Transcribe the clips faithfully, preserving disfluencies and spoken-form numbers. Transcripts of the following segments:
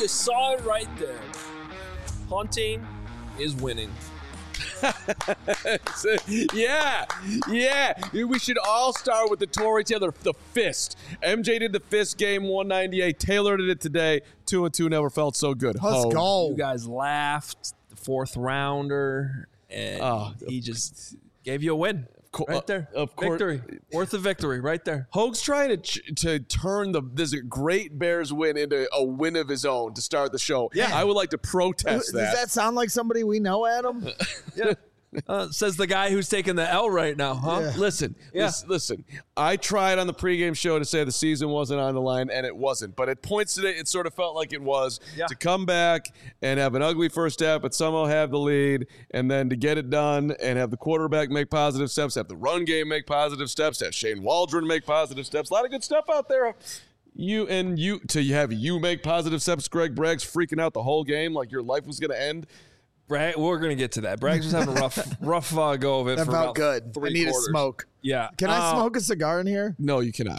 you saw it right there. Punting is winning. yeah, yeah. We should all start with the Tory Taylor, the fist. M J did the fist game, one ninety-eight. Taylor did it today, two and two. Never felt so good. Let's Ho. go. You guys laughed. The fourth rounder, and Oh, he just gave you a win. co- Right there. uh, of course. Victory. Worth a victory right there. Hoag's trying to ch- to turn the this great Bears win into a win of his own to start the show. Yeah. I would like to protest Does that. that sound like somebody we know, Adam? Yeah. Uh, says the guy who's taking the L right now, huh? Yeah. Listen, Yeah. lis- listen. I tried on the pregame show to say the season wasn't on the line, and it wasn't. But at points today, it sort of felt like it was. Yeah. To come back and have an ugly first half, but somehow have the lead, and then to get it done and have the quarterback make positive steps, have the run game make positive steps, have Shane Waldron make positive steps. A lot of good stuff out there. You and you to have you make positive steps. Greg Bragg's freaking out the whole game like your life was going to end. Bragg, we're going to get to that. Braggs was having a rough, rough uh, go of it That for felt about good. three I need quarters. a smoke. Yeah. Can I Uh, smoke a cigar in here? No, you cannot.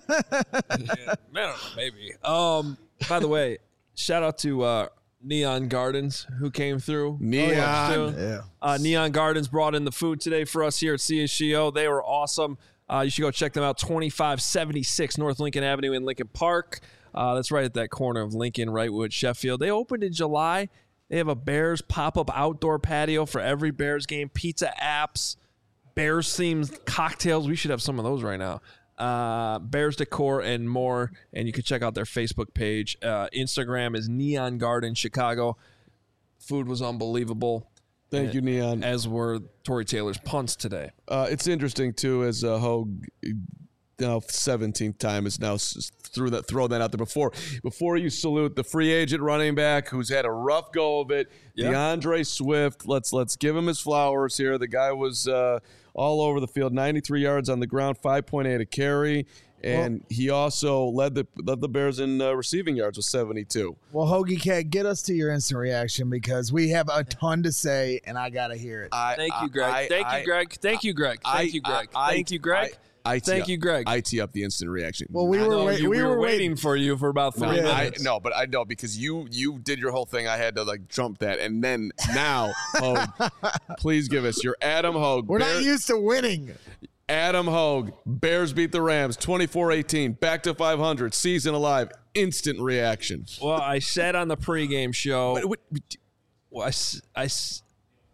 I don't know, maybe. Um. By the way, shout out to uh, Neon Gardens who came through. Neon. Too. Yeah. Uh, Neon Gardens brought in the food today for us here at C H G O. They were awesome. Uh, you should go check them out. twenty-five seventy-six North Lincoln Avenue in Lincoln Park. Uh, that's right at that corner of Lincoln, right with Sheffield. They opened in July. They have a Bears pop-up outdoor patio for every Bears game. Pizza apps, Bears-themed cocktails. We should have some of those right now. Uh, Bears decor and more. And you can check out their Facebook page. Uh, Instagram is Neon Garden Chicago. Food was unbelievable. Thank you, Neon. As were Tory Taylor's punts today. Uh, it's interesting too, as uh, Hogue, now seventeenth time is now s- threw that throw that out there before. Before you salute the free agent running back who's had a rough go of it, Yeah. DeAndre Swift. Let's let's give him his flowers here. The guy was uh, all over the field, ninety-three yards on the ground, five point eight a carry, and well, he also led the led the Bears in uh, receiving yards with seventy-two. Well, Hoagie Cat, get us to your instant reaction because we have a ton to say, and I gotta hear it. I, Thank you, Greg. I, Thank I, you, Greg. Thank you, Greg. I, Thank you, Greg. I, I, Thank you, Greg. I, I Thank up, you, Greg. I tee up the instant reaction. Well, we I were know, wait, you, we, we were waiting waiting for you for about three No, I, minutes. no, but I know because you you did your whole thing. I had to like jump that, and then now, Hogue, please give us your Adam Hogue. We're Bear, not used to winning. Adam Hogue. Bears beat the Rams twenty-four eighteen. Back to five hundred. Season alive. Instant reaction. Well, I said on the pregame show. What, what, well, I, s- I s-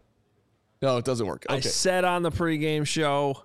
no, it doesn't work. I Okay. said on the pregame show.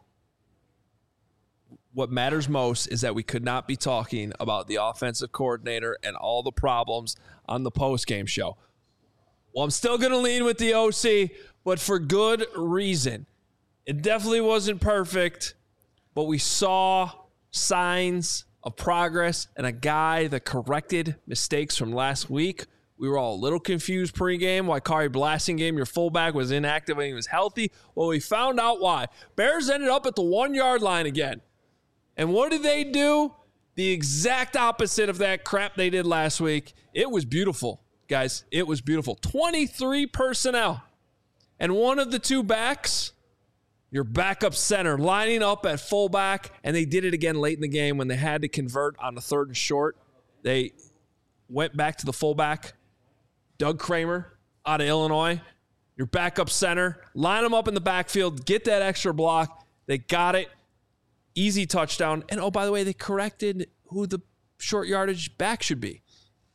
What matters most is that we could not be talking about the offensive coordinator and all the problems on the postgame show. Well, I'm still going to lean with the O C, but for good reason. It definitely wasn't perfect, but we saw signs of progress and a guy that corrected mistakes from last week. We were all a little confused pregame why Kari Blasingame, your fullback, was inactive when he was healthy. Well, we found out why. Bears ended up at the one-yard line again. And what did they do? The exact opposite of that crap they did last week. It was beautiful, guys. It was beautiful. twenty-three personnel. And one of the two backs, your backup center, lining up at fullback. And they did it again late in the game when they had to convert on the third and short. They went back to the fullback. Doug Kramer out of Illinois. Your backup center. Line them up in the backfield. Get that extra block. They got it. Easy touchdown. And, oh, by the way, they corrected who the short yardage back should be.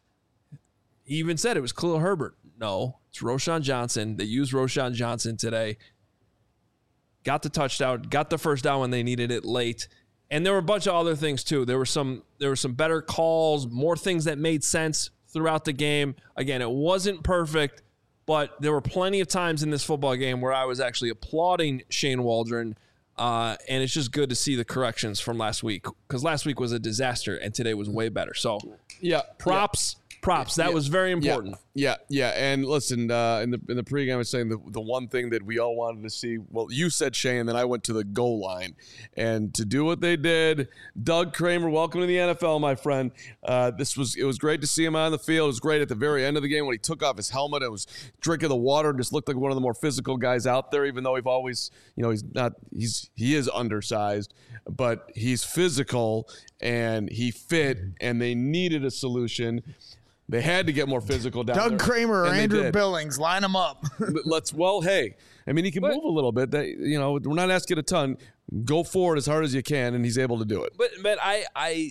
He even said it was Khalil Herbert. No, it's Roschon Johnson. They used Roschon Johnson today. Got the touchdown. Got the first down when they needed it late. And there were a bunch of other things, too. There were some, there were some better calls, more things that made sense throughout the game. Again, it wasn't perfect, but there were plenty of times in this football game where I was actually applauding Shane Waldron. Uh, and it's just good to see the corrections from last week because last week was a disaster and today was way better. So, yeah, props, yeah. props. That yeah. was very important. Yeah, yeah. yeah. And listen, uh, in the in the pregame, I was saying the the one thing that we all wanted to see. Well, you said Shane, then I went to the goal line, and to do what they did. Doug Kramer, welcome to the N F L, my friend. Uh, this was it was great to see him on the field. It was great at the very end of the game when he took off his helmet and was drinking the water and just looked like one of the more physical guys out there. Even though we've always, you know, he's not he's he is undersized, but he's physical and he fit, and they needed a solution. They had to get more physical down there. Doug Kramer or and they Andrew did. Billings, line them up. Let's, well, hey, I mean, he can But- move a little bit. That, you know, we're not asking a ton. Go forward as hard as you can, and he's able to do it. But but I I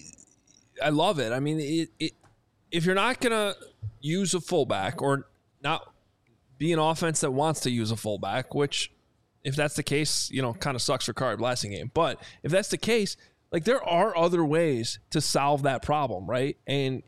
I love it. I mean, it, it if you're not gonna use a fullback or not be an offense that wants to use a fullback, which if that's the case, you know, kind of sucks for Curry Blasting game. But if that's the case, like there are other ways to solve that problem, right? And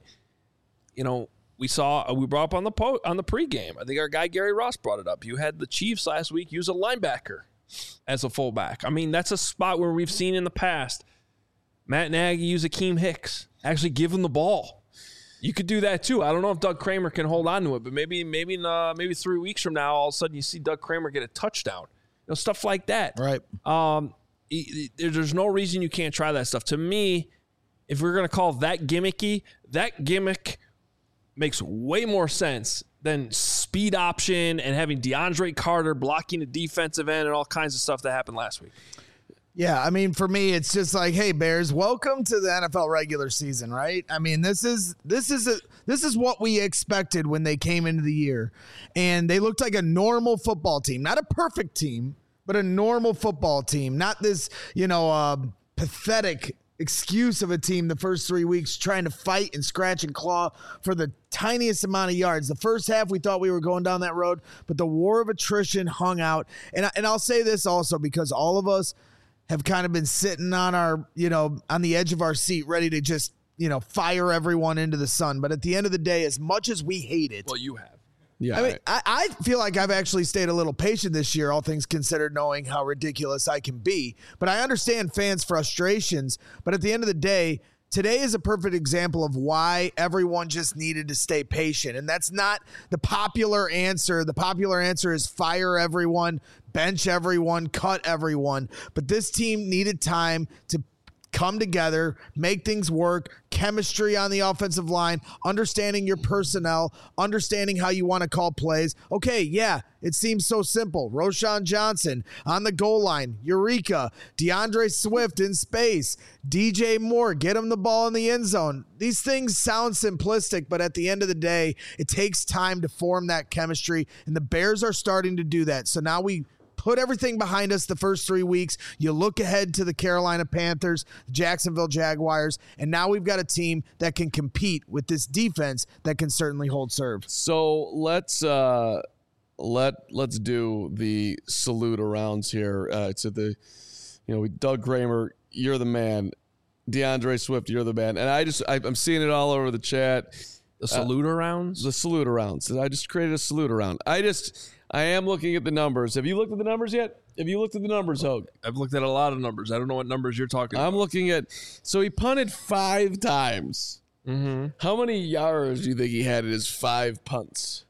you know, we saw we brought up on the po- on the pregame. I think our guy Gary Ross brought it up. You had the Chiefs last week use a linebacker as a fullback. I mean, that's a spot where we've seen in the past Matt Nagy use Akeem Hicks, actually give him the ball. You could do that too. I don't know if Doug Kramer can hold on to it, but maybe maybe in, uh, maybe three weeks from now, all of a sudden you see Doug Kramer get a touchdown. You know, stuff like that. Right. Um, it, it, there's no reason you can't try that stuff. To me, if we're gonna call that gimmicky, that gimmick makes way more sense than speed option and having DeAndre Carter blocking the defensive end and all kinds of stuff that happened last week. Yeah, I mean, for me, it's just like, hey, Bears, welcome to the N F L regular season, right? I mean, this is this is a this is what we expected when they came into the year, and they looked like a normal football team, not a perfect team, but a normal football team, not this, you know, uh, pathetic excuse of a team the first three weeks trying to fight and scratch and claw for the tiniest amount of yards. The first half, we thought we were going down that road, but the war of attrition hung out. And, and I'll say this also because all of us have kind of been sitting on our, you know, on the edge of our seat, ready to just, you know, fire everyone into the sun. But at the end of the day, as much as we hate it, Well, you have. Yeah, I mean, I, I feel like I've actually stayed a little patient this year, all things considered, knowing how ridiculous I can be. But I understand fans' frustrations. But at the end of the day, today is a perfect example of why everyone just needed to stay patient. And that's not the popular answer. The popular answer is fire everyone, bench everyone, cut everyone. But this team needed time to come together, make things work, chemistry on the offensive line, understanding your personnel, understanding how you want to call plays. Okay, yeah, it seems so simple. Roshan Johnson on the goal line, Eureka, DeAndre Swift in space, D J Moore, get him the ball in the end zone. These things sound simplistic, but at the end of the day, it takes time to form that chemistry, and the Bears are starting to do that. So now we put everything behind us the first three weeks. You look ahead to the Carolina Panthers, Jacksonville Jaguars, and now we've got a team that can compete with this defense that can certainly hold serve. So let's uh, let let's do the salute arounds here. Uh, to the, you know, Doug Kramer, you're the man. DeAndre Swift, you're the man. And I just I, I'm seeing it all over the chat. The salute rounds? The salute arounds. I just created a salute around. I just I am looking at the numbers. Have you looked at the numbers yet? Have you looked at the numbers, Hogue? I've looked at a lot of numbers. I don't know what numbers you're talking I'm about. looking at. So he punted five times. Mm-hmm. How many yards do you think he had in his five punts?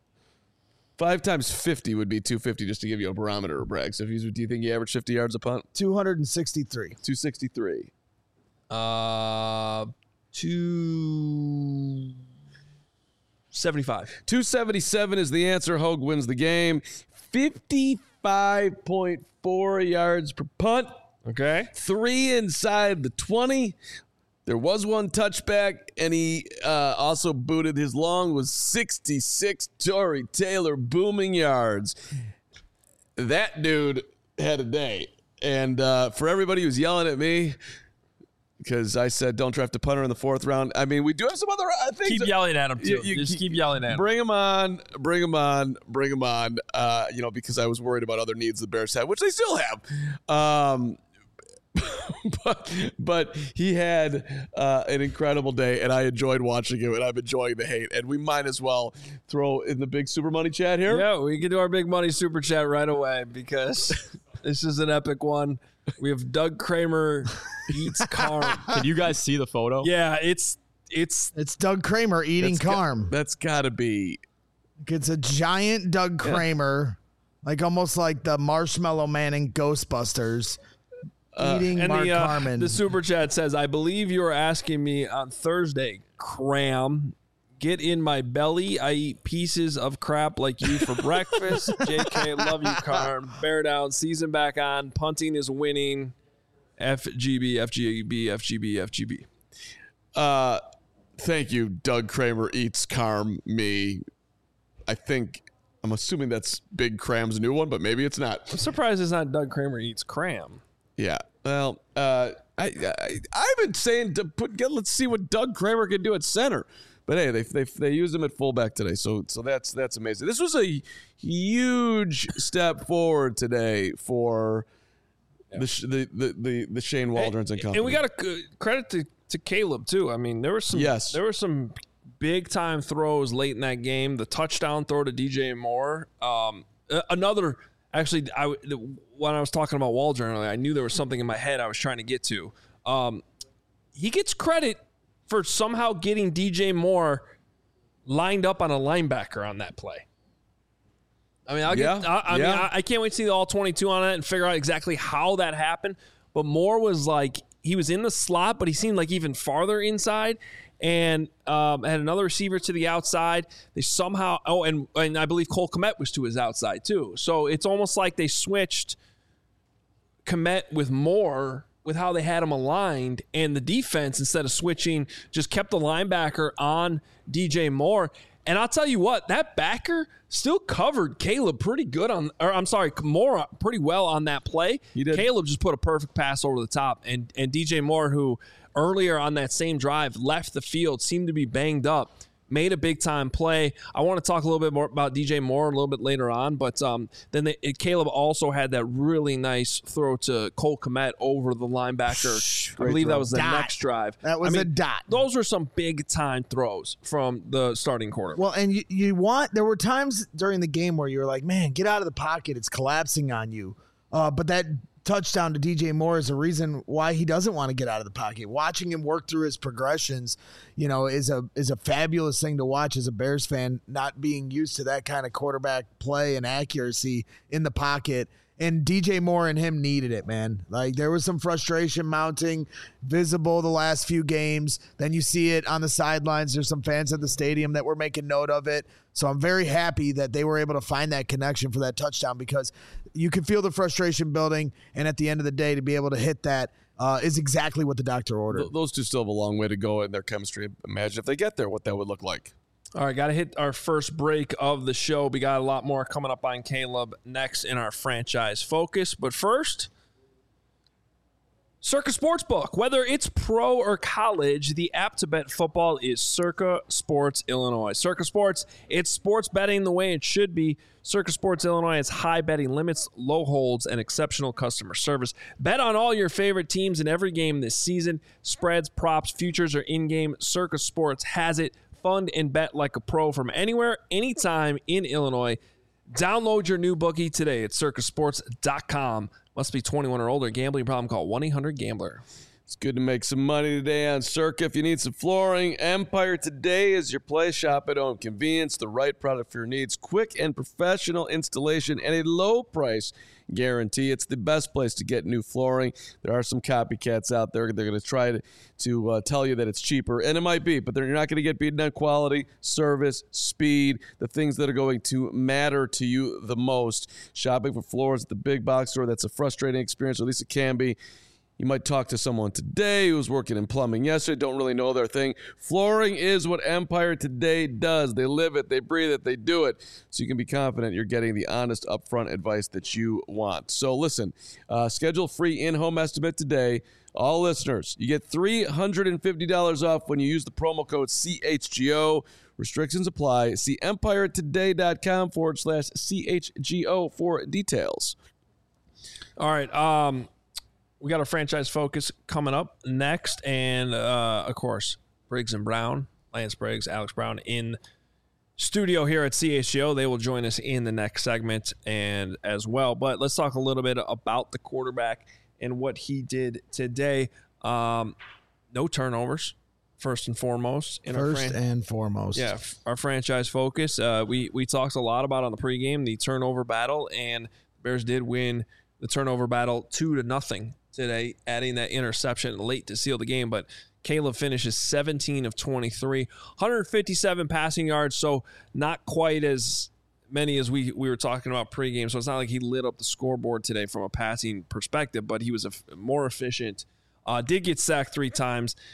Five times fifty would be two fifty, just to give you a barometer, Bragg. So if he's, do you think he averaged fifty yards a punt? two hundred sixty-three. two sixty-three. Uh, two seventy-five. two seventy-seven is the answer. Hogue wins the game. fifty-five point four yards per punt. Okay. Three inside the twenty. There was one touchback, and he uh, also booted. His long was sixty-six Tory Taylor booming yards. That dude had a day. And uh, for everybody who's yelling at me, because I said don't draft a punter in the fourth round, I mean, we do have some other uh, things. Keep yelling at him, too. You- you Just keep- keep yelling at him. Bring him on, bring him on, bring him on. Uh, you know, because I was worried about other needs the Bears had, which they still have. Um, but but he had uh, an incredible day, and I enjoyed watching him, and I'm enjoying the hate. And we might as well throw in the big Super Money chat here. Yeah, we can do our big money super chat right away because this is an epic one. We have Doug Kramer eats carm. Can you guys see the photo? Yeah, it's it's It's Doug Kramer eating That's got- carm. That's got to be. It's a giant Doug Kramer, like almost like the Marshmallow Man in Ghostbusters, eating and Mark the uh, Carman. the super chat says, "I believe you were asking me on Thursday, Cram. Get in my belly. I eat pieces of crap like you for breakfast. J K, love you, Carm. Bear down. Season back on. Punting is winning. F G B, F G B, F G B, F G B. Uh, Thank you, Doug Kramer eats Carm me. I think I'm assuming that's Big Cram's new one, but maybe it's not. I'm surprised it's not Doug Kramer eats Cram. Yeah. Well, uh, I, I I've been saying to put get, let's see what Doug Kramer can do at center. But hey, they they they used him at fullback today, so so that's that's amazing. This was a huge step forward today for yeah. the, the the the the Shane Waldrons and company. And we got to credit to, to Caleb too. I mean, there were some yes. there were some big time throws late in that game. The touchdown throw to D J Moore. Um, another actually, I when I was talking about Waldron earlier, I knew there was something in my head I was trying to get to. Um, he gets credit for somehow getting D J Moore lined up on a linebacker on that play. I mean, I'll yeah, get, I, I yeah. mean, I, I can't wait to see the all twenty-two on it and figure out exactly how that happened. But Moore was like, he was in the slot, but he seemed like even farther inside, and um, had another receiver to the outside. They somehow, oh, and, and I believe Cole Kmet was to his outside too. So it's almost like they switched Kmet with Moore with how they had him aligned, and the defense, instead of switching, just kept the linebacker on D J Moore. And I'll tell you what, that backer still covered Caleb pretty good on, or I'm sorry, Moore pretty well on that play. He did. Caleb just put a perfect pass over the top, and and D J Moore, who earlier on that same drive left the field, seemed to be banged up, made a big-time play. I want to talk a little bit more about D J Moore a little bit later on, but um, then they, it, Caleb also had that really nice throw to Cole Kmet over the linebacker. Shh, I believe throw. that was the Dot. next drive. That was I mean, a dot. Those were some big-time throws from the starting quarterback. Well, and you, you want, there were times during the game where you were like, man, get out of the pocket. It's collapsing on you. Uh, but that touchdown to D J Moore is a reason why he doesn't want to get out of the pocket. Watching him work through his progressions, you know, is a is a fabulous thing to watch as a Bears fan, not being used to that kind of quarterback play and accuracy in the pocket. And D J Moore and him needed it, man. Like, there was some frustration mounting, visible the last few games. Then you see it on the sidelines. There's some fans at the stadium that were making note of it. So I'm very happy that they were able to find that connection for that touchdown, because you can feel the frustration building. And at the end of the day, to be able to hit that uh, is exactly what the doctor ordered. Th- those two still have a long way to go in their chemistry. Imagine if they get there, what that would look like. All right, got to hit our first break of the show. We got a lot more coming up on Caleb next in our franchise focus. But first, Circa Sportsbook. Whether it's pro or college, the app to bet football is Circa Sports Illinois. Circa Sports, it's sports betting the way it should be. Circa Sports Illinois has high betting limits, low holds, and exceptional customer service. Bet on all your favorite teams in every game this season. Spreads, props, futures, or in-game, Circa Sports has it. Fund and bet like a pro from anywhere, anytime in Illinois. Download your new bookie today at circa sports dot com. Must be twenty-one or older. Gambling problem, call one eight hundred gambler. It's good to make some money today on Circa. If you need some flooring, Empire Today is your place. Shop at home. Convenience, the right product for your needs. Quick and professional installation and a low price guarantee. It's the best place to get new flooring. There are some copycats out there. They're going to try to, to uh, tell you that it's cheaper, and it might be, but you're not going to get beaten on quality, service, speed, the things that are going to matter to you the most. Shopping for floors at the big box store, that's a frustrating experience, or at least it can be. You might talk to someone today who was working in plumbing yesterday, don't really know their thing. Flooring is what Empire Today does. They live it, they breathe it, they do it. So you can be confident you're getting the honest, upfront advice that you want. So listen, uh, schedule free in-home estimate today. All listeners, you get three hundred fifty dollars off when you use the promo code C H G O. Restrictions apply. See empiretoday.com forward slash CHGO for details. All right. Um, we got our franchise focus coming up next. And, uh, of course, Briggs and Brown, Lance Briggs, Alex Brown in studio here at C H G O. They will join us in the next segment and as well. But let's talk a little bit about the quarterback and what he did today. Um, no turnovers, first and foremost. In First our fran- and foremost. Yeah, f- our franchise focus. Uh, we, we talked a lot about on the pregame, the turnover battle, and the Bears did win the turnover battle two to nothing today, adding that interception late to seal the game. But Caleb finishes seventeen of twenty-three, one hundred fifty-seven passing yards, so not quite as many as we, we were talking about pregame. So it's not like he lit up the scoreboard today from a passing perspective, but he was a f- more efficient. Uh, did get sacked three times.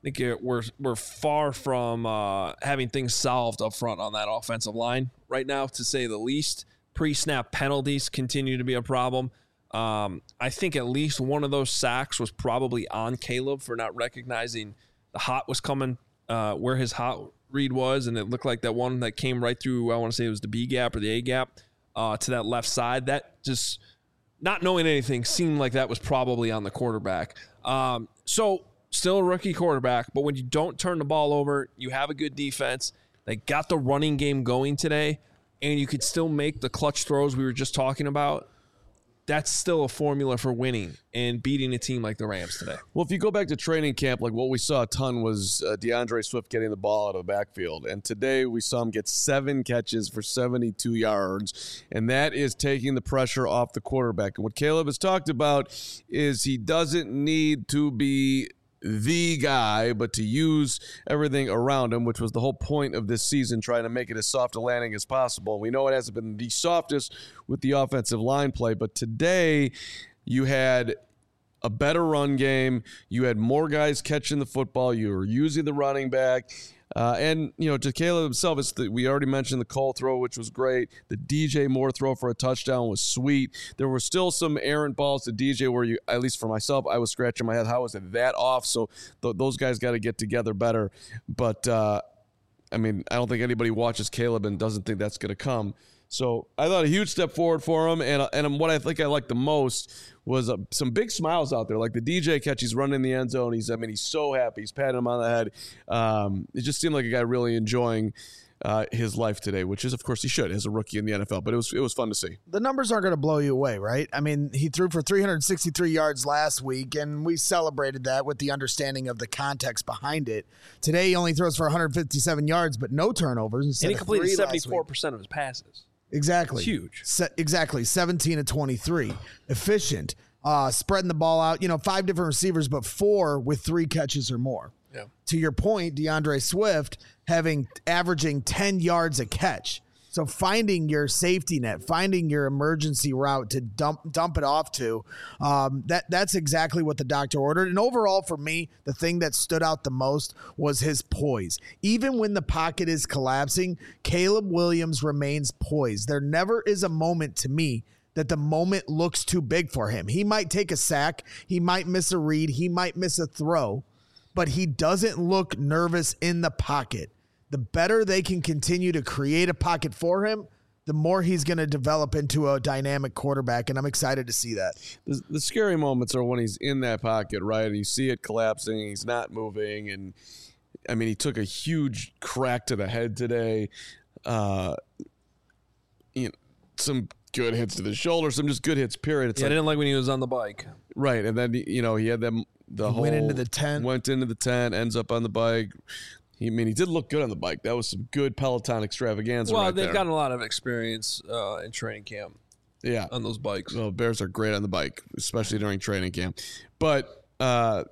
think it, we're we're far from uh, having things solved up front on that offensive line right now, to say the least. Pre-snap penalties continue to be a problem. Um, I think at least one of those sacks was probably on Caleb for not recognizing the hot was coming uh, where his hot read was, and it looked like that one that came right through, I want to say it was the B gap or the A gap, uh, to that left side. That just, not knowing anything, seemed like that was probably on the quarterback. Um, so still a rookie quarterback, but when you don't turn the ball over, you have a good defense. They got the running game going today, and you could still make the clutch throws we were just talking about. That's still a formula for winning and beating a team like the Rams today. Well, if you go back to training camp, like what we saw a ton was uh, DeAndre Swift getting the ball out of the backfield. And today we saw him get seven catches for seventy-two yards. And that is taking the pressure off the quarterback. And what Caleb has talked about is he doesn't need to be the guy, but to use everything around him, which was the whole point of this season, trying to make it as soft a landing as possible. We know it hasn't been the softest with the offensive line play, but today you had a better run game. You had more guys catching the football. You were using the running back. Uh, and, you know, to Caleb himself, it's the, we already mentioned the Cole throw, which was great. The D J Moore throw for a touchdown was sweet. There were still some errant balls to D J where, you, at least for myself, I was scratching my head. How was it that off? So th- those guys got to get together better. But, uh, I mean, I don't think anybody watches Caleb and doesn't think that's going to come. So I thought a huge step forward for him. And, and what I think I liked the most was uh, some big smiles out there. Like the D J catch, he's running in the end zone. He's, I mean, he's so happy. He's patting him on the head. Um, it just seemed like a guy really enjoying uh, his life today, which is, of course, he should as a rookie in the N F L. But it was it was fun to see. The numbers aren't going to blow you away, right? I mean, he threw for three hundred sixty-three yards last week, and we celebrated that with the understanding of the context behind it. Today, he only throws for one hundred fifty-seven yards, but no turnovers. And he completed seventy-four percent of his passes. Exactly. It's huge. Se- exactly. seventeen to twenty-three. Efficient. Uh, spreading the ball out. You know, five different receivers, but four with three catches or more. Yeah. To your point, DeAndre Swift having averaging ten yards a catch. So finding your safety net, finding your emergency route to dump dump it off to, um, that that's exactly what the doctor ordered. And overall, for me, the thing that stood out the most was his poise. Even when the pocket is collapsing, Caleb Williams remains poised. There never is a moment to me that the moment looks too big for him. He might take a sack, he might miss a read, he might miss a throw, but he doesn't look nervous in the pocket. The better they can continue to create a pocket for him, the more he's going to develop into a dynamic quarterback, and I'm excited to see that. The, the scary moments are when he's in that pocket, right, and you see it collapsing, he's not moving, and, I mean, he took a huge crack to the head today. Uh, you know, some good hits to the shoulder, some just good hits, period. It's yeah, like, I didn't like when he was on the bike. Right, and then, you know, he had them, the He whole... went into the tent. Went into the tent, ends up on the bike. I mean, he did look good on the bike. That was some good Peloton extravaganza. Well, right they've there. gotten a lot of experience uh, in training camp. Yeah, on those bikes. Well, Bears are great on the bike, especially during training camp. But uh,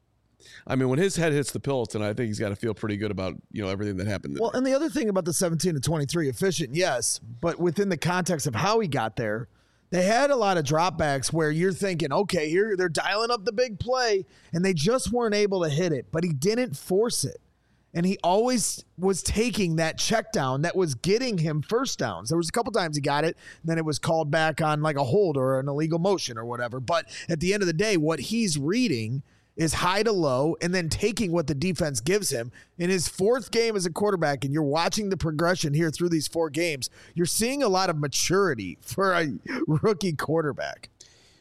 I mean, when his head hits the Peloton, I think he's got to feel pretty good about, you know, everything that happened there. Well, and the other thing about the seventeen to twenty-three, efficient, yes, but within the context of how he got there, they had a lot of dropbacks where you're thinking, okay, here they're dialing up the big play, and they just weren't able to hit it, but he didn't force it. And he always was taking that check down that was getting him first downs. There was a couple times he got it, and then it was called back on like a hold or an illegal motion or whatever. But at the end of the day, what he's reading is high to low and then taking what the defense gives him. In his fourth game as a quarterback, and you're watching the progression here through these four games, you're seeing a lot of maturity for a rookie quarterback.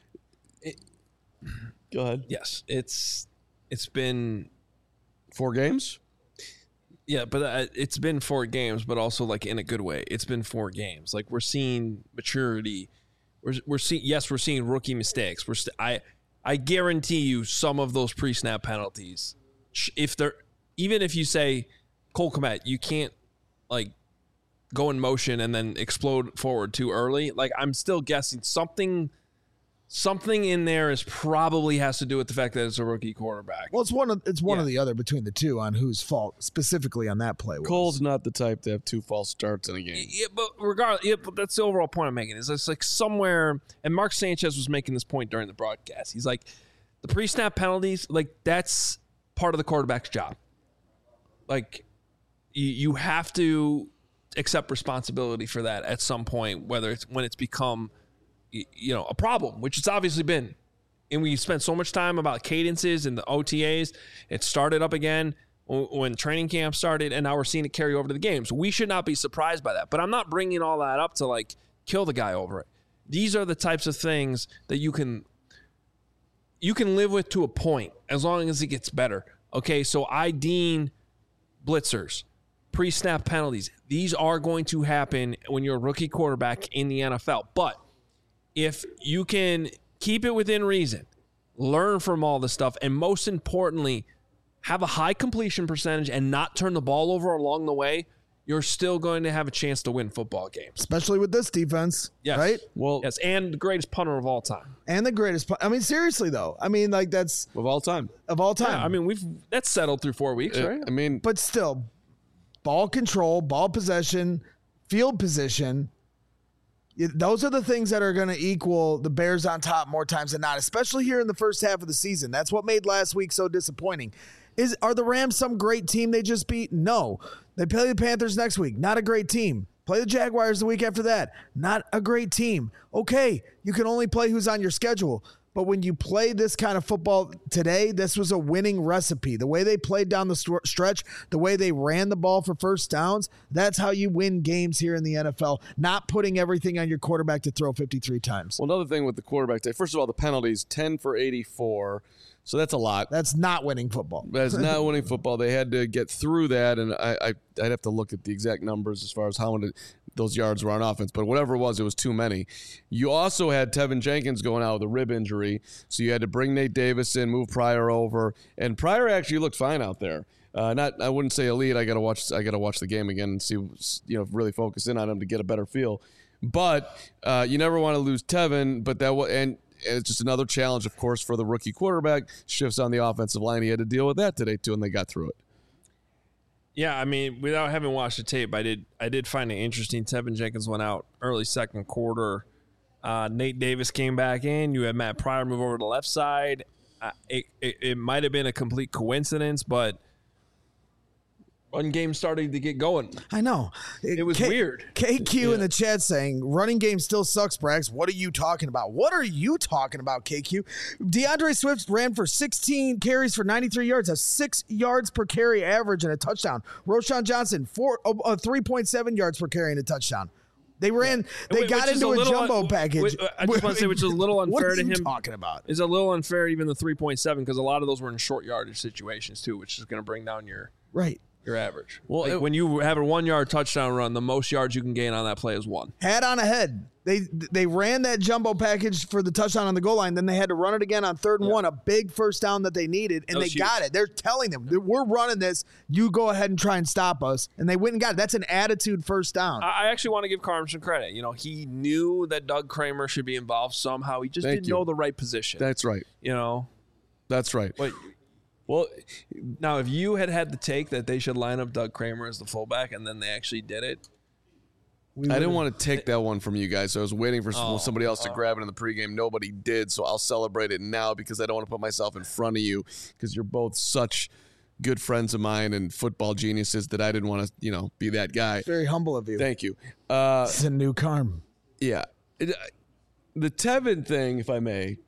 It, Go ahead. Yes, it's it's been four games. Yeah, but uh, it's been four games, but also like in a good way. It's been four games. Like we're seeing maturity. We're we're seeing yes, we're seeing rookie mistakes. We're st- I I guarantee you some of those pre-snap penalties. If they're even if you say Cole Kmet, you can't like go in motion and then explode forward too early. Like I'm still guessing something. Something in there is probably has to do with the fact that it's a rookie quarterback. Well, it's one of it's one Yeah. or the other between the two on whose fault specifically on that play was. Cole's not the type to have two false starts in a game. Yeah, but regardless, yeah, but that's the overall point I'm making. Is it's like somewhere, and Mark Sanchez was making this point during the broadcast. He's like, the pre-snap penalties, like that's part of the quarterback's job. Like, you, you have to accept responsibility for that at some point, whether it's when it's become, you know, a problem, which it's obviously been. And we spent so much time about cadences and the O T As. It started up again when training camp started, and now we're seeing it carry over to the games. We should not be surprised by that. But I'm not bringing all that up to, like, kill the guy over it. These are the types of things that you can you can live with to a point as long as it gets better. Okay, so I deem blitzers, pre-snap penalties. These are going to happen when you're a rookie quarterback in the N F L. But if you can keep it within reason, learn from all this stuff, and most importantly, have a high completion percentage and not turn the ball over along the way, you're still going to have a chance to win football games. Especially with this defense, yes. right? Well, yes, and the greatest punter of all time. And the greatest punter. I mean, seriously, though. I mean, like, that's... Of all time. Of all time. Yeah, I mean, we've that's settled through four weeks, uh, right? I mean... But still, ball control, ball possession, field position, those are the things that are going to equal the Bears on top more times than not, especially here in the first half of the season. That's what made last week so disappointing. Is Are the Rams some great team they just beat? No. They play the Panthers next week. Not a great team. Play the Jaguars the week after that. Not a great team. Okay, you can only play who's on your schedule. But when you play this kind of football today, this was a winning recipe. The way they played down the st- stretch, the way they ran the ball for first downs, that's how you win games here in the N F L, not putting everything on your quarterback to throw fifty-three times. Well, another thing with the quarterback today, first of all, the penalties, ten for eighty-four. So that's a lot. That's not winning football. That's not winning football. They had to get through that, and I, I, I'd have to look at the exact numbers as far as how many those yards were on offense. But whatever it was, it was too many. You also had Tevin Jenkins going out with a rib injury, so you had to bring Nate Davis in, move Pryor over, and Pryor actually looked fine out there. Uh, not, I wouldn't say elite. I gotta watch. I gotta watch the game again and see, you know, really focus in on him to get a better feel. But uh, you never want to lose Tevin. But that was and. And it's just another challenge, of course, for the rookie quarterback. Shifts on the offensive line. He had to deal with that today, too, and they got through it. Yeah, I mean, without having watched the tape, I did I did find it interesting. Tevin Jenkins went out early second quarter. Uh, Nate Davis came back in. You had Matt Pryor move over to the left side. Uh, it it, it might have been a complete coincidence, but run game starting to get going. I know. It was K- weird. K Q yeah. in the chat saying, running game still sucks, Brax. What are you talking about? What are you talking about, K Q? DeAndre Swift ran for sixteen carries for ninety-three yards, a six yards per carry average and a touchdown. Roshan Johnson, four, uh, three point seven yards per carry and a touchdown. They ran. They Which got into a, a jumbo un- package. Which, I just want to say, which is a little unfair to him. What are you talking about? It's a little unfair, even the three point seven, because a lot of those were in short yardage situations, too, which is going to bring down your right. your average. Well, like it, when you have a one-yard touchdown run, the most yards you can gain on that play is one. Hat on a head. They they ran that jumbo package for the touchdown on the goal line. Then they had to run it again on third and yeah. one, a big first down that they needed, and they huge. got it. They're telling them, we're running this. You go ahead and try and stop us. And they went and got it. That's an attitude first down. I actually want to give Carm some credit. You know, he knew that Doug Kramer should be involved somehow. He just Thank didn't you. know the right position. That's right. You know? That's right. But, well, now, if you had had the take that they should line up Doug Kramer as the fullback and then they actually did it, I didn't want to take that one from you guys, so I was waiting for oh, somebody else to oh. grab it in the pregame. Nobody did, so I'll celebrate it now because I don't want to put myself in front of you because you're both such good friends of mine and football geniuses that I didn't want to, you know, be that guy. Very humble of you. Thank you. Uh, it's a new Carm. Yeah. It, the Tevin thing, if I may,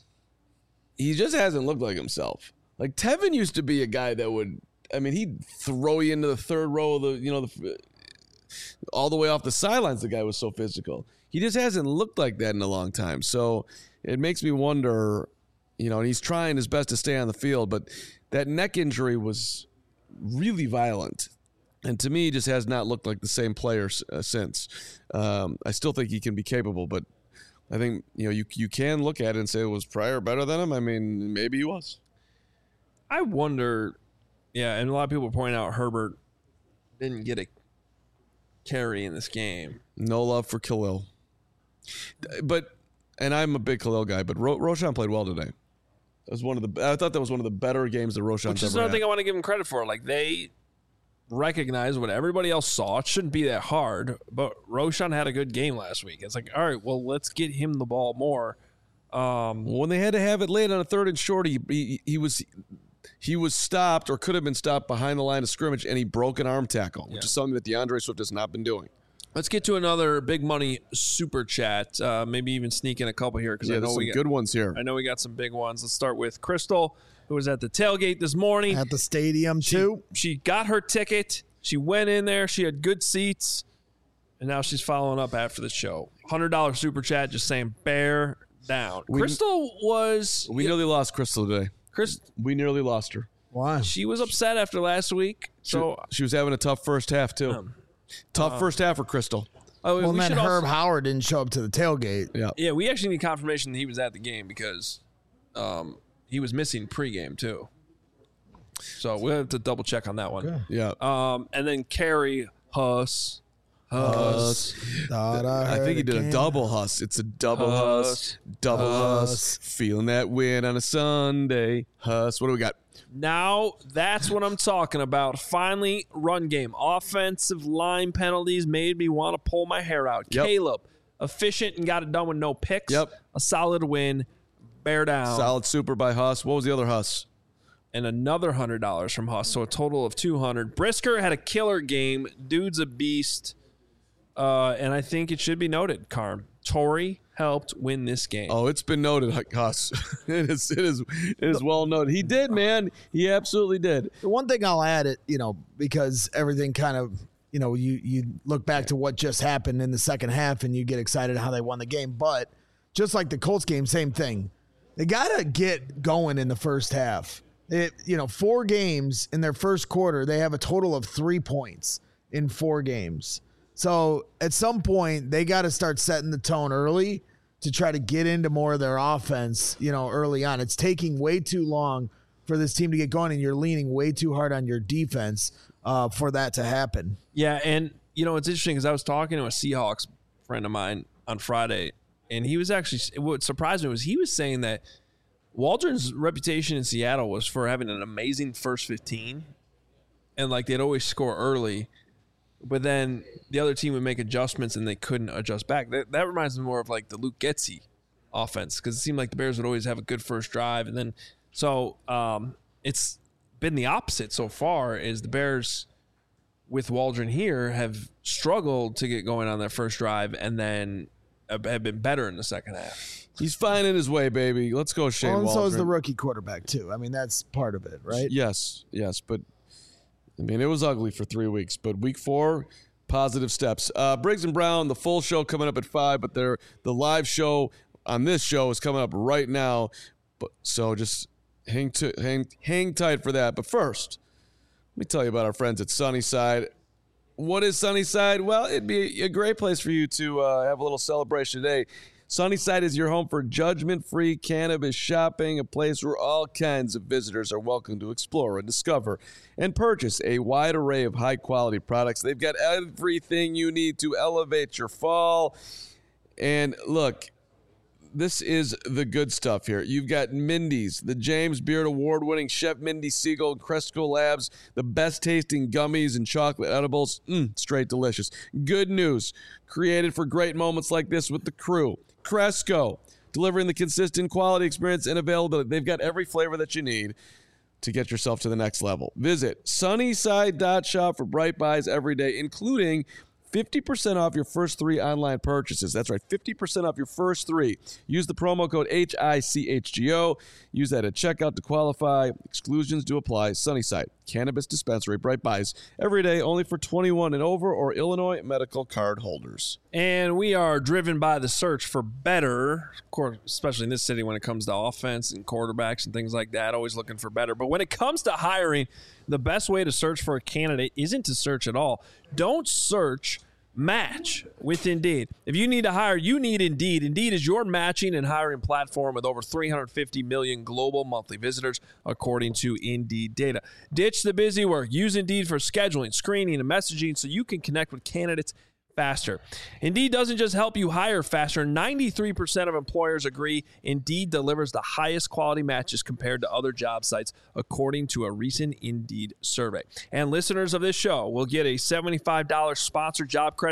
he just hasn't looked like himself. Like, Tevin used to be a guy that would, I mean, he'd throw you into the third row of the, you know, the all the way off the sidelines. The guy was so physical. He just hasn't looked like that in a long time. So it makes me wonder, you know, and he's trying his best to stay on the field, but that neck injury was really violent. And to me, he just has not looked like the same player uh, since. Um, I still think he can be capable, but I think, you know, you you can look at it and say, was Pryor better than him? I mean, maybe he was. I wonder, yeah, and a lot of people point out Herbert didn't get a carry in this game. No love for Khalil. But, and I'm a big Khalil guy, but Ro- Roshan played well today. That was one of the, I thought that was one of the better games that Roshan's Which is ever another had. thing I want to give him credit for. Like, they recognize what everybody else saw. It shouldn't be that hard, but Roshan had a good game last week. It's like, all right, well, let's get him the ball more. Um, when they had to have it late on a third and short, he, he, he was... he was stopped or could have been stopped behind the line of scrimmage, and he broke an arm tackle, which Yeah. is something that DeAndre Swift has not been doing. Let's get to another big money super chat. Uh, maybe even sneak in a couple here because Yeah, I there's know some we got, good ones here. I know we got some big ones. Let's start with Crystal, who was at the tailgate this morning. At the stadium, She, too. she got her ticket. She went in there. She had good seats. And now she's following up after the show. one hundred dollars super chat just saying bear down. We- Crystal was... We nearly lost Crystal today. Chris, We nearly lost her. Why? she was upset after last week. So, She was having a tough first half, too. Um, tough first half for Crystal. oh, Well, we then should Herb also, Howard didn't show up to the tailgate. Yeah. yeah, we actually need confirmation that he was at the game because um, he was missing pregame, too. So we'll have to double check on that one. Yeah. Um, and then Carrie Huss. Huss. Thought I, I heard think he did a again. double Huss. It's a double Huss. Huss. Double Huss. Huss. Feeling that win on a Sunday. Huss. What do we got? Now that's what I'm talking about. Finally, run game. Offensive line penalties made me want to pull my hair out. Yep. Caleb, efficient and got it done with no picks. Yep. A solid win. Bear down. Solid super by Huss. What was the other Huss? And another one hundred dollars from Huss. So a total of two hundred dollars. Brisker had a killer game. Dude's a beast. Uh, and I think it should be noted, Carm. Torrey helped win this game. Oh, it's been noted, Huss. it is. It is. It is well noted. He did, man. He absolutely did. The one thing I'll add, it you know, because everything kind of, you know, you you look back to what just happened in the second half and you get excited how they won the game. But just like the Colts game, same thing. They got to get going in the first half. It, you know, four games in their first quarter, they have a total of three points in four games. So at some point, they got to start setting the tone early to try to get into more of their offense, you know, early on. It's taking way too long for this team to get going, and you're leaning way too hard on your defense uh, for that to happen. Yeah, and, you know, it's interesting because I was talking to a Seahawks friend of mine on Friday, and he was actually – what surprised me was he was saying that Waldron's reputation in Seattle was for having an amazing first fifteen, and, like, they'd always score early. But then the other team would make adjustments and they couldn't adjust back. That, that reminds me more of like the Luke Getsy offense because it seemed like the Bears would always have a good first drive. And then so um, it's been the opposite so far is the Bears with Waldron here have struggled to get going on their first drive and then have been better in the second half. He's finding his way, baby. Let's go, Shane Well, and so Waldron. is the rookie quarterback, too. I mean, that's part of it, right? Yes, yes, but I mean, it was ugly for three weeks, but week four, positive steps. Uh, Briggs and Brown, the full show coming up at five, but they're, the live show on this show is coming up right now. But so just hang to, hang hang tight for that. But first, let me tell you about our friends at Sunnyside. What is Sunnyside? Well, it'd be a great place for you to uh, have a little celebration today. Sunnyside is your home for judgment-free cannabis shopping, a place where all kinds of visitors are welcome to explore and discover and purchase a wide array of high-quality products. They've got everything you need to elevate your fall. And look, this is the good stuff here. You've got Mindy's, the James Beard Award-winning Chef Mindy Siegel and Cresco Labs, the best-tasting gummies and chocolate edibles. Mmm, straight delicious. Good news, created for great moments like this with the crew. Cresco, delivering the consistent quality experience and availability. They've got every flavor that you need to get yourself to the next level. Visit sunnyside dot shop for bright buys every day, including fifty percent off your first three online purchases. That's right, fifty percent off your first three. Use the promo code H I C H G O. Use that at checkout to qualify. Exclusions do apply. Sunnyside, cannabis dispensary, bright buys every day, only for twenty-one and over or Illinois medical card holders. And we are driven by the search for better, of course, especially in this city when it comes to offense and quarterbacks and things like that, always looking for better. But when it comes to hiring, the best way to search for a candidate isn't to search at all. Don't search, match with Indeed. If you need to hire, you need Indeed. Indeed is your matching and hiring platform with over three hundred fifty million global monthly visitors, according to Indeed data. Ditch the busy work. Use Indeed for scheduling, screening, and messaging so you can connect with candidates faster. Indeed doesn't just help you hire faster. ninety-three percent of employers agree Indeed delivers the highest quality matches compared to other job sites, according to a recent Indeed survey. And listeners of this show will get a seventy-five dollars sponsored job credit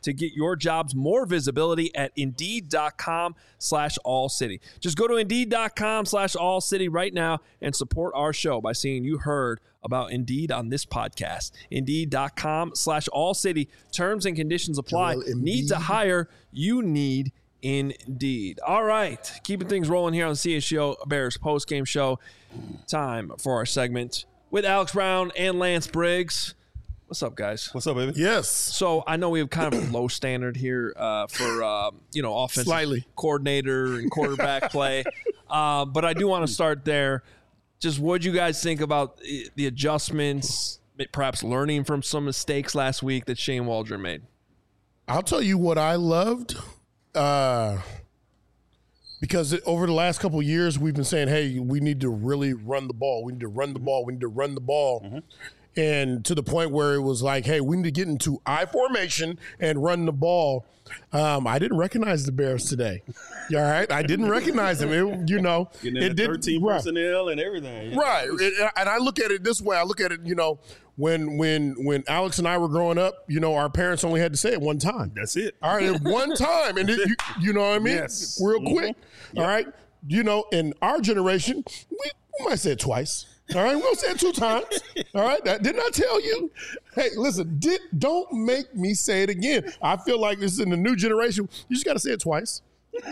to get your jobs more visibility at Indeed.com slash All City. Just go to Indeed.com slash All City right now and support our show by saying you heard about Indeed on this podcast. Indeed.com slash All City. Terms and conditions apply. Need to hire? You need Indeed. All right. Keeping things rolling here on the C H G O Bears postgame show. Time for our segment with Alex Brown and Lance Briggs. What's up, guys? What's up, baby? Yes. So I know we have kind of a low standard here uh, for, uh, you know, offensive Slightly. coordinator and quarterback play. Uh, but I do want to start there. Just what do you guys think about the adjustments, perhaps learning from some mistakes last week that Shane Waldron made? I'll tell you what I loved. Uh, because it, over the last couple of years, we've been saying, hey, we need to really run the ball. We need to run the ball. We need to run the ball. Mm-hmm. And to the point where it was like, hey, we need to get into I formation and run the ball. Um, I didn't recognize the Bears today. All right? I didn't recognize them. It, you know, it did thirteen right. personnel and everything. Right. It, and I look at it this way. I look at it, you know, when when when Alex and I were growing up, you know, our parents only had to say it one time. That's it. All right, one time. And, it, you, you know what I mean? Yes. Real quick. Mm-hmm. All right? You know, in our generation, we, we might say it twice. All right, we'll say it two times. All right, that, didn't I tell you? Hey, listen, did, don't make me say it again. I feel like this is in the new generation. You just got to say it twice.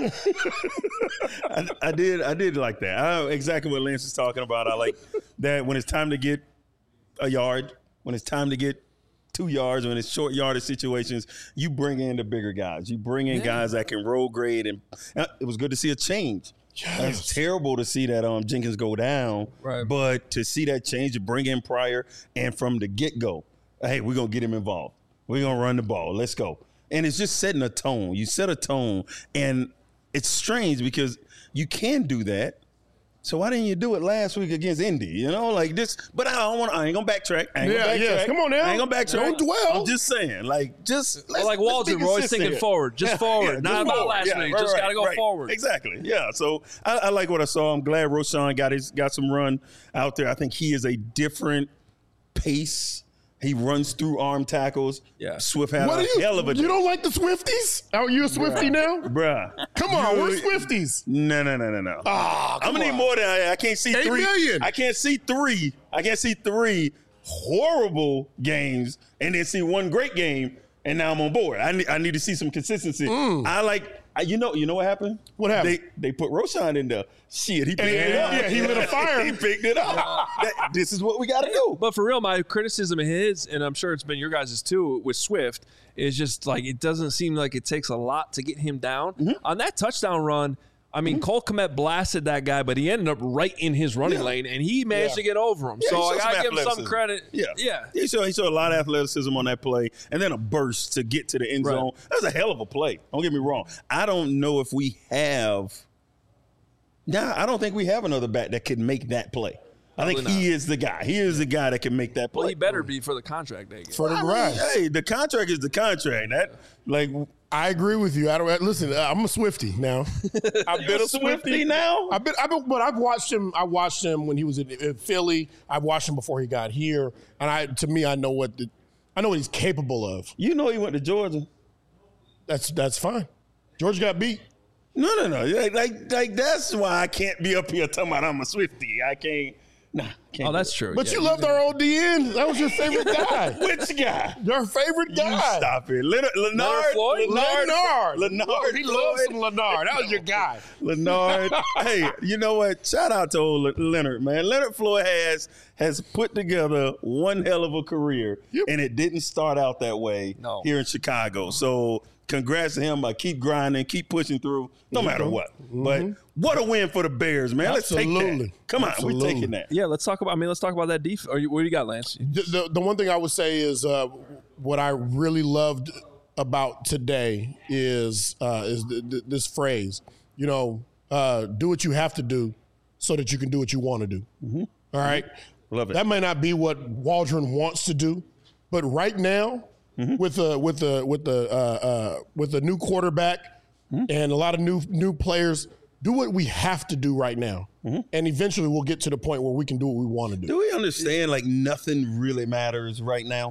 I, I did. I did like that. I, exactly what Lance is talking about. I like that when it's time to get a yard, when it's time to get two yards, when it's short yardage situations, you bring in the bigger guys. You bring in yeah. guys that can roll grade, and uh, it was good to see a change. Yes. It's terrible to see that um, Jenkins go down, right. but to see that change, to bring in Pryor, and from the get-go, hey, we're going to get him involved. We're going to run the ball. Let's go. And it's just setting a tone. You set a tone, and it's strange because you can do that. So why didn't you do it last week against Indy? You know, like this. But I don't want. I ain't gonna backtrack. I ain't yeah, gonna backtrack. Yes. Come on now. I ain't gonna backtrack. Don't dwell. I'm just saying, like, just well, like Waldron, we're always thinking forward, just forward, yeah, not just about forward. last yeah, week. Right, just right, gotta go right. forward. Exactly. Yeah. So I, I like what I saw. I'm glad Roschon got his got some run out there. I think he is a different pace. He runs through arm tackles. Yeah. Swift had what a you, hell of a You don't like the Swifties? Are you a Swiftie Bruh. now? Bruh. Come on, you, we're Swifties. No, no, no, no, no. Oh, I'm gonna need more than I, I can't see Eight three. million. I can't see three. I can't see three horrible games and then see one great game, and now I'm on board. I need, I need to see some consistency. Mm. I like, I, you know, you know what happened? What happened? They they put Roschon in there. Shit, he picked yeah, it up. Yeah, he lit a fire. He picked it up. That, this is what we got to do. But for real, my criticism of his, and I'm sure it's been your guys' too, with Swift, is just like it doesn't seem like it takes a lot to get him down. Mm-hmm. On that touchdown run, I mean, mm-hmm. Cole Kmet blasted that guy, but he ended up right in his running yeah. lane, and he managed yeah. to get over him. Yeah, so I got to give him some credit. Yeah. yeah. He showed, he showed a lot of athleticism on that play, and then a burst to get to the end right. zone. That was a hell of a play. Don't get me wrong. I don't know if we have – nah, I don't think we have another back that can make that play. I think he is the guy. He is the guy that can make that play. Well, he better be for the contract they get. For the right. Hey, the contract is the contract. That like I agree with you. I don't listen. I'm a Swiftie now. I've been a Swiftie now. I've been, I've been, but I've watched him. I watched him when he was in, in Philly. I watched him before he got here, and I, to me, I know what the, I know what he's capable of. You know, he went to Georgia. That's that's fine. Georgia got beat. No, no, no. Like, like, like that's why I can't be up here talking about I'm a Swiftie. I can't. Nah, can't oh, that's true. But yeah, you loved our old D N. That was your favorite guy. Which guy? Your favorite guy. You stop it. Leonard, Leonard, Floyd? Leonard, Leonard. Leonard. He loves some Leonard. That was your guy. Leonard. Hey, you know what? Shout out to old Leonard, man. Leonard Floyd has has put together one hell of a career, yep. and it didn't start out that way no. here in Chicago. So congrats to him. I keep grinding, keep pushing through, no mm-hmm. matter what. Mm-hmm. But what a win for the Bears, man. Absolutely. Let's take that. Come on, Absolutely. we're taking that. Yeah, let's talk about. I mean, let's talk about that defense. Or what do you got, Lance? The, the, the one thing I would say is uh, what I really loved about today is uh, is th- th- this phrase. You know, uh, do what you have to do so that you can do what you want to do. Mm-hmm. All right, mm-hmm. Love it. That may not be what Waldron wants to do, but right now, mm-hmm. with a with the with the uh, uh, with a new quarterback mm-hmm. and a lot of new new players. Do what we have to do right now, mm-hmm. and eventually we'll get to the point where we can do what we want to do. Do we understand, like, nothing really matters right now?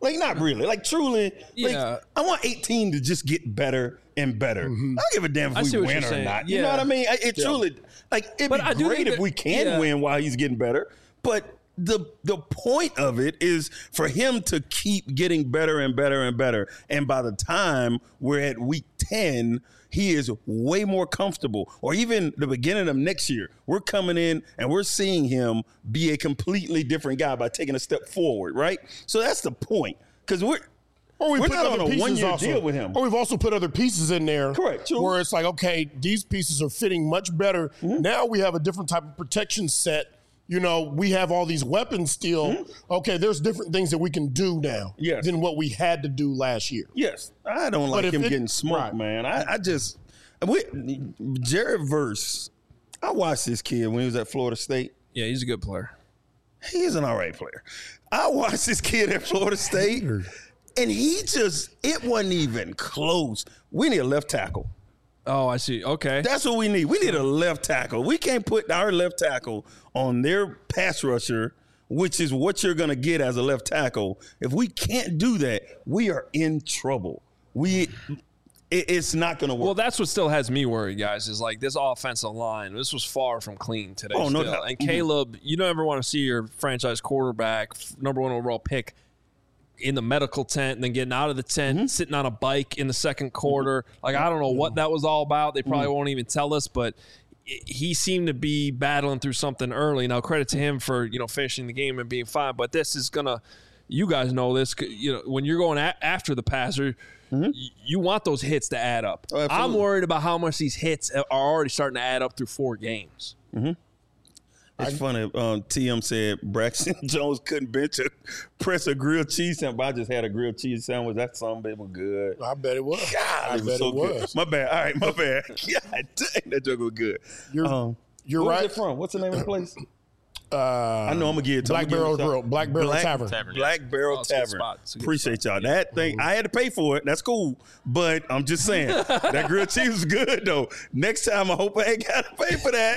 Like, not really. Like, truly, Yeah. like, I want eighteen to just get better and better. Mm-hmm. I don't give a damn I if see we what win you're or saying. not. You Yeah. know what I mean? I- It truly, like, it'd But I be do great think if that- we can yeah. win while he's getting better. But the the point of it is for him to keep getting better and better and better. And by the time we're at week ten, he is way more comfortable. Or even the beginning of next year, we're coming in and we're seeing him be a completely different guy by taking a step forward, right? So that's the point. Because we're Or we we're put not other on a pieces one-year also. deal with him. Or we've also put other pieces in there. Correct, true. Where it's like, okay, these pieces are fitting much better. Mm-hmm. Now we have a different type of protection set. You know, we have all these weapons still. Mm-hmm. Okay, there's different things that we can do now Yes. than what we had to do last year. Yes, I don't like if him it- getting smoked, right. man. I, I just, we, Jared Verse, I watched this kid when he was at Florida State. Yeah, he's a good player. He's an all right player. I watched this kid at Florida State, and he just, it wasn't even close. We need a left tackle. Oh, I see. Okay. That's what we need. We need a left tackle. We can't put our left tackle on their pass rusher, which is what you're going to get as a left tackle. If we can't do that, we are in trouble. We, it, it's not going to work. Well, that's what still has me worried, guys, is like this offensive line. This was far from clean today. Oh, no still. doubt. And Caleb, you don't ever want to see your franchise quarterback, number one overall pick, in the medical tent and then getting out of the tent, Mm-hmm. sitting on a bike in the second quarter. Like, I don't know what that was all about. They probably Mm-hmm. won't even tell us, but i- he seemed to be battling through something early. Now, credit to him for, you know, finishing the game and being fine, but this is going to, you guys know this, you know, when you're going a- after the passer, y- you want those hits to add up. Mm-hmm. Oh, I'm absolutely. worried about how much these hits are already starting to add up through four games. It's funny. Um, T M said Braxton Jones couldn't bench a press a grilled cheese sandwich. But I just had a grilled cheese sandwich. That something was good. I bet it was. God, I it was bet so it good. was. My bad. All right, my bad. God dang, that joke was good. You're, Um, you're where's right. it from? What's the name of the place? Uh, I know I'm gonna get it. Black I'm gonna Barrel give it a Grill, shout. Black Barrel Black Tavern. Tavern. Black Barrel Oh, it's a good Tavern. spot. It's a good Appreciate spot. y'all. That thing, I had to pay for it. That's cool. But I'm just saying, that grilled cheese was good though. Next time, I hope I ain't got to pay for that.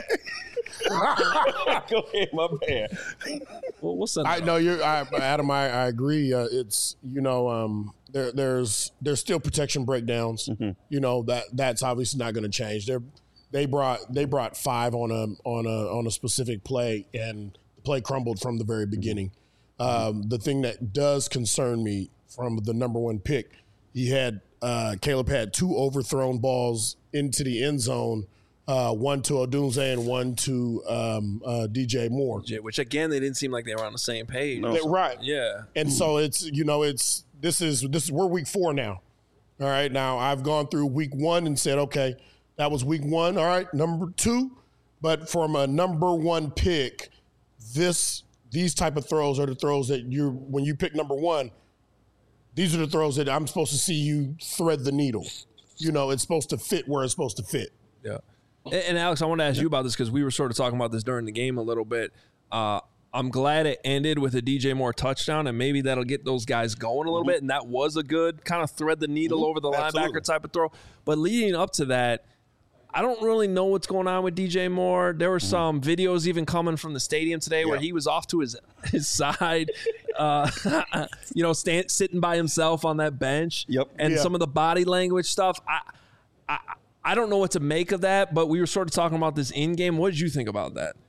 Go ahead, my bad. Well, what's that? I know you're, I, Adam. I, I agree. Uh, it's you know, um, there, there's there's still protection breakdowns. Mm-hmm. You know that that's obviously not going to change. They they brought they brought five on a on a on a specific play, and the play crumbled from the very beginning. Um, the thing that does concern me from the number one pick, he had uh, Caleb had two overthrown balls into the end zone. Uh, one to Odunze and one to um, uh, D J Moore. Which, again, they didn't seem like they were on the same page. They- right. Yeah. And so it's you know it's this is this is we're week four now. All right, now I've gone through week one and said, okay, that was week one. All right, number two, but from a number one pick, this these type of throws are the throws that you when you pick number one. These are the throws that I'm supposed to see you thread the needle. You know, it's supposed to fit where it's supposed to fit. Yeah. And, and Alex, I want to ask you about this because we were sort of talking about this during the game a little bit. Uh, I'm glad it ended with a D J Moore touchdown, and maybe that'll get those guys going a little bit. And that was a good kind of thread the needle over the Absolutely. linebacker type of throw. But leading up to that, I don't really know what's going on with D J Moore. There were some videos even coming from the stadium today where Yeah. he was off to his his side, uh, you know, stand, sitting by himself on that bench. Yep. And Yeah. some of the body language stuff. I, I I don't know what to make of that, but we were sort of talking about this in game. What did you think about that?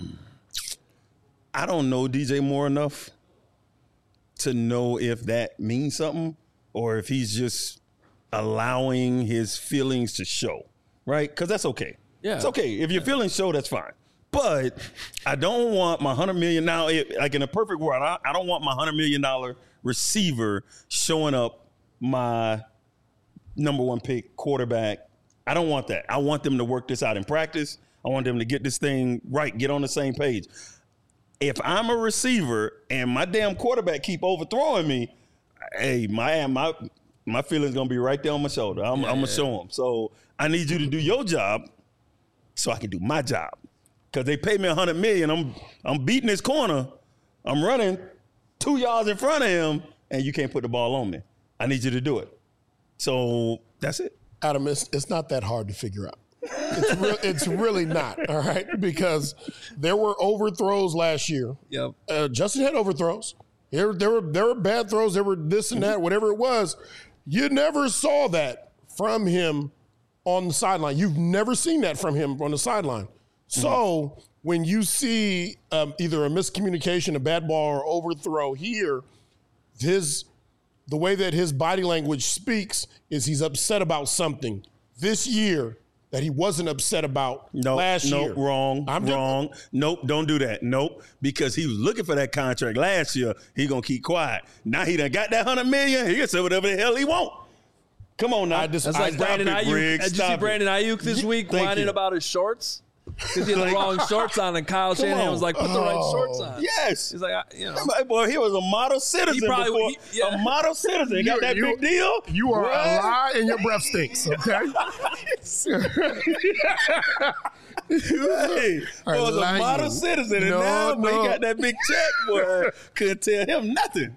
I don't know D J Moore enough to know if that means something or if he's just allowing his feelings to show, right? Because that's okay. Yeah. It's okay. If your feelings show, that's fine. But I don't want my hundred million now. It, like in a perfect world, I, I don't want my hundred million dollar receiver showing up my number one pick quarterback. I don't want that. I want them to work this out in practice. I want them to get this thing right, get on the same page. If I'm a receiver and my damn quarterback keep overthrowing me, hey, my my my feelings gonna be right there on my shoulder. I'm, I'm gonna show them. So I need you to do your job, so I can do my job. Cause they pay me a hundred million. I'm I'm beating this corner. I'm running two yards in front of him, and you can't put the ball on me. I need you to do it. So that's it. Adam, it's, it's not that hard to figure out. It's, re- it's really not, all right? Because there were overthrows last year. Yep. Uh, Justin had overthrows. There, there were there were bad throws. There were this and that, whatever it was. You never saw that from him on the sideline. You've never seen that from him on the sideline. Mm-hmm. So when you see um, either a miscommunication, a bad ball, or overthrow here, his the way that his body language speaks is he's upset about something this year that he wasn't upset about nope, last nope, year. Wrong, I'm wrong. Just, nope, don't do that. Nope, because he was looking for that contract last year. He gonna keep quiet. Now he done got that hundred million. He can say whatever the hell he want. Come on now. That's like Brandon Ayuk. Did you see Brandon Ayuk this week whining about his shorts? Because he had the wrong shorts on, and Kyle Shanahan was like, "Put the right shorts on." Yes, he's like, I, you know, my boy, he was a model citizen. He probably before, he, yeah. a model citizen. He got that you, big deal. You are what? a lie, and your breath stinks. Okay. Hey, boy was a model you. citizen, and no, now no. Boy, he got that big check. Boy, couldn't tell him nothing.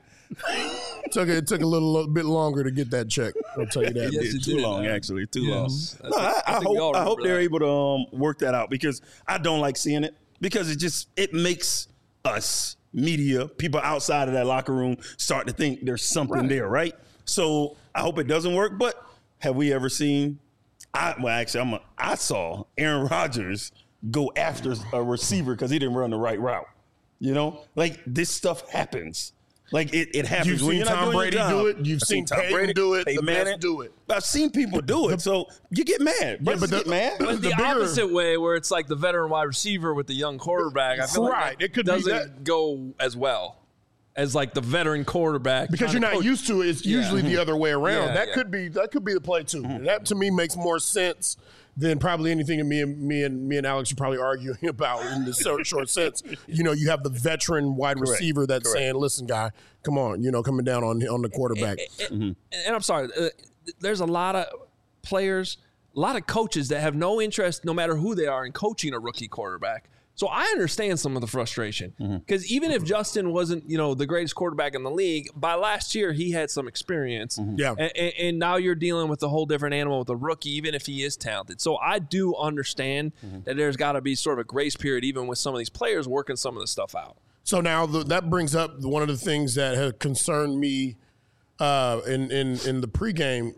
took it, it took a little, little bit longer to get that check. I'll tell you that. Yes, it too did, long, man. actually, too yes. long. No, I, I, I hope I hope they're that. able to um, work that out because I don't like seeing it because it just it makes us media people outside of that locker room start to think there's something right. there, right? So I hope it doesn't work. But have we ever seen? I well, actually, I'm a, I saw Aaron Rodgers go after a receiver because he didn't run the right route. You know, like this stuff happens. Like it, it happens. You've when seen you're Tom not Brady do it. You've I've seen Tom Peyton Brady do it. Peyton The Manning best do it. I've seen people do it. So you get mad. Yeah, but the, get mad. But the, the bigger, opposite way, where it's like the veteran wide receiver with the young quarterback, I feel right. like that it could doesn't be that. go as well as like the veteran quarterback because you're not coach. used to it. It's usually yeah. the other way around. Yeah, that yeah. could be that could be the play too. Mm-hmm. That to me makes more sense than probably anything that me and me and me and Alex are probably arguing about in the short, short sense. You know, you have the veteran wide Correct. receiver that's Correct. saying, "Listen, guy, come on," you know, coming down on on the quarterback. And, and, mm-hmm. and I'm sorry, uh, there's a lot of players, a lot of coaches that have no interest, no matter who they are, in coaching a rookie quarterback. So I understand some of the frustration because mm-hmm. even if Justin wasn't, you know, the greatest quarterback in the league, by last year he had some experience. Mm-hmm. Yeah, and, and now you're dealing with a whole different animal with a rookie, even if he is talented. So I do understand mm-hmm. that there's got to be sort of a grace period, even with some of these players working some of the stuff out. So now the, that brings up one of the things that has concerned me uh, in in in the pregame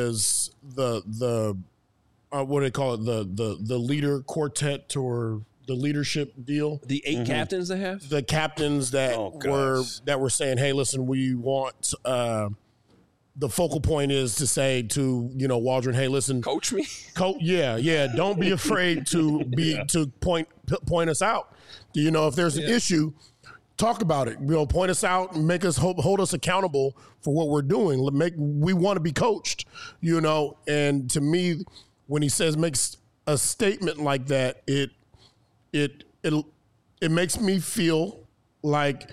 is the the uh, what do they call it the the the leader quartet or the leadership deal. The eight mm-hmm. captains they have? The captains that oh, were that were saying, hey, listen, we want uh, the focal point is to say to, you know, Waldron, hey, listen. Coach me? Co- yeah, yeah. Don't be afraid to be yeah. to point point us out. You know, if there's an yeah. issue, talk about it. You know, point us out and make us hold, hold us accountable for what we're doing. Make we want to be coached, you know. And to me, when he says makes a statement like that, it It it it makes me feel like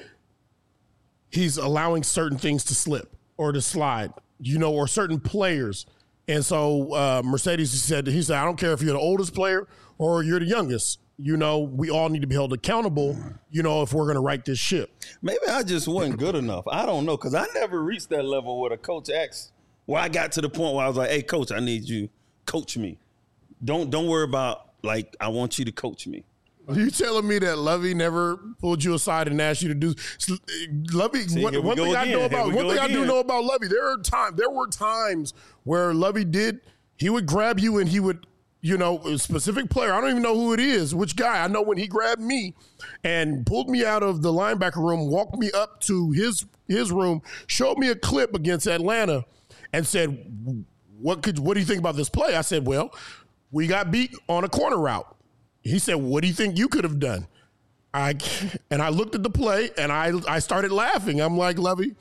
he's allowing certain things to slip or to slide, you know, or certain players. And so uh, Mercedes said, he said, I don't care if you're the oldest player or you're the youngest. You know, we all need to be held accountable, you know, if we're going to right this ship. Maybe I just wasn't good enough. I don't know, because I never reached that level where a coach asked. Well, I got to the point where I was like, hey, coach, I need you. Coach me. Don't don't worry about, like, I want you to coach me. Are you telling me that Lovey never pulled you aside and asked you to do? Lovey, See, one, one thing again. I know about one thing again. I do know about Lovey, there are time. There were times where Lovey did. He would grab you and he would, you know, a specific player. I don't even know who it is, which guy. I know when he grabbed me and pulled me out of the linebacker room, walked me up to his his room, showed me a clip against Atlanta, and said, "What could? What do you think about this play?" I said, "Well, we got beat on a corner route." He said, what do you think you could have done? I And I looked at the play, and I I started laughing. I'm like, Lovey,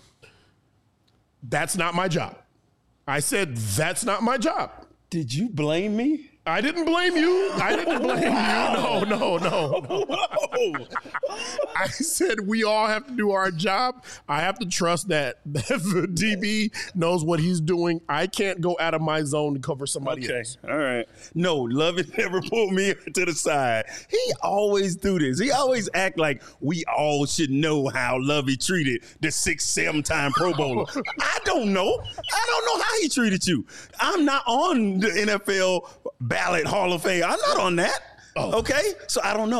that's not my job. I said, that's not my job. Did you blame me? I didn't blame you. I didn't blame wow. you. No, no, no. no. I said we all have to do our job. I have to trust that the D B knows what he's doing. I can't go out of my zone to cover somebody okay. else. All right. No, Lovey never pulled me to the side. He always do this. He always act like we all should know how Lovey treated the six, seven-time Pro Bowler. I don't know. I don't know how he treated you. I'm not on the N F L ballot Hall of Fame. I'm not on that. Oh. Okay? So I don't know.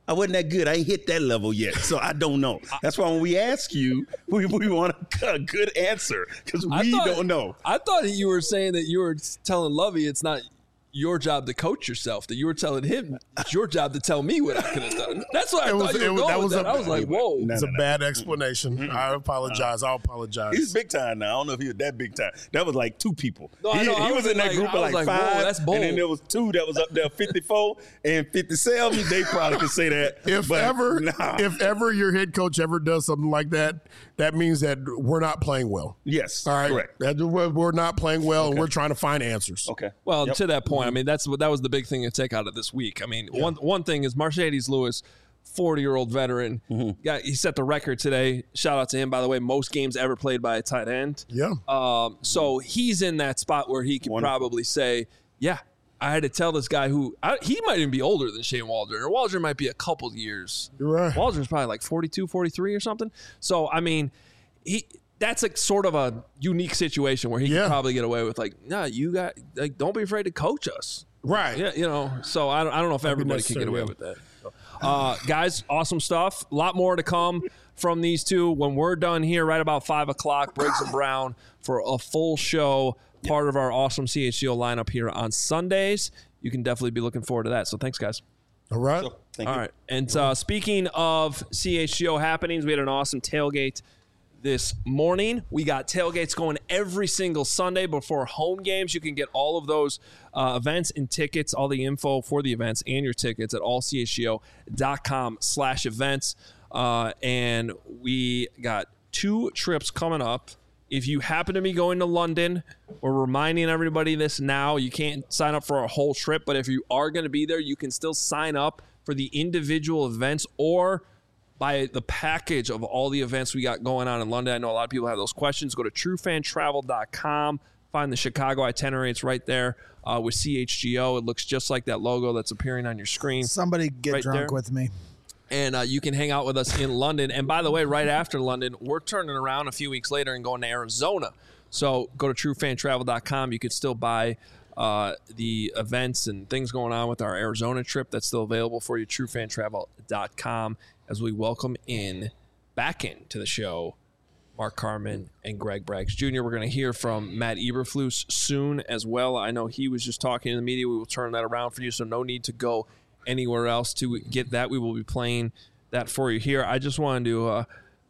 I wasn't that good. I ain't hit that level yet, so I don't know. That's why when we ask you, we, we want a, a good answer because we thought, don't know. I thought you were saying that you were telling Lovey it's not your job to coach yourself, that you were telling him it's your job to tell me what I could have done. That's what I It thought was- you it were was- going that with was that. a- I was like, whoa. No, It's no, a no. bad explanation. Mm-hmm. I apologize. I'll apologize. He's big time now. I don't know if he was that big time. That was like two people. No, I he, know. I he was was in that like- group I of was like, like, whoa, five, that's and then bold. there was two that was up there, fifty-four and fifty-seven. They probably could say that. If but ever, nah. if ever your head coach ever does something like that, that means that we're not playing well. yes, All right, correct. That we're, we're not playing well, and we're trying to find answers. Okay. Well, Yep. to that point, I mean, that's what that was the big thing to take out of this week. I mean, one one thing is Mercedes Lewis, forty-year-old veteran, Mm-hmm. got he set the record today. Shout out to him, by the way, most games ever played by a tight end. Yeah. Um, so he's in that spot where he can Wonderful. probably say, "Yeah, I had to tell this guy who I, he might even be older than Shane Waldron, or Waldron might be a couple years. You're right. Waldron's probably like forty-two, forty-three or something. So I mean, he." That's like sort of a unique situation where he Yeah. can probably get away with like, nah, you got like, don't be afraid to coach us. Right. Yeah, you know, so I don't, I don't know if everybody can get necessary, away yeah. with that. Uh, guys, awesome stuff. A lot more to come from these two. When we're done here, right about five o'clock, Briggs and Brown for a full show, part of our awesome C H G O lineup here on Sundays. You can definitely be looking forward to that. So thanks, guys. All right. Thank All you. right. And uh, speaking of C H G O happenings, we had an awesome tailgate this morning. We got tailgates going every single Sunday before home games. You can get all of those uh, events and tickets, all the info for the events and your tickets at all c h g o dot com slash events. Uh, and we got two trips coming up. If you happen to be going to London, we're reminding everybody this now. You can't sign up for a whole trip, but if you are going to be there, you can still sign up for the individual events or buy the package of all the events we got going on in London. I know a lot of people have those questions. Go to true fan travel dot com. Find the Chicago itinerary. It's right there uh, with C H G O. It looks just like that logo that's appearing on your screen. Somebody get Right drunk there. with me. And uh, you can hang out with us in London. And by the way, right after London, we're turning around a few weeks later and going to Arizona. So go to true fan travel dot com. You can still buy uh, the events and things going on with our Arizona trip. That's still available for you, true fan travel dot com, as we welcome in back into the show Mark Carman and Greg Braggs Junior We're going to hear from Matt Eberflus soon as well. I know he was just talking to the media. We will turn that around for you, so no need to go anywhere else to get that. We will be playing that for you here. I just wanted to uh,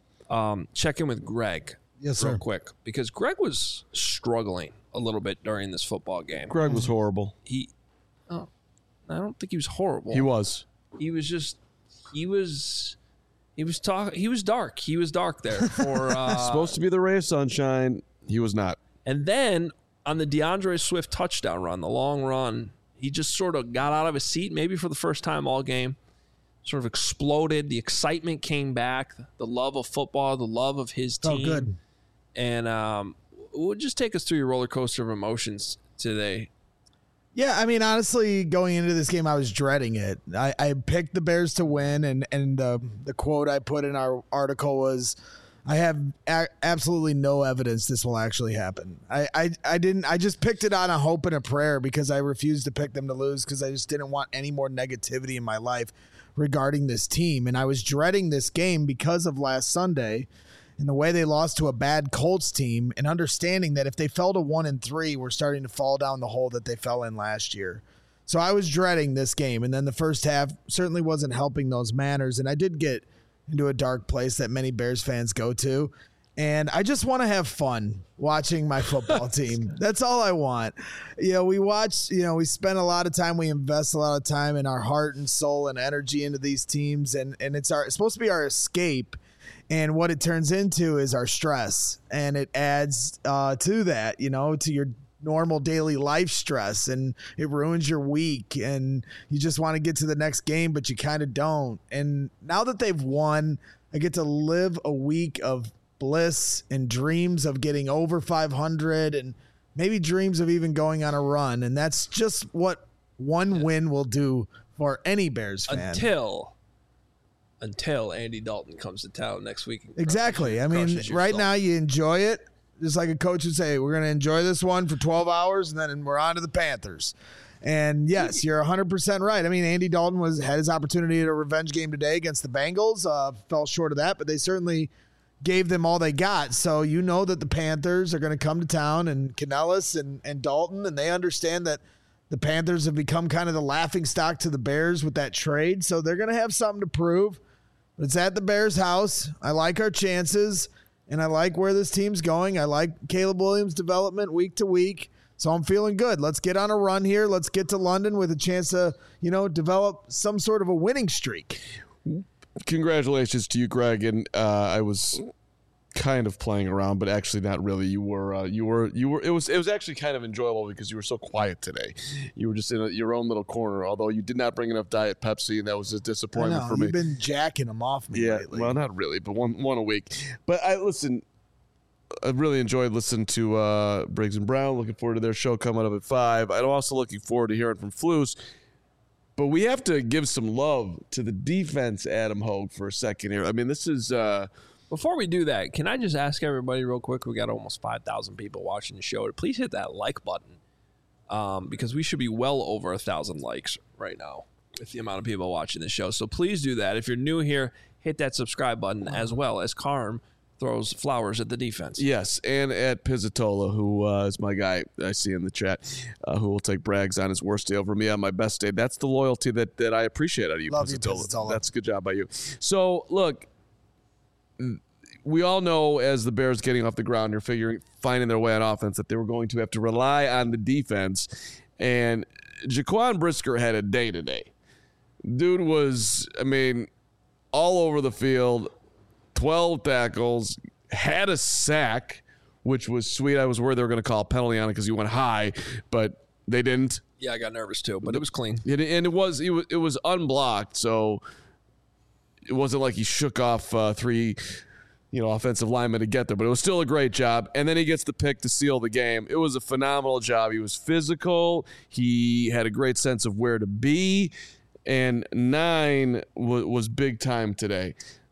um, check in with Greg Yes, real sir. quick because Greg was struggling a little bit during this football game. Greg was horrible. He, oh, I don't think he was horrible. He was. He was just, he was, he was talk. He was dark. He was dark there for. Uh, Supposed to be the ray of sunshine. He was not. And then on the DeAndre Swift touchdown run, the long run, he just sort of got out of his seat, maybe for the first time all game, sort of exploded. The excitement came back, the love of football, the love of his Oh, team. good. And um, would just take us through your roller coaster of emotions today. Yeah, I mean, honestly, going into this game, I was dreading it. I, I picked the Bears to win, and and uh, the quote I put in our article was, "I have a- absolutely no evidence this will actually happen." I, I I didn't. I just picked it on a hope and a prayer because I refused to pick them to lose because I just didn't want any more negativity in my life regarding this team, and I was dreading this game because of last Sunday. And the way they lost to a bad Colts team, and understanding that if they fell to one and three, we're starting to fall down the hole that they fell in last year. So I was dreading this game. And then the first half certainly wasn't helping those manners. And I did get into a dark place that many Bears fans go to. And I just want to have fun watching my football team. That's all I want. You know, we watch, you know, we spend a lot of time, we invest a lot of time in our heart and soul and energy into these teams. And, and it's our, it's supposed to be our escape. And what it turns into is our stress, and it adds uh, to that, you know, to your normal daily life stress, and it ruins your week, and you just want to get to the next game, but you kind of don't. And now that they've won, I get to live a week of bliss and dreams of getting over five hundred and maybe dreams of even going on a run. And that's just what one win will do for any Bears fan. Until until Andy Dalton comes to town next week. and Exactly. crushes- I mean, crushes your right soul. now you enjoy it. Just like a coach would say, we're going to enjoy this one for twelve hours and then we're on to the Panthers. And yes, you're one hundred percent right. I mean, Andy Dalton was had his opportunity at a revenge game today against the Bengals. Uh, fell short of that, but they certainly gave them all they got. So you know that the Panthers are going to come to town, and Canellis and, and Dalton, and they understand that the Panthers have become kind of the laughingstock to the Bears with that trade. So they're going to have something to prove. But it's at the Bears' house. I like our chances, and I like where this team's going. I like Caleb Williams' development week to week. So I'm feeling good. Let's get on a run here. Let's get to London with a chance to, you know, develop some sort of a winning streak. Congratulations to you, Greg. And uh, I was kind of playing around, but actually not really. You were, uh, you were, you were. It was, it was actually kind of enjoyable because you were so quiet today. You were just in a, your own little corner. Although you did not bring enough Diet Pepsi, and that was a disappointment I know, for me. You've been jacking them off me yeah, lately. well, not really, but one one a week. But I listen. I really enjoyed listening to uh, Briggs and Brown. Looking forward to their show coming up at five. I'm also looking forward to hearing from Flus. But we have to give some love to the defense, Adam Hogue, for a second here. I mean, this is uh, Before we do that, can I just ask everybody real quick? We got almost five thousand people watching the show. Please hit that like button um, because we should be well over one thousand likes right now with the amount of people watching the show. So please do that. If you're new here, hit that subscribe button as well as Carm throws flowers at the defense. Yes, and at Pizzatola, who uh, is my guy I see in the chat, uh, who will take brags on his worst day over me on my best day. That's the loyalty that, that I appreciate out of you, Love Pizzatola. you, Pizzatola. That's a good job by you. So, look, we all know as the Bears getting off the ground, you're figuring, finding their way on offense, that they were going to have to rely on the defense. And Jaquan Brisker had a day today. Dude was, I mean, all over the field, twelve tackles, had a sack, which was sweet. I was worried they were going to call a penalty on it because he went high, but they didn't. Yeah, I got nervous too, but it was clean. It, and it was, it was it was unblocked, so it wasn't like he shook off uh, three, you know, offensive linemen to get there. But it was still a great job. And then he gets the pick to seal the game. It was a phenomenal job. He was physical. He had a great sense of where to be, and nine w- was big time today.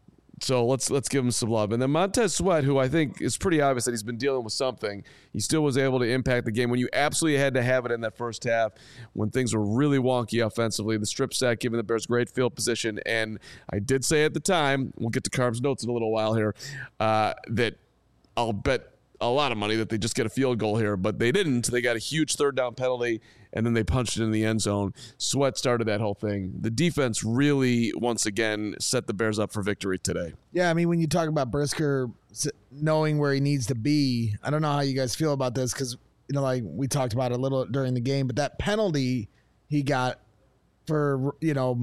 So let's let's give him some love. And then Montez Sweat, who I think is pretty obvious that he's been dealing with something, he still was able to impact the game when you absolutely had to have it in that first half, when things were really wonky offensively. The strip sack giving the Bears great field position. And I did say at the time, we'll get to Carm's notes in a little while here, uh, that I'll bet a lot of money that they just get a field goal here, but they didn't. They got a huge third down penalty, and then they punched it in the end zone. Sweat started that whole thing. The defense really, once again, set the Bears up for victory today. Yeah, I mean, when you talk about Brisker knowing where he needs to be, I don't know how you guys feel about this because, you know, like we talked about it a little during the game, but that penalty he got for, you know,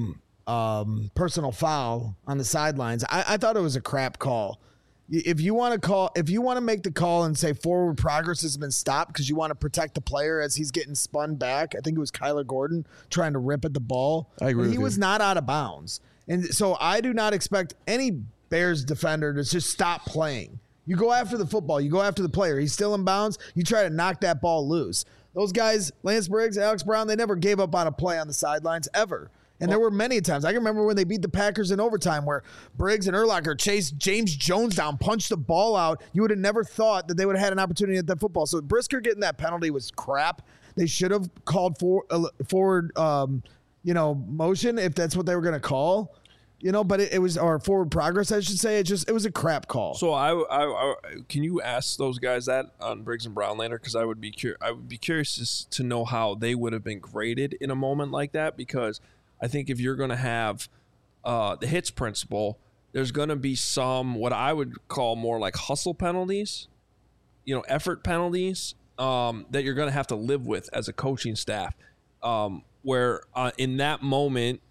um, personal foul on the sidelines, I, I thought it was a crap call. If you want to call, if you want to make the call and say forward progress has been stopped because you want to protect the player as he's getting spun back, I think it was Kyler Gordon trying to rip at the ball. I agree He with you. was not out of bounds. And so I do not expect any Bears defender to just stop playing. You go after the football. You go after the player. He's still in bounds. You try to knock that ball loose. Those guys, Lance Briggs, Alex Brown, they never gave up on a play on the sidelines ever. And there were many times. I can remember when they beat the Packers in overtime where Briggs and Urlacher chased James Jones down, punched the ball out. You would have never thought that they would have had an opportunity at that football. So Brisker getting that penalty was crap. They should have called for, uh, forward, um, you know, motion if that's what they were going to call. You know, but it, it was, or forward progress, I should say. It just, it was a crap call. So I, I, I can you ask those guys that on Briggs and Brown later? Because I would be cur- I would be curious to know how they would have been graded in a moment like that. Because I think if you're going to have uh, the hits principle, there's going to be some what I would call more like hustle penalties, you know, effort penalties um, that you're going to have to live with as a coaching staff. Um, where uh, in that moment,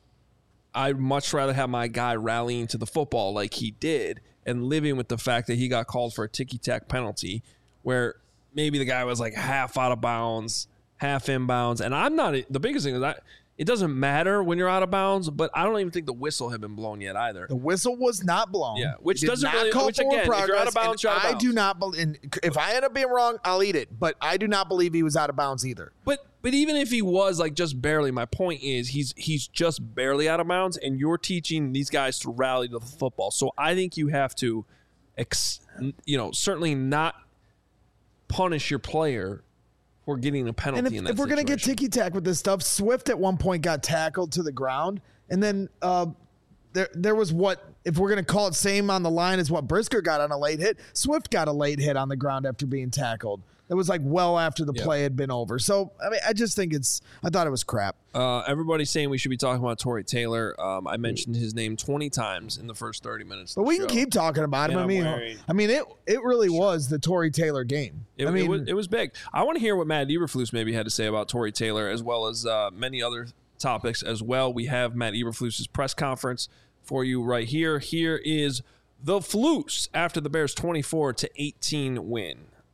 I'd much rather have my guy rallying to the football like he did and living with the fact that he got called for a ticky-tack penalty where maybe the guy was like half out of bounds, half inbounds. And I'm not – the biggest thing is that it doesn't matter when you're out of bounds, but I don't even think the whistle had been blown yet either. The whistle was not blown. Yeah, which It did doesn't not really- call which, forward again, if you're out progress, of bounds, and you're out of I bounds. do not believe. If I end up being wrong, I'll eat it. But I do not believe he was out of bounds either. But but even if he was like just barely, my point is he's he's just barely out of bounds, and you're teaching these guys to rally to the football. So I think you have to, ex, you know, certainly not punish your player for getting a penalty And if, in that if we're going to get situation. ticky-tack with this stuff, Swift at one point got tackled to the ground. And then uh, there there was what, if we're going to call it same on the line as what Brisker got on a late hit, Swift got a late hit on the ground after being tackled. It was like well after the Yeah. play had been over. So, I mean, I just think it's, I thought it was crap. Uh, everybody's saying we should be talking about Torrey Taylor. Um, I mentioned his name twenty times in the first thirty minutes. But of the we can show. keep talking about him. And I I'm mean, wearing- I mean, it it really was the Torrey Taylor game. It, I mean, it, was, it was big. I want to hear what Matt Eberflus maybe had to say about Torrey Taylor, as well as uh, many other topics as well. We have Matt Eberflus's press conference for you right here. Here is the Flus after the Bears' twenty-four to eighteen win.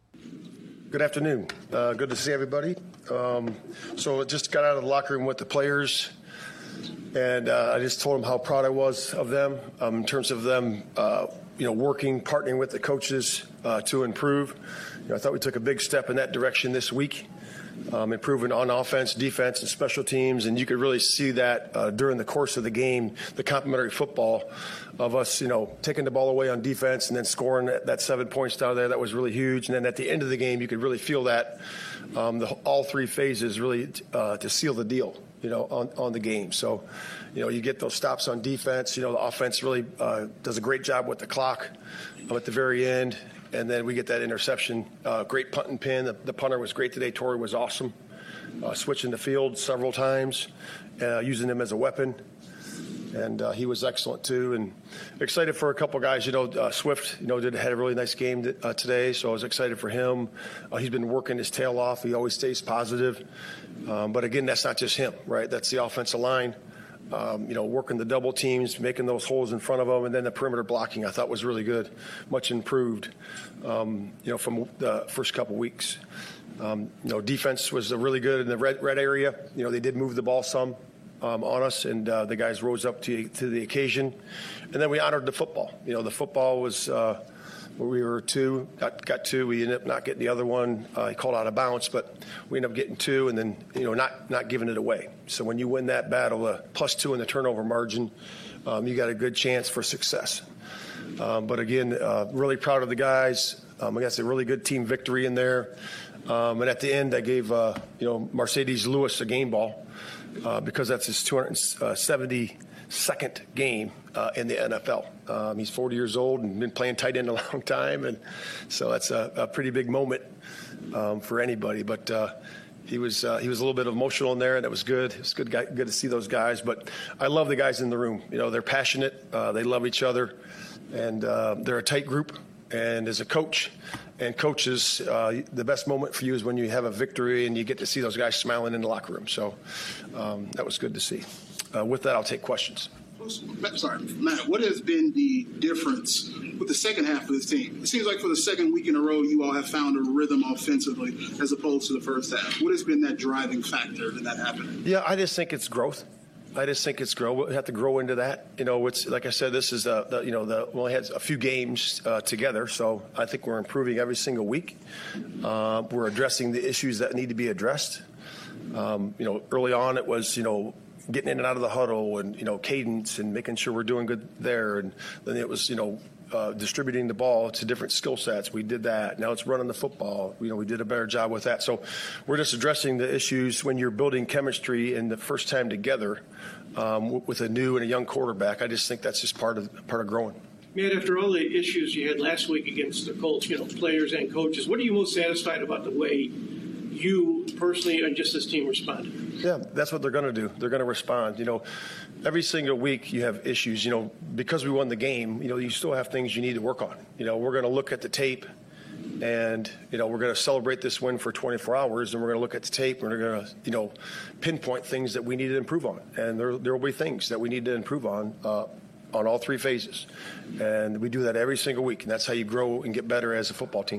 Good afternoon. Uh, good to see everybody. Um, so I just got out of the locker room with the players, and uh, I just told them how proud I was of them um, in terms of them, uh, you know, working, partnering with the coaches uh, to improve. You know, I thought we took a big step in that direction this week, um, improving on offense, defense, and special teams, and you could really see that uh, during the course of the game, the complementary football of us, you know, taking the ball away on defense and then scoring that, that seven points down there. That was really huge. And then at the end of the game, you could really feel that um, the, all three phases really uh, to seal the deal, you know, on, on the game. So, you know, you get those stops on defense. You know, the offense really uh, does a great job with the clock um, at the very end. And then we get that interception. Uh, great punt and pin. The, the punter was great today. Torrey was awesome. Uh, switching the field several times, uh, using him as a weapon. And uh, he was excellent too, and excited for a couple guys. You know, uh, Swift, you know, did had a really nice game th- uh, today, so I was excited for him. Uh, he's been working his tail off. He always stays positive, um, but again, that's not just him, right? That's the offensive line. Um, you know, working the double teams, making those holes in front of them, and then the perimeter blocking I thought was really good, much improved. Um, you know, from the first couple weeks. Um, you know, defense was uh, really good in the red red area. You know, they did move the ball some. Um, on us, and uh, the guys rose up to to the occasion, and then we honored the football. You know, the football was uh, where we were two, got got two. We ended up not getting the other one. Uh, he called out of bounds, but we ended up getting two, and then you know not not giving it away. So when you win that battle, uh, plus two in the turnover margin, um, you got a good chance for success. Um, but again, uh, really proud of the guys. Um, I guess a really good team victory in there. Um, and at the end, I gave uh, you know Mercedes Lewis a game ball. Uh, because that's his two hundred seventy-second game uh, in the N F L. Um, he's forty years old and been playing tight end a long time, and so that's a, a pretty big moment um, for anybody. But uh, he was uh, he was a little bit emotional in there, and it was good. It was good guy, good to see those guys. But I love the guys in the room. You know, they're passionate. Uh, they love each other, and uh, they're a tight group. And as a coach and coaches, uh, the best moment for you is when you have a victory and you get to see those guys smiling in the locker room. So um, that was good to see. Uh, with that, I'll take questions. Sorry, Matt, what has been the difference with the second half of this team? It seems like for the second week in a row, you all have found a rhythm offensively as opposed to the first half. What has been that driving factor in that happening? Yeah, I just think it's growth. I just think it's grow. We have to grow into that. You know, it's like I said. This is the, the you know the we only had a few games uh, together, so I think we're improving every single week. Uh, we're addressing the issues that need to be addressed. Um, you know, early on it was you know getting in and out of the huddle and you know cadence and making sure we're doing good there, and then it was you know. Uh, distributing the ball to different skill sets. We did that. Now it's running the football. You know, we did a better job with that. So we're just addressing the issues when you're building chemistry and the first time together um, with a new and a young quarterback. I just think that's just part of part of growing. Matt, after all the issues you had last week against the Colts, you know, players and coaches, what are you most satisfied about the way you personally and just this team responded? Yeah, that's what they're going to do. They're going to respond. You know, every single week you have issues. You know, because we won the game, you know, you still have things you need to work on. You know, we're going to look at the tape and, you know, we're going to celebrate this win for twenty-four hours and we're going to look at the tape and we're going to, you know, pinpoint things that we need to improve on. And there, there will be things that we need to improve on uh, on all three phases. And we do that every single week. And that's how you grow and get better as a football team.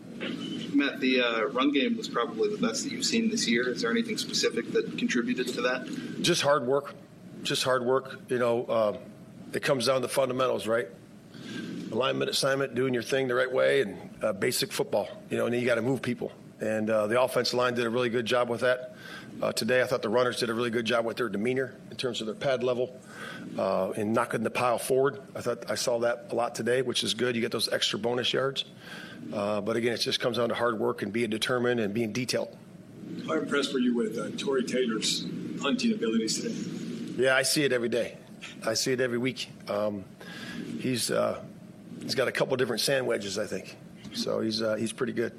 Matt, the uh, run game was probably the best that you've seen this year. Is there anything specific that contributed to that? Just hard work. Just hard work. You know, uh, it comes down to fundamentals, right? Alignment, assignment, doing your thing the right way, and uh, basic football. You know, and then you got to move people. And uh, the offensive line did a really good job with that. Uh, today, I thought the runners did a really good job with their demeanor in terms of their pad level uh, and knocking the pile forward. I thought I saw that a lot today, which is good. You get those extra bonus yards. Uh, but again, it just comes down to hard work and being determined and being detailed. How impressed were you with uh, Tory Taylor's punting abilities today? Yeah, I see it every day. I see it every week. Um, he's uh, he's got a couple different sand wedges, I think. So he's uh, he's pretty good.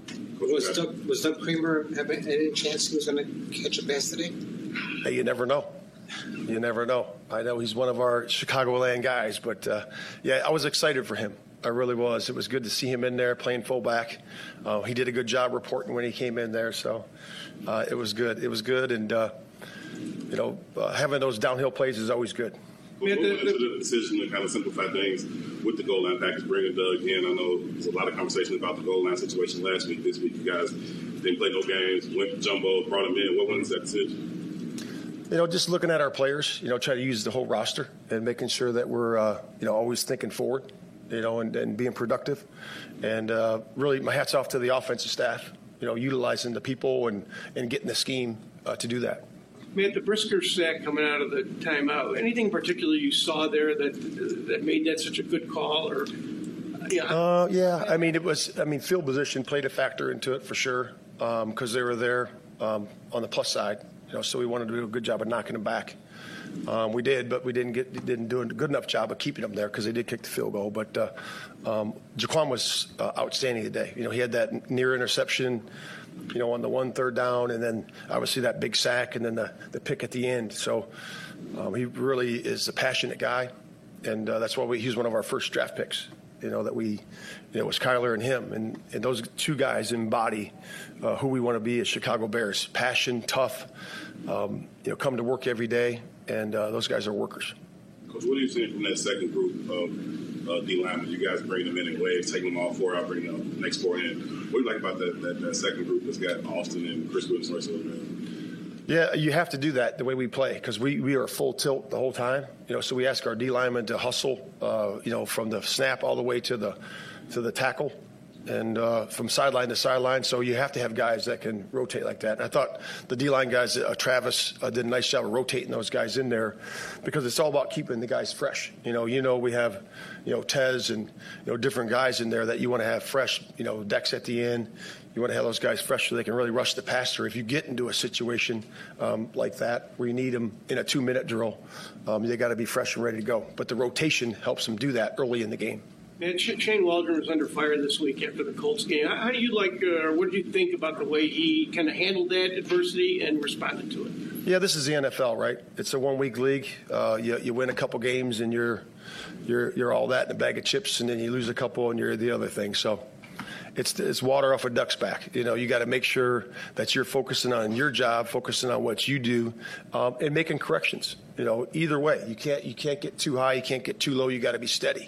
Was Doug, was Doug Kramer having any chance he was going to catch a pass today? Hey, you never know. You never know. I know he's one of our Chicagoland guys, but uh, yeah, I was excited for him. I really was. It was good to see him in there playing fullback. Uh, he did a good job reporting when he came in there, so uh, it was good. It was good, and uh, you know, uh, having those downhill plays is always good. What went into the decision to kind of simplify things with the goal line package, bringing Doug in? I know there's a lot of conversation about the goal line situation last week. This week, you guys didn't play no games, went jumbo, brought him in. What went into that decision? You know, just looking at our players, you know, try to use the whole roster and making sure that we're, uh, you know, always thinking forward, you know, and, and being productive. And uh, really, my hat's off to the offensive staff, you know, utilizing the people and, and getting the scheme uh, to do that. Matt, the Brisker sack coming out of the timeout, anything particular you saw there that that made that such a good call? Or yeah, uh, yeah. I mean, it was. I mean, field position played a factor into it for sure because um, they were there um, on the plus side. You know, so we wanted to do a good job of knocking them back. Um, we did, but we didn't get didn't do a good enough job of keeping them there because they did kick the field goal. But uh, um, Jaquan was uh, outstanding today. You know, he had that near interception, you know, on the one third down, and then obviously that big sack, and then the, the pick at the end. So um, he really is a passionate guy, and uh, that's why we, he's one of our first draft picks. You know, that we, you know, it was Kyler and him, and, and those two guys embody uh, who we want to be as Chicago Bears: passion, tough, um, you know, come to work every day, and uh, those guys are workers. Coach, what are you seeing from that second group of uh, D linemen? You guys bring them in in waves, taking them all four out, bringing the next four in. What do you like about that, that, that second group that's got Austin and Chris Williams right over there? Yeah, you have to do that the way we play because we, we are full tilt the whole time. You know, so we ask our D linemen to hustle, uh, you know, from the snap all the way to the to the tackle, and uh, from sideline to sideline. So you have to have guys that can rotate like that. And I thought the D line guys, uh, Travis, uh, did a nice job of rotating those guys in there because it's all about keeping the guys fresh. You know, you know we have, you know, Tez and you know different guys in there that you want to have fresh. You know, Dex at the end. You want to have those guys fresh so they can really rush the passer. If you get into a situation um, like that where you need them in a two-minute drill, um, they got to be fresh and ready to go. But the rotation helps them do that early in the game. Man, Shane Waldron was under fire this week after the Colts game. How do you like, uh, or what do you think about the way he kind of handled that adversity and responded to it? Yeah, this is the N F L, right? It's a one-week league. Uh, you, you win a couple games and you're you're you're all that in a bag of chips, and then you lose a couple and you're the other thing. So. It's, it's water off a duck's back. You know, you got to make sure that you're focusing on your job, focusing on what you do, um, and making corrections. You know, either way, you can't you can't get too high, you can't get too low. You got to be steady,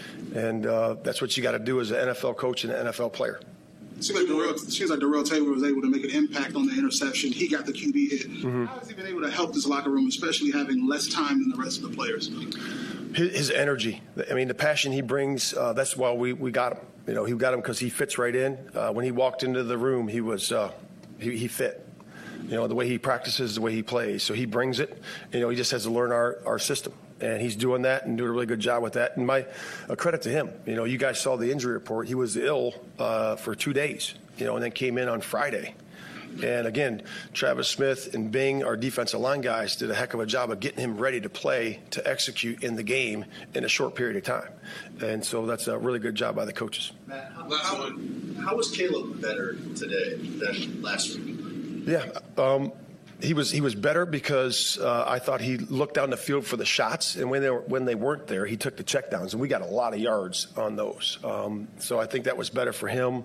and uh, that's what you got to do as an N F L coach and an N F L player. It seems like Darrell, it seems like Darrell Taylor was able to make an impact on the interception. He got the Q B hit. Mm-hmm. How has he been able to help this locker room, especially having less time than the rest of the players? His, his energy. I mean, the passion he brings. Uh, that's why we, we got him. You know, he got him because he fits right in. Uh, when he walked into the room, he was uh, he, he fit. You know, the way he practices, the way he plays. So he brings it. You know, he just has to learn our, our system. And he's doing that and doing a really good job with that. And my uh, credit to him. You know, you guys saw the injury report. He was ill uh, for two days, you know, and then came in on Friday. And again, Travis Smith and Bing, our defensive line guys, did a heck of a job of getting him ready to play, to execute in the game in a short period of time. And so that's a really good job by the coaches. Matt, how, how, how was Caleb better today than last week? Yeah, um, he was he was better because uh, I thought he looked down the field for the shots, and when they were, when they weren't there, he took the checkdowns, and we got a lot of yards on those. Um, so I think that was better for him.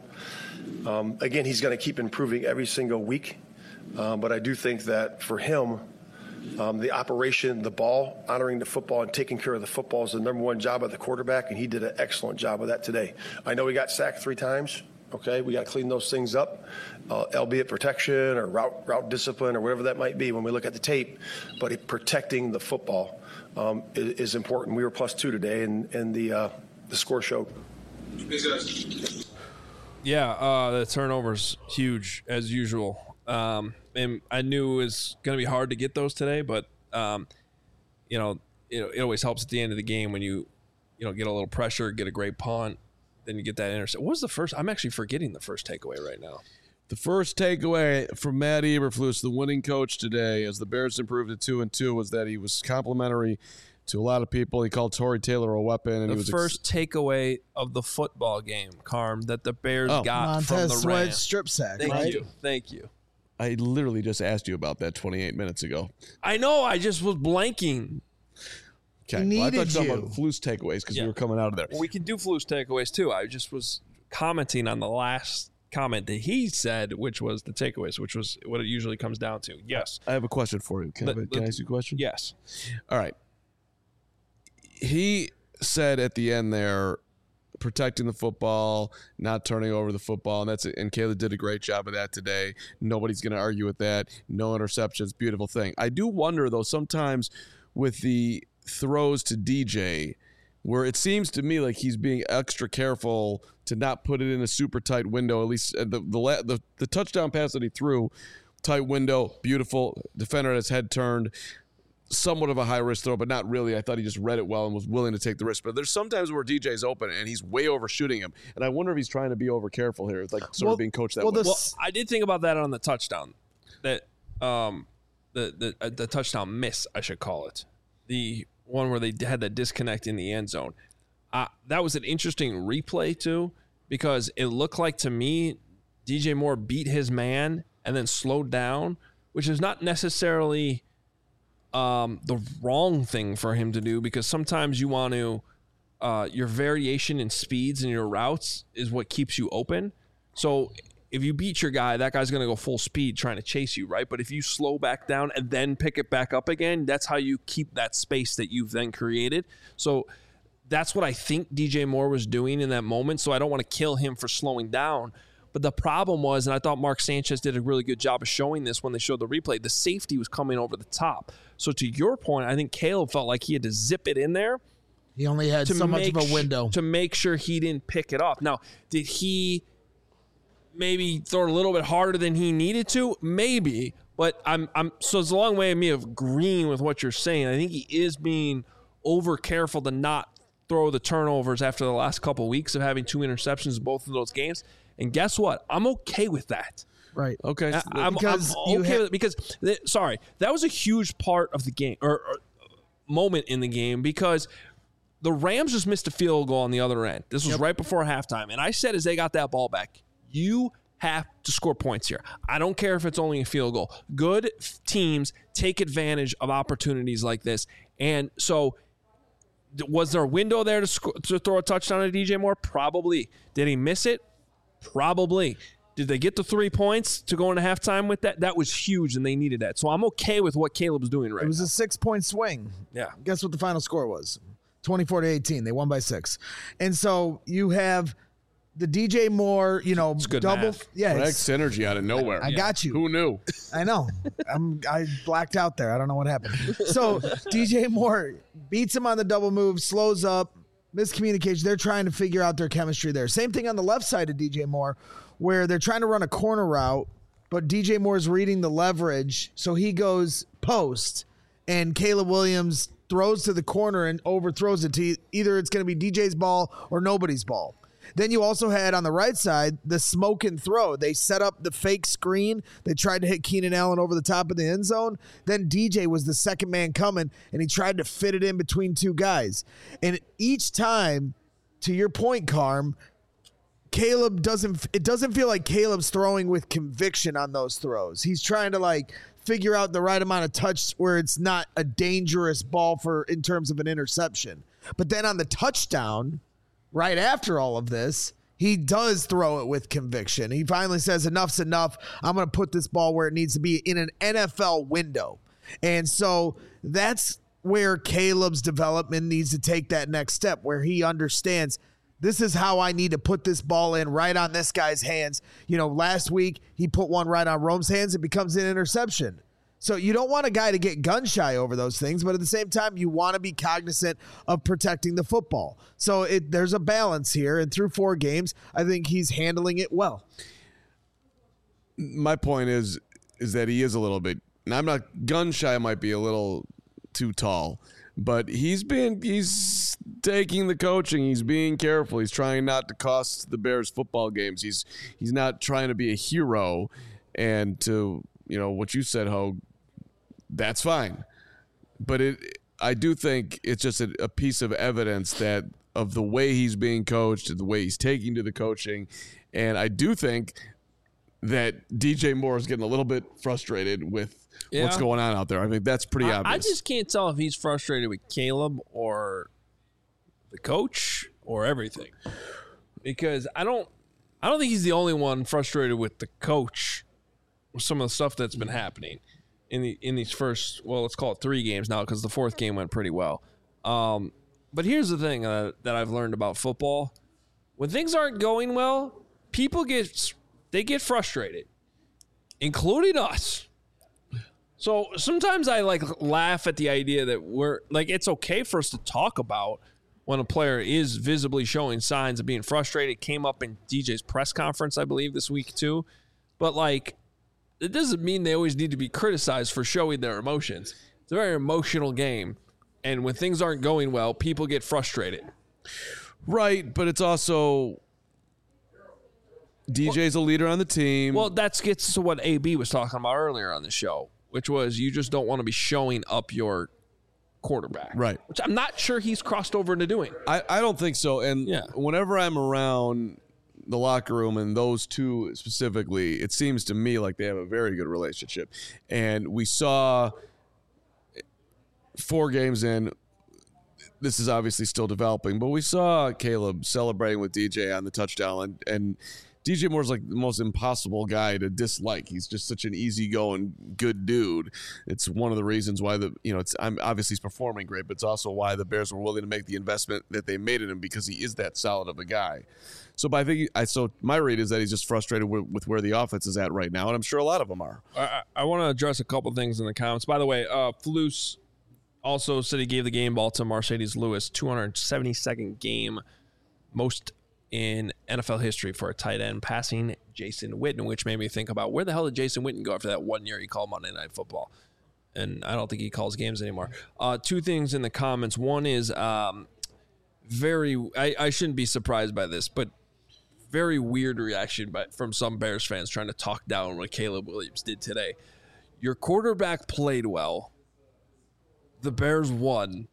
Um, again, he's going to keep improving every single week, um, but I do think that for him, um, the operation, the ball, honoring the football and taking care of the football is the number one job of the quarterback, and he did an excellent job of that today. I know he got sacked three times. Okay, we got to clean those things up, uh, albeit protection or route route discipline or whatever that might be when we look at the tape. But it, protecting the football um, is, is important. We were plus two today, and, and the uh, the score showed. Yeah, uh, the turnover's huge as usual. Um, and I knew it was going to be hard to get those today, but um, you know, it, it always helps at the end of the game when you you know get a little pressure, get a great punt. Then you get that intercept. What was the first? I'm actually forgetting the first takeaway right now. The first takeaway from Matt Eberflus, the winning coach today, as the Bears improved to two and two, was that he was complimentary to a lot of people. He called Tory Taylor a weapon, and the he was first ex- takeaway of the football game, Carm, that the Bears oh. got Montez from the Sweat Rams. strip sack. Thank right? you, thank you. I literally just asked you about that twenty-eight minutes ago. I know. I just was blanking. Okay, He well, I needed thought you were you. talking about Flus takeaways because Yeah. you were coming out of there. Well, we can do Flu's takeaways too. I just was commenting on the last comment that he said, which was the takeaways, which was what it usually comes down to. Yes. I have a question for you. Can, The- I, can the- I ask you a question? Yes. All right. He said at the end there, protecting the football, not turning over the football, and that's and Caleb did a great job of that today. Nobody's going to argue with that. No interceptions, beautiful thing. I do wonder though sometimes with the throws to D J, where it seems to me like he's being extra careful to not put it in a super tight window. At least the the the, the, the touchdown pass that he threw, tight window, beautiful. Defender had his head turned. Somewhat of a high risk throw, but not really. I thought he just read it well and was willing to take the risk. But there's sometimes where D J's open and he's way overshooting him, and I wonder if he's trying to be over careful here. It's like sort Well- of being coached that well, way. the- Well, I did think about that on the touchdown, that um, the the uh, the touchdown miss, I should call it, the one where they had that disconnect in the end zone. Uh, that was an interesting replay too, because it looked like to me D J Moore beat his man and then slowed down, which is not necessarily um, the wrong thing for him to do, because sometimes you want to uh, your variation in speeds and your routes is what keeps you open. So if you beat your guy, that guy's going to go full speed trying to chase you, right? But if you slow back down and then pick it back up again, that's how you keep that space that you've then created. So that's what I think D J Moore was doing in that moment. So I don't want to kill him for slowing down. But the problem was, and I thought Mark Sanchez did a really good job of showing this when they showed the replay, the safety was coming over the top. So to your point, I think Caleb felt like he had to zip it in there. He only had to so much of make a window. sh- to make sure he didn't pick it up. Now, did he maybe throw it a little bit harder than he needed to? Maybe, but I'm I'm so it's a long way of me of agreeing with what you're saying. I think he is being over careful to not throw the turnovers after the last couple of weeks of having two interceptions in both of those games. And guess what? I'm okay with that. Right. Okay. I, I'm, Because I'm you okay ha- with it because th- sorry, that was a huge part of the game or, or moment in the game, because the Rams just missed a field goal on the other end. This was right before halftime, and I said as they got that ball back, you have to score points here. I don't care if it's only a field goal. Good f- teams take advantage of opportunities like this, and so th- was there a window there to sc- to throw a touchdown to D J Moore? Probably. Did he miss it? Probably. Did they get the three points to go into halftime with that? That was huge, and they needed that. So I'm okay with what Caleb's doing right It was now. a six-point swing. Yeah. Guess what the final score was? twenty-four to eighteen. They won by six. And so you have the D J Moore, you know, good double. math. Yeah, Greg it's- synergy out of nowhere. I got you. Who knew? I know. I'm I blacked out there. I don't know what happened. So D J Moore beats him on the double move, slows up, miscommunication. They're trying to figure out their chemistry there. Same thing on the left side of D J Moore, where they're trying to run a corner route, but D J Moore's reading the leverage, so he goes post, and Caleb Williams throws to the corner and overthrows it to either it's going to be D J's ball or nobody's ball. Then you also had on the right side the smoke and throw. They set up the fake screen. They tried to hit Keenan Allen over the top of the end zone. Then D J was the second man coming, and he tried to fit it in between two guys. And each time, to your point, Carm, Caleb doesn't, it doesn't feel like Caleb's throwing with conviction on those throws. He's trying to like figure out the right amount of touch where it's not a dangerous ball for in terms of an interception. But then on the touchdown, right after all of this, he does throw it with conviction. He finally says, enough's enough. I'm going to put this ball where it needs to be in an N F L window. And so that's where Caleb's development needs to take that next step, where he understands this is how I need to put this ball in right on this guy's hands. You know, last week he put one right on Rome's hands. It becomes an interception. So you don't want a guy to get gun shy over those things, but at the same time, you want to be cognizant of protecting the football. So it, there's a balance here, and through four games, I think he's handling it well. My point is, is that he is a little bit. And I'm not gun shy. Might be a little too tall. but he's been he's taking the coaching. He's being careful. He's trying not to cost the Bears football games. He's he's not trying to be a hero. And to, you know, what you said, Ho, that's fine. But it, I do think it's just a, a piece of evidence that of the way he's being coached and the way he's taking to the coaching. And I do think that D J Moore is getting a little bit frustrated with yeah. what's going on out there. I think that's pretty I, obvious. I just can't tell if he's frustrated with Caleb or the coach or everything, because I don't, I don't think he's the only one frustrated with the coach with some of the stuff that's been happening in the in these first, well, let's call it three games now, because the fourth game went pretty well. Um, but here's the thing uh, that I've learned about football: when things aren't going well, people get they get frustrated, including us. So sometimes I like laugh at the idea that we're like, it's okay for us to talk about when a player is visibly showing signs of being frustrated. It came up in D J's press conference, I believe, this week too. But like, it doesn't mean they always need to be criticized for showing their emotions. It's a very emotional game. And when things aren't going well, people get frustrated. Right, but it's also D J's a leader on the team. Well, that gets to what A B was talking about earlier on the show, which was you just don't want to be showing up your quarterback. Right. Which I'm not sure he's crossed over into doing. I, I don't think so. And yeah. whenever I'm around the locker room and those two specifically, it seems to me like they have a very good relationship. And we saw four games in, this is obviously still developing, but we saw Caleb celebrating with D J on the touchdown, and, and D J Moore's like the most impossible guy to dislike. He's just such an easygoing, good dude. It's one of the reasons why the you know it's I'm obviously he's performing great, but it's also why the Bears were willing to make the investment that they made in him, because he is that solid of a guy. So, but I think I so my read is that he's just frustrated with, with where the offense is at right now, and I'm sure a lot of them are. I, I want to address a couple things in the comments. By the way, uh, Flus also said he gave the game ball to Mercedes Lewis, two hundred seventy-second game, most in N F L history for a tight end, passing Jason Witten, which made me think about where the hell did Jason Witten go after that one year he called Monday Night Football? And I don't think he calls games anymore. Uh, two things in the comments. One is um, very, I, I shouldn't be surprised by this, but very weird reaction by, from some Bears fans trying to talk down what Caleb Williams did today. Your quarterback played well. The Bears won.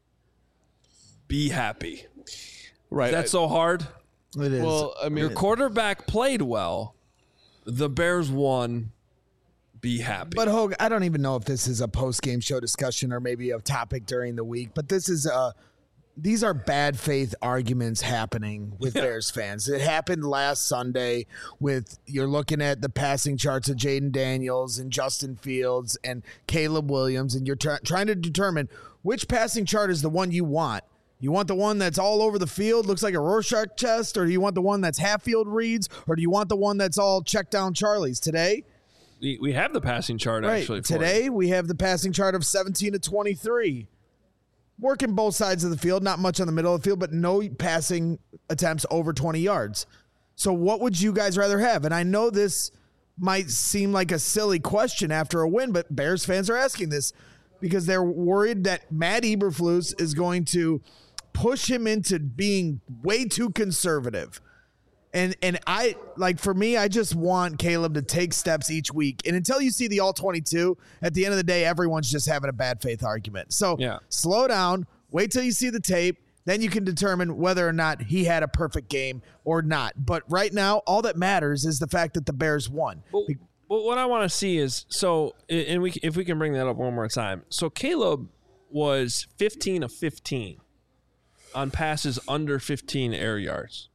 Be happy. Right. Is that I, so hard? It is. Well, I mean, your quarterback played well. The Bears won. Be happy. But Hogue, I don't even know if this is a post-game show discussion or maybe a topic during the week, but this is a these are bad faith arguments happening with yeah. Bears fans. It happened last Sunday with you're looking at the passing charts of Jaden Daniels and Justin Fields and Caleb Williams, and you're try- trying to determine which passing chart is the one you want. You want the one that's all over the field, looks like a Rorschach test, or do you want the one that's half field reads, or do you want the one that's all check down Charlies? Today, we, we have the passing chart right. actually. For Today, you. we have the passing chart of seventeen to twenty-three. Working both sides of the field, not much on the middle of the field, but no passing attempts over twenty yards. So what would you guys rather have? And I know this might seem like a silly question after a win, but Bears fans are asking this because they're worried that Matt Eberflus is going to push him into being way too conservative. And and I, like, for me, I just want Caleb to take steps each week. And until you see the all twenty-two, at the end of the day, everyone's just having a bad faith argument. So yeah. slow down, wait till you see the tape. Then you can determine whether or not he had a perfect game or not. But right now, all that matters is the fact that the Bears won. Well, well what I want to see is, so, and we if we can bring that up one more time. So Caleb was fifteen of fifteen on passes under fifteen air yards.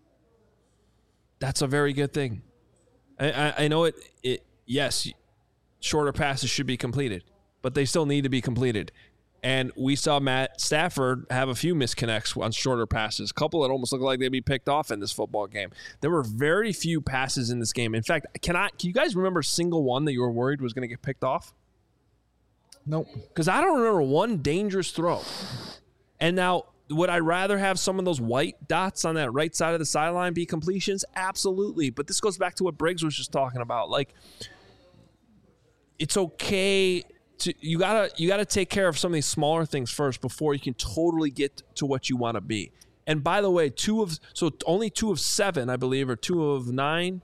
That's a very good thing. I, I, I know it, it. Yes, shorter passes should be completed, but they still need to be completed. And we saw Matt Stafford have a few misconnects on shorter passes, a couple that almost looked like they'd be picked off in this football game. There were very few passes in this game. In fact, can I? Can you guys remember a single one that you were worried was going to get picked off? Nope. Because I don't remember one dangerous throw. And now, would I rather have some of those white dots on that right side of the sideline be completions? Absolutely. But this goes back to what Briggs was just talking about. Like, it's okay to, you gotta you gotta take care of some of these smaller things first before you can totally get to what you want to be. And by the way, two of so only two of seven, I believe, or two of nine,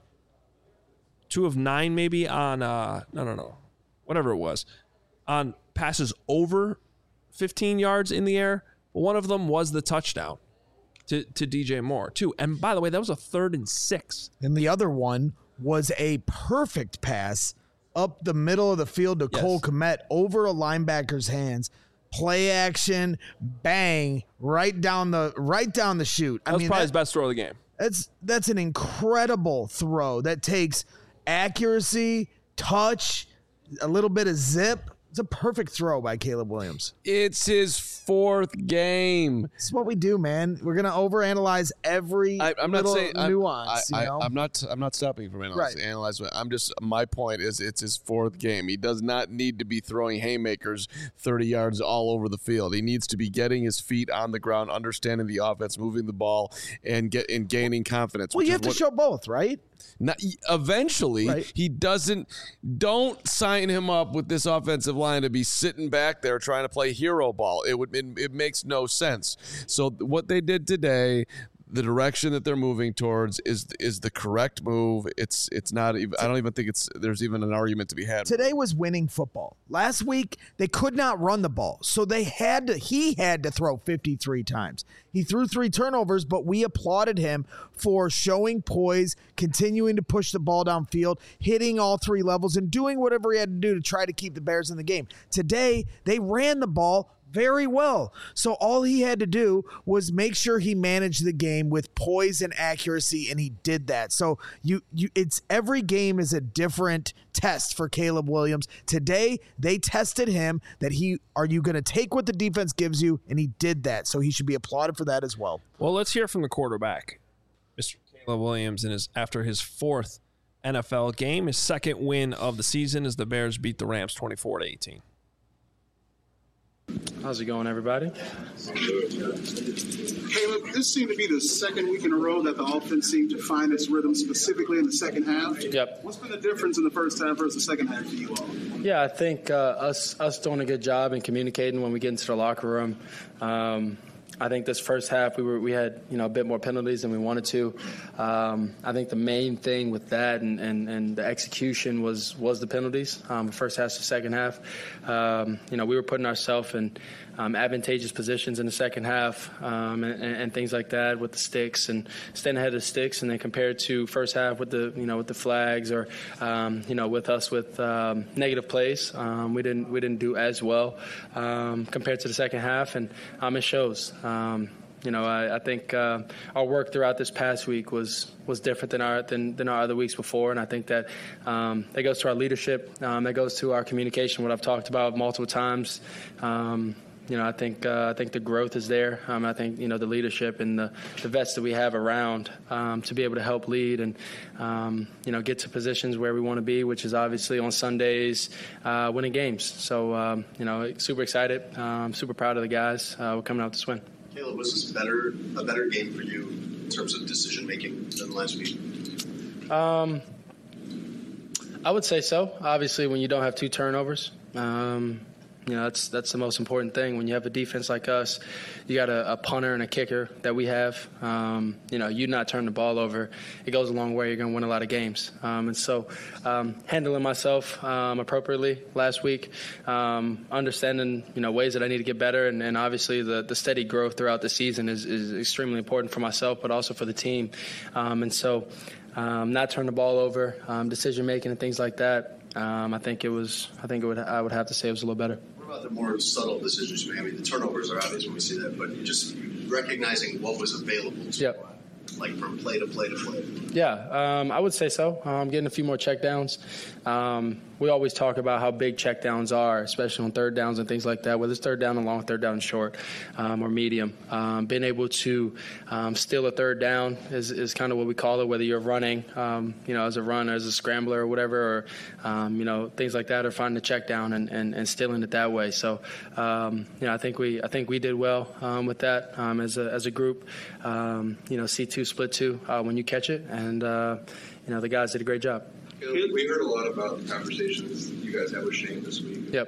two of nine maybe on uh no no no, whatever it was, on passes over fifteen yards in the air. But one of them was the touchdown to to D J Moore too. And by the way, that was a third and six. And the other one was a perfect pass up the middle of the field to Yes. Cole Kmet over a linebacker's hands. Play action, bang, right down the right down the chute. That was probably his best throw of the game. That's that's an incredible throw that takes accuracy, touch, a little bit of zip. It's a perfect throw by Caleb Williams. It's his fourth game. This is what we do, man. We're gonna overanalyze every I, I'm not little saying I'm- nuance. I, you know? I, I'm not. I'm not stopping from analyzing. Right. Analyzing. I'm just. My point is, it's his fourth game. He does not need to be throwing haymakers thirty yards all over the field. He needs to be getting his feet on the ground, understanding the offense, moving the ball, and get and gaining confidence. well, which you is have to what- show both, right? Not, eventually, Right. he doesn't. Don't sign him up with this offensive line to be sitting back there trying to play hero ball. It would. It, it makes no sense. So what they did today, the direction that they're moving towards, is is the correct move. It's it's not. Even, I don't even think it's. There's even an argument to be had. Today was winning football. Last week they could not run the ball, so they had to. He had to throw fifty-three times. He threw three turnovers, but we applauded him for showing poise, continuing to push the ball downfield, hitting all three levels, and doing whatever he had to do to try to keep the Bears in the game. Today they ran the ball very well. So all he had to do was make sure he managed the game with poise and accuracy, and he did that. So you you it's every game is a different test for Caleb Williams. Today they tested him that he are you going to take what the defense gives you, and he did that. So he should be applauded for that as well. Well, let's hear from the quarterback, Mister Caleb Williams, in his after his fourth N F L game, his second win of the season as the Bears beat the Rams twenty-four to eighteen. How's it going, everybody? Caleb, this seemed to be the second week in a row that the offense seemed to find its rhythm, specifically in the second half. Yep. What's been the difference in the first half versus the second half for you all? Yeah, I think uh, us us doing a good job in communicating when we get into the locker room. Um, I think this first half we were we had you know a bit more penalties than we wanted to. Um, I think the main thing with that and, and, and the execution was was the penalties. Um, the first half to second half, um, you know we were putting ourselves in um, advantageous positions in the second half um, and, and things like that with the sticks and staying ahead of the sticks, and then compared to first half with the you know with the flags or um, you know with us with um, negative plays, um, we didn't we didn't do as well um, compared to the second half, and um, it shows. Um, you know, I, I think uh, our work throughout this past week was was different than our than, than our other weeks before, and I think that um, that goes to our leadership, um, that goes to our communication, what I've talked about multiple times. Um, you know, I think uh, I think the growth is there. Um, I think you know the leadership and the, the vets that we have around um, to be able to help lead and um, you know get to positions where we want to be, which is obviously on Sundays, uh, winning games. So um, you know, super excited, um, super proud of the guys. Uh, we're coming out to win. Caleb, was this better a better game for you in terms of decision making than last week? Um, I would say so. Obviously, when you don't have two turnovers, um, you know that's that's the most important thing. When you have a defense like us, you got a, a punter and a kicker that we have. Um, you know, you not turn the ball over, it goes a long way. You're going to win a lot of games. Um, and so, um, handling myself um, appropriately last week, um, understanding you know ways that I need to get better, and, and obviously the, the steady growth throughout the season is, is extremely important for myself, but also for the team. Um, and so, um, not turn the ball over, um, decision making and things like that. Um, I think it was. I think it would. I would have to say it was a little better. What about the more subtle decisions you make? I mean, the turnovers are obvious when we see that, but you just recognizing what was available to Yep. you, like from play to play to play. Yeah, um, I would say so. Um, getting a few more checkdowns. Um, we always talk about how big checkdowns are, especially on third downs and things like that, whether it's third down and long, third down and short, um, or medium. Um, being able to um, steal a third down is, is kind of what we call it, whether you're running, um, you know, as a runner, as a scrambler or whatever, or, um, you know, things like that, or finding a check down and, and, and stealing it that way. So, um, you know, I think we I think we did well um, with that um, as, a, as a group. Um, you know, C two, split two uh, when you catch it, and, uh, you know, the guys did a great job. We heard a lot about the conversations you guys had with Shane this week. Yep.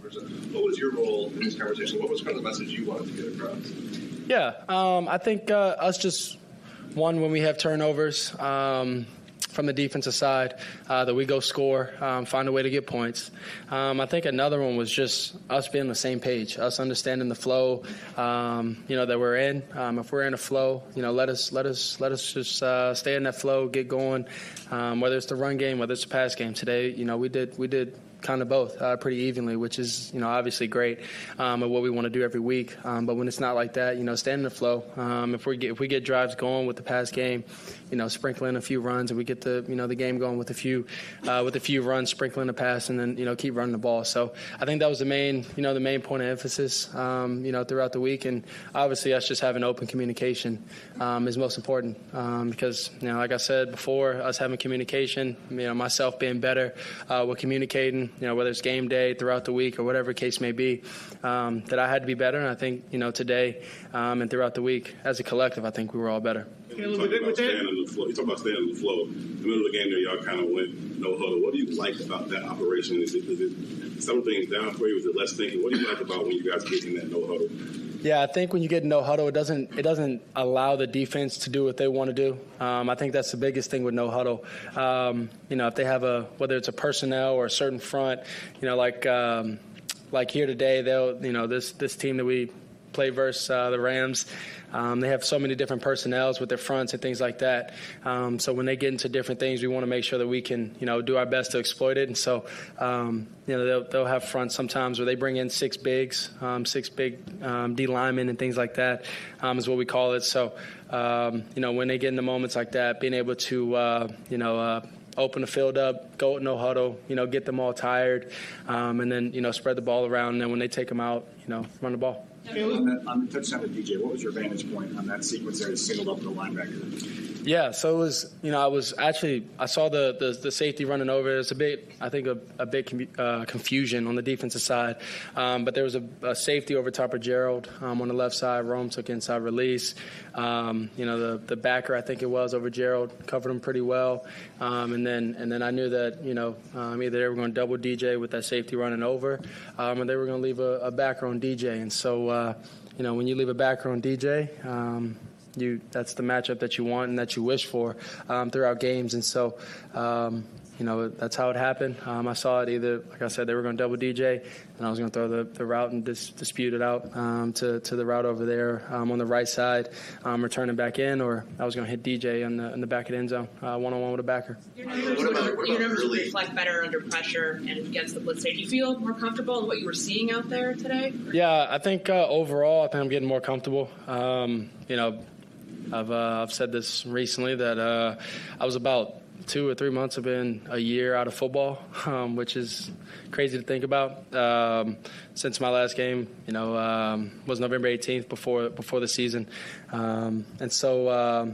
turnovers. What was your role in this conversation? What was kind of the message you wanted to get across? Yeah, um, I think uh, us just, one, when we have turnovers, um, from the defensive side, uh, that we go score, um, find a way to get points. Um, I think another one was just us being on the same page, us understanding the flow, um, you know, that we're in. Um, if we're in a flow, you know, let us let us let us just uh, stay in that flow, get going. Um, whether it's the run game, whether it's the pass game. Today, you know, we did we did. kind of both uh, pretty evenly, which is, you know, obviously great um, and what we want to do every week. Um, but when it's not like that, you know, stay in the flow. Um, if we get if we get drives going with the pass game, you know, sprinkling a few runs, and we get the you know the game going with a few uh, with a few runs, sprinkling the pass, and then you know keep running the ball. So I think that was the main you know the main point of emphasis um, you know throughout the week, and obviously us just having open communication um, is most important um, because you know like I said before, us having communication, you know myself being better uh, with communicating. You know, whether it's game day, throughout the week, or whatever case may be, um, that I had to be better. And I think, you know, today um, and throughout the week, as a collective, I think we were all better. You talk about staying on the flow. You talk about staying on the flow. In the middle of the game there, y'all kind of went no huddle. What do you like about that operation? Is it, is it some things down for you? Is it less thinking? What do you like about when you guys get in that no huddle? Yeah, I think when you get no huddle, it doesn't it doesn't allow the defense to do what they want to do. Um, I think that's the biggest thing with no huddle. Um, you know, if they have a whether it's a personnel or a certain front, you know, like um, like here today, they'll you know this this team that we play versus uh, the Rams. Um, they have so many different personnels with their fronts and things like that. Um, so when they get into different things, we want to make sure that we can, you know, do our best to exploit it. And so, um, you know, they'll, they'll have fronts sometimes where they bring in six bigs, um, six big um, D linemen and things like that um, is what we call it. So, um, you know, when they get into moments like that, being able to, uh, you know, uh, open the field up, go no huddle, you know, get them all tired, um, and then, you know, spread the ball around. And then when they take them out, you know, run the ball. On, that, on the touchdown to D J, what was your vantage point on that sequence there? Singled up the linebacker. Yeah, so it was, you know, I was actually, I saw the the, the safety running over. There's a bit, I think, a, a bit com- uh, confusion on the defensive side. Um, but there was a, a safety over top of Gerald um, on the left side. Rome took inside release. Um, you know, the the backer, I think it was, over Gerald, covered him pretty well. Um, and then and then I knew that, you know, um, either they were going to double D J with that safety running over, um, or they were going to leave a, a backer on D J. And so, uh, you know, when you leave a backer on D J, um, You, that's the matchup that you want and that you wish for um, throughout games. And so, um, you know, that's how it happened. Um, I saw it either, like I said, they were going to double D J, and I was going to throw the, the route and dis- dispute it out um, to, to the route over there um, on the right side, um, returning back in, or I was going to hit D J in the, in the back of the end zone, uh, one-on-one with a backer. Your numbers, what about, what your numbers would reflect better under pressure and against the blitz. Do you feel more comfortable in what you were seeing out there today? Yeah, I think uh, overall, I think I'm getting more comfortable. Um, you know, I've uh, I've said this recently that uh, I was about two or three months have been a year out of football, um, which is crazy to think about. Um, since my last game, you know, um, was November eighteenth before before the season, um, and so um,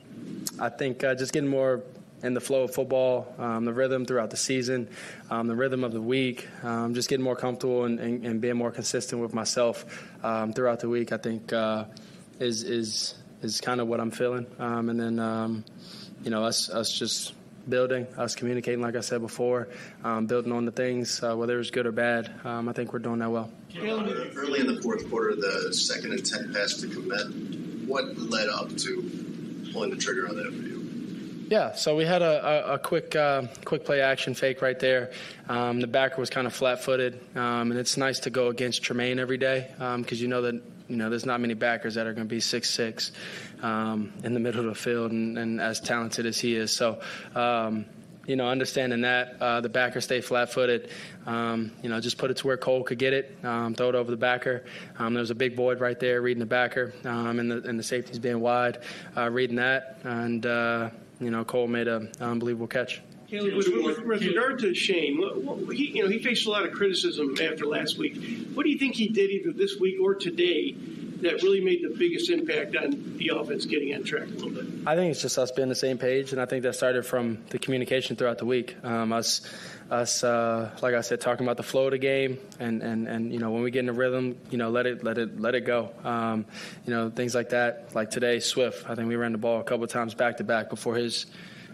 I think uh, just getting more in the flow of football, um, the rhythm throughout the season, um, the rhythm of the week, um, just getting more comfortable and, and, and being more consistent with myself um, throughout the week, I think uh, is is is kind of what I'm feeling. Um, and then, um, you know, us us just building, us communicating, like I said before, um, building on the things, uh, whether it's good or bad. Um, I think we're doing that well. Early in the fourth quarter, the second and ten pass to Kmet, what led up to pulling the trigger on that for you? Yeah, so we had a, a, a quick uh, quick play action fake right there. Um, the backer was kind of flat-footed, um, and it's nice to go against Tremaine every day because um, you know that you know there's not many backers that are going to be six six um, in the middle of the field and, and as talented as he is. So, um, you know, understanding that, uh, the backer stay flat-footed, um, you know, just put it to where Cole could get it, um, throw it over the backer. Um, there was a big void right there reading the backer, um, and, the, and the safeties being wide, uh, reading that, and uh, you know, Cole made an unbelievable catch. Caleb, with, with, with regard to Shane, what, what, he, you know, he faced a lot of criticism after last week. What do you think he did either this week or today that really made the biggest impact on the offense getting on track a little bit? I think it's just us being on the same page, and I think that started from the communication throughout the week. Um, us, us, uh, like I said, talking about the flow of the game, and, and, and you know, when we get in the rhythm, you know, let it let it let it go. Um, you know, things like that. Like today, Swift. I think we ran the ball a couple of times back to back before his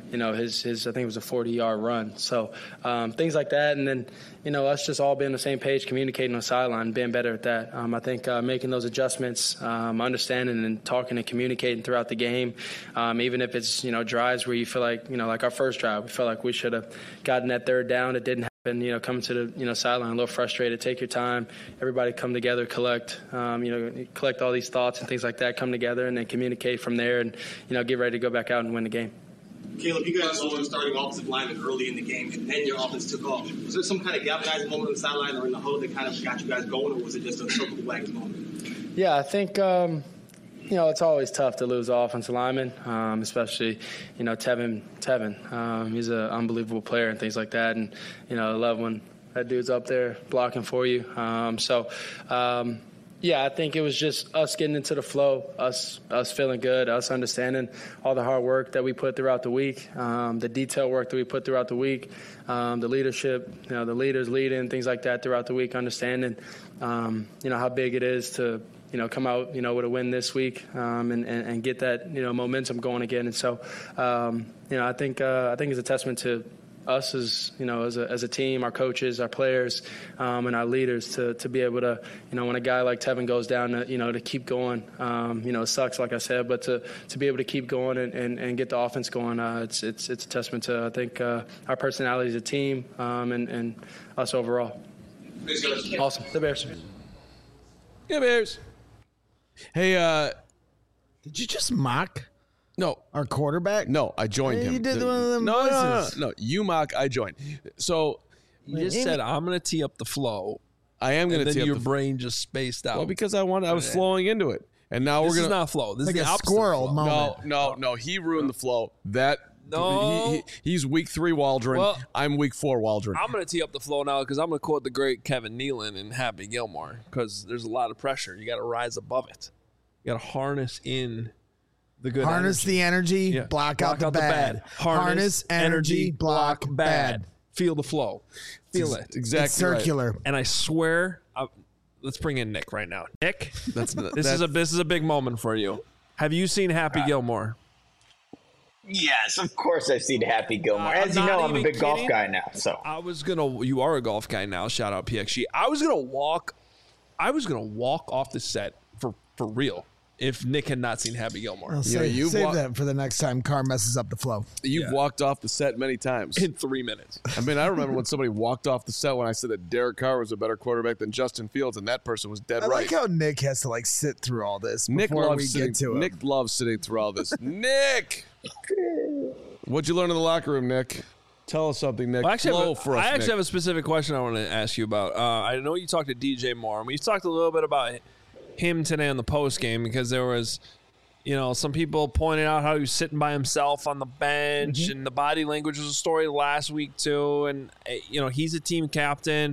you know, his, his I think it was a forty-yard run. So um, things like that. And then, you know, us just all being on the same page, communicating on the sideline, being better at that. Um, I think uh, making those adjustments, um, understanding and talking and communicating throughout the game, um, even if it's, you know, drives where you feel like, you know, like our first drive, we felt like we should have gotten that third down. It didn't happen, you know, coming to the, you know, sideline a little frustrated. Take your time. Everybody come together, collect, um, you know, collect all these thoughts and things like that, come together and then communicate from there and, you know, get ready to go back out and win the game. Caleb, you guys were starting offensive lineman early in the game, and then your offense took off. Was there some kind of galvanizing moment on the sideline or in the huddle that kind of got you guys going, or was it just a circle the wagons moment? Yeah, I think, um, you know, it's always tough to lose an offensive lineman, um, especially, you know, Tevin. Tevin, um, he's an unbelievable player and things like that. And, you know, I love when that dude's up there blocking for you. Um, so, um, yeah, I think it was just us getting into the flow, us us feeling good, us understanding all the hard work that we put throughout the week, um, the detail work that we put throughout the week, um, the leadership, you know, the leaders leading, things like that throughout the week, understanding, um, you know, how big it is to, you know, come out, you know, with a win this week um, and, and, and get that, you know, momentum going again. And so, um, you know, I think uh, I think it's a testament to us as, you know, as a, as a team, our coaches, our players, um, and our leaders to, to be able to, you know, when a guy like Tevin goes down, to, you know, to keep going, um, you know, it sucks, like I said, but to, to be able to keep going and, and, and get the offense going, uh, it's, it's, it's a testament to, I think, uh, our personality as a team um, and, and us overall. Awesome. The Bears. Yeah, Bears. Hey, uh, did you just mock? No, our quarterback. No, I joined Hey, him. you did The- one of them no, no, no, no, voices. no. You mock. I joined. So You just said I'm going to tee up the flow. I am going and to then tee your up the brain just spaced out. Well, because I wanted, I was Okay. flowing into it, and now This we're gonna. is not flow. This Like is the a opposite of squirrel flow. moment. No, no, no. He ruined the flow. That No. he, he, he's week three Waldron. Well, I'm week four Waldron. I'm going to tee up the flow now because I'm going to quote the great Kevin Nealon and Happy Gilmore because there's a lot of pressure. You got to rise above it. You got to harness in the good Harness energy. the energy, Yeah. block, out the bad. Harness, energy, block, bad. Feel the flow. Feel It's it. exactly It's circular. And I swear, I, let's bring in Nick right now. Nick, That's this that's, is a this is a big moment for you. Have you seen Happy Gilmore? Yes, of course I've seen Happy Gilmore. I'm As you not know, I'm a even big golf kidding. guy now. So I was gonna. You are a golf guy now. Shout out P X G. I was gonna walk. I was gonna walk off the set for for real if Nick had not seen Happy Gilmore. I'll You know, save, you've save wa- that for the next time Carr messes up the flow. You've Yeah. walked off the set many times. In three minutes. I mean, I remember when somebody walked off the set when I said that Derek Carr was a better quarterback than Justin Fields, and that person was dead I right. like how Nick has to like sit through all this Nick before loves we sitting. get to it. Nick loves sitting through all this. Nick, what'd you learn in the locker room, Nick? Tell us something, Nick. Well, I actually, Flow have, a, for us, I actually Nick. have a specific question I want to ask you about. Uh, I know you talked to D J Moore, and we talked a little bit about him today on the post game because there was, you know, some people pointed out how he was sitting by himself on the bench, Mm-hmm. and the body language was a story last week too. And uh, you know, he's a team captain,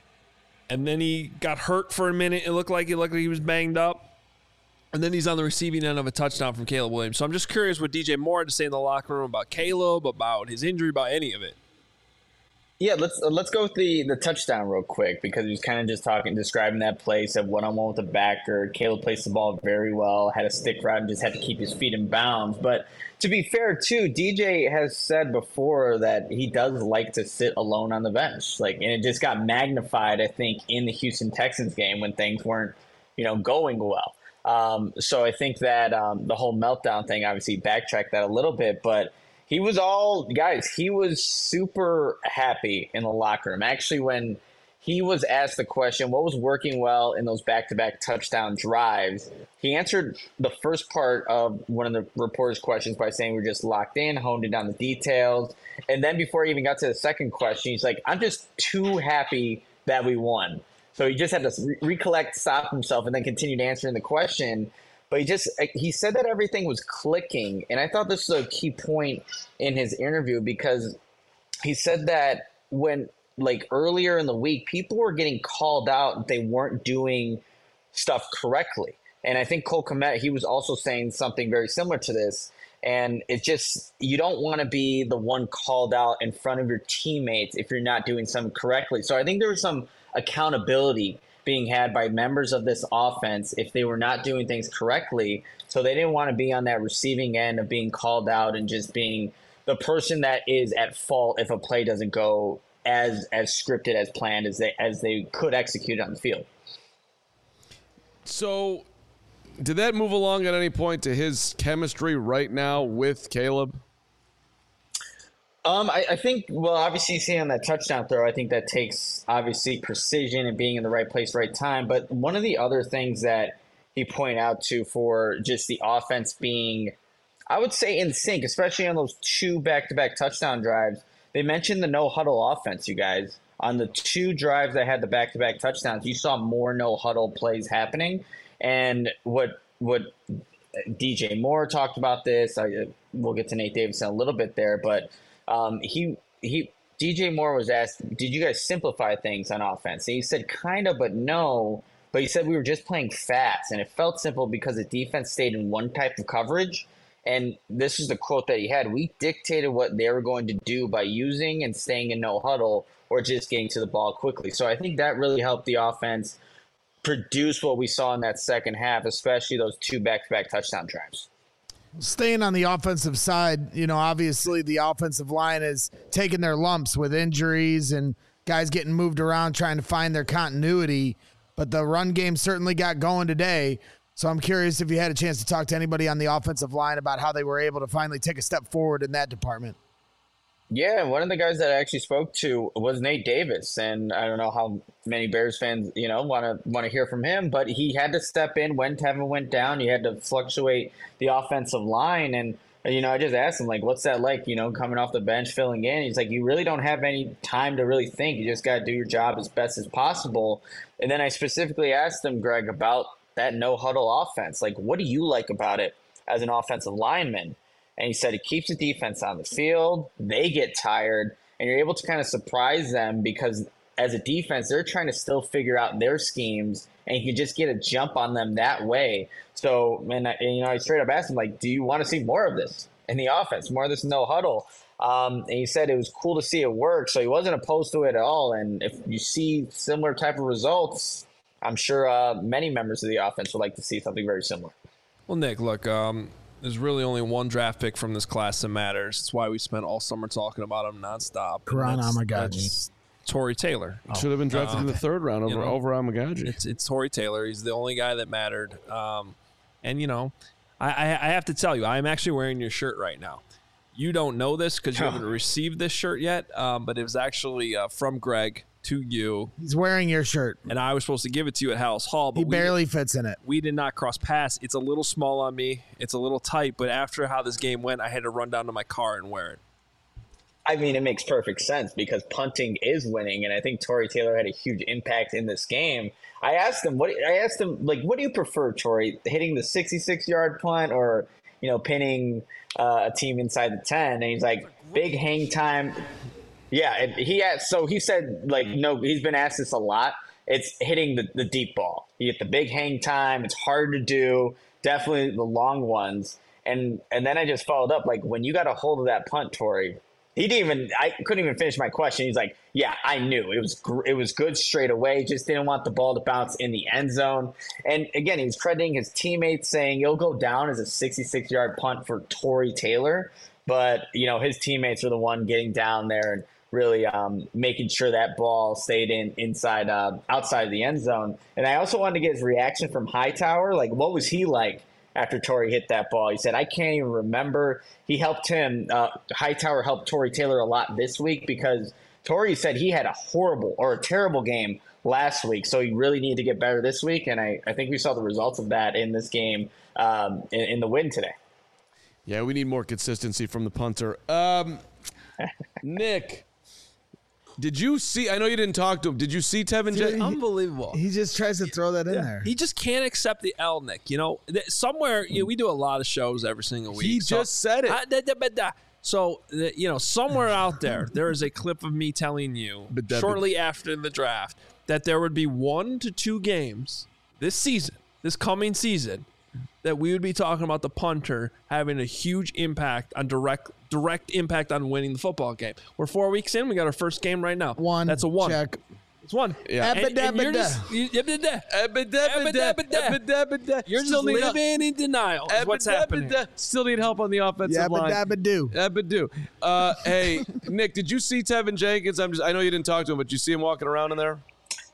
and then he got hurt for a minute. It looked like it looked like he was banged up. And then he's on the receiving end of a touchdown from Caleb Williams. So I'm just curious what D J Moore had to say in the locker room about Caleb, about his injury, about any of it. yeah, let's uh, let's go with the the touchdown real quick because he was kind of just talking, describing that play. Said one on one with the backer. Caleb placed the ball very well. Had a stick route and just had to keep his feet in bounds. But to be fair, too, D J has said before that he does like to sit alone on the bench. Like, and it just got magnified, I think, in the Houston Texans game when things weren't, you know, going well. Um, so I think that um, the whole meltdown thing, obviously, backtracked that a little bit, but he was all guys. He was super happy in the locker room. Actually, when he was asked the question, what was working well in those back-to-back touchdown drives, he answered the first part of one of the reporter's questions by saying we're just locked in, honed in on the details. And then before he even got to the second question, he's like, I'm just too happy that we won. So he just had to re- recollect, stop himself, and then continued answering the question. But he just he said that everything was clicking. And I thought this was a key point in his interview because he said that when – like earlier in the week, people were getting called out that they weren't doing stuff correctly. And I think Cole Kmet, he was also saying something very similar to this. And it's just, you don't want to be the one called out in front of your teammates if you're not doing something correctly. So I think there was some accountability being had by members of this offense if they were not doing things correctly. So they didn't want to be on that receiving end of being called out and just being the person that is at fault if a play doesn't go as as scripted, as planned, as they as they could execute on the field. So, did that move along at any point to his chemistry right now with Caleb? Um, I, I think, well, obviously seeing on that touchdown throw, I think that takes obviously precision and being in the right place, right time. But one of the other things that he pointed out to for just the offense being, I would say, in sync, especially on those two back-to-back touchdown drives, they mentioned the no-huddle offense, you guys. On the two drives that had the back-to-back touchdowns, you saw more no-huddle plays happening. And what what D J Moore talked about this, I, we'll get to Nate Davis in a little bit there, but um, he he D J Moore was asked, did you guys simplify things on offense? And he said kind of, but no. But he said we were just playing fast, and it felt simple because the defense stayed in one type of coverage. And this is the quote that he had. We dictated what they were going to do by using and staying in no huddle or just getting to the ball quickly. So I think that really helped the offense produce what we saw in that second half, especially those two back-to-back touchdown drives. Staying on the offensive side, you know, obviously the offensive line is taking their lumps with injuries and guys getting moved around trying to find their continuity. But the run game certainly got going today. So I'm curious if you had a chance to talk to anybody on the offensive line about how they were able to finally take a step forward in that department. Yeah, one of the guys that I actually spoke to was Nate Davis, and I don't know how many Bears fans, you know, want to want to hear from him, but he had to step in when Tevin went down. You had to fluctuate the offensive line, and you know, I just asked him, like, what's that like, you know, coming off the bench, filling in? He's like, you really don't have any time to really think. You just got to do your job as best as possible. And then I specifically asked him, Greg, about that no-huddle offense. Like, what do you like about it as an offensive lineman? And he said it keeps the defense on the field. They get tired, and you're able to kind of surprise them because as a defense, they're trying to still figure out their schemes, and you can just get a jump on them that way. So, and, and you know, I straight up asked him, like, do you want to see more of this in the offense, more of this no huddle? Um, and he said it was cool to see it work, so he wasn't opposed to it at all. And if you see similar type of results, I'm sure uh, many members of the offense would like to see something very similar. Well, Nick, look, um, there's really only one draft pick from this class that matters. That's why we spent all summer talking about him nonstop. Karan Amagaji. Tory Taylor. Oh, Should have been drafted uh, in the third round over, you know, over Amagaji. It's, it's Tory Taylor. He's the only guy that mattered. Um, and, you know, I, I, I have to tell you, I'm actually wearing your shirt right now. You don't know this because you haven't received this shirt yet, um, but it was actually uh, from Greg to you. He's wearing your shirt. And I was supposed to give it to you at House Hall. But he barely we, fits in it. We did not cross paths. It's a little small on me. It's a little tight. But after how this game went, I had to run down to my car and wear it. I mean, it makes perfect sense because punting is winning, and I think Tory Taylor had a huge impact in this game. I asked him, what I asked him, like, what do you prefer, Tory, hitting the sixty-six yard punt or, you know, pinning uh, a team inside the ten? And he's like, big hang time. Yeah, it, he asked, so he said, like, no, he's been asked this a lot. It's hitting the, the deep ball. You get the big hang time. It's hard to do. Definitely the long ones. And and then I just followed up, like, when you got a hold of that punt, Tory, he didn't even, I couldn't even finish my question. He's like, yeah, I knew. It was it was good straight away. Just didn't want the ball to bounce in the end zone. And again, he was crediting his teammates, saying it'll go down as a sixty-six yard punt for Tory Taylor. But, you know, his teammates were the one getting down there and really um, making sure that ball stayed in inside, uh, outside of the end zone. And I also wanted to get his reaction from Hightower. Like, what was he like after Tory hit that ball? He said, I can't even remember. He helped him. Uh, Hightower helped Tory Taylor a lot this week because Tory said he had a horrible or a terrible game last week. So he really needed to get better this week. And I, I think we saw the results of that in this game um, in, in the win today. Yeah, we need more consistency from the punter. Um, Nick, did you see? I know you didn't talk to him. Did you see Tevin? Dude, unbelievable. He just tries to throw that in yeah. there. He just can't accept the L, Nick. You know, somewhere you know, we do a lot of shows every single week. He so, just said it. I, da, da, da. So, you know, somewhere out there, there is a clip of me telling you shortly after the draft that there would be one to two games this season, this coming season, that we would be talking about the punter having a huge impact on direct direct impact on winning the football game. We're four weeks in. We got our first game right now. One. That's a one. Check. It's one. Yeah. And, and you're just, you, you're just living in denial. Is what's happening. Still need help on the offensive line. Yabba-dabba-doo. Yabba-doo. Uh, hey, Nick, did you see Tevin Jenkins? I'm just, I know you didn't talk to him, but did you see him walking around in there?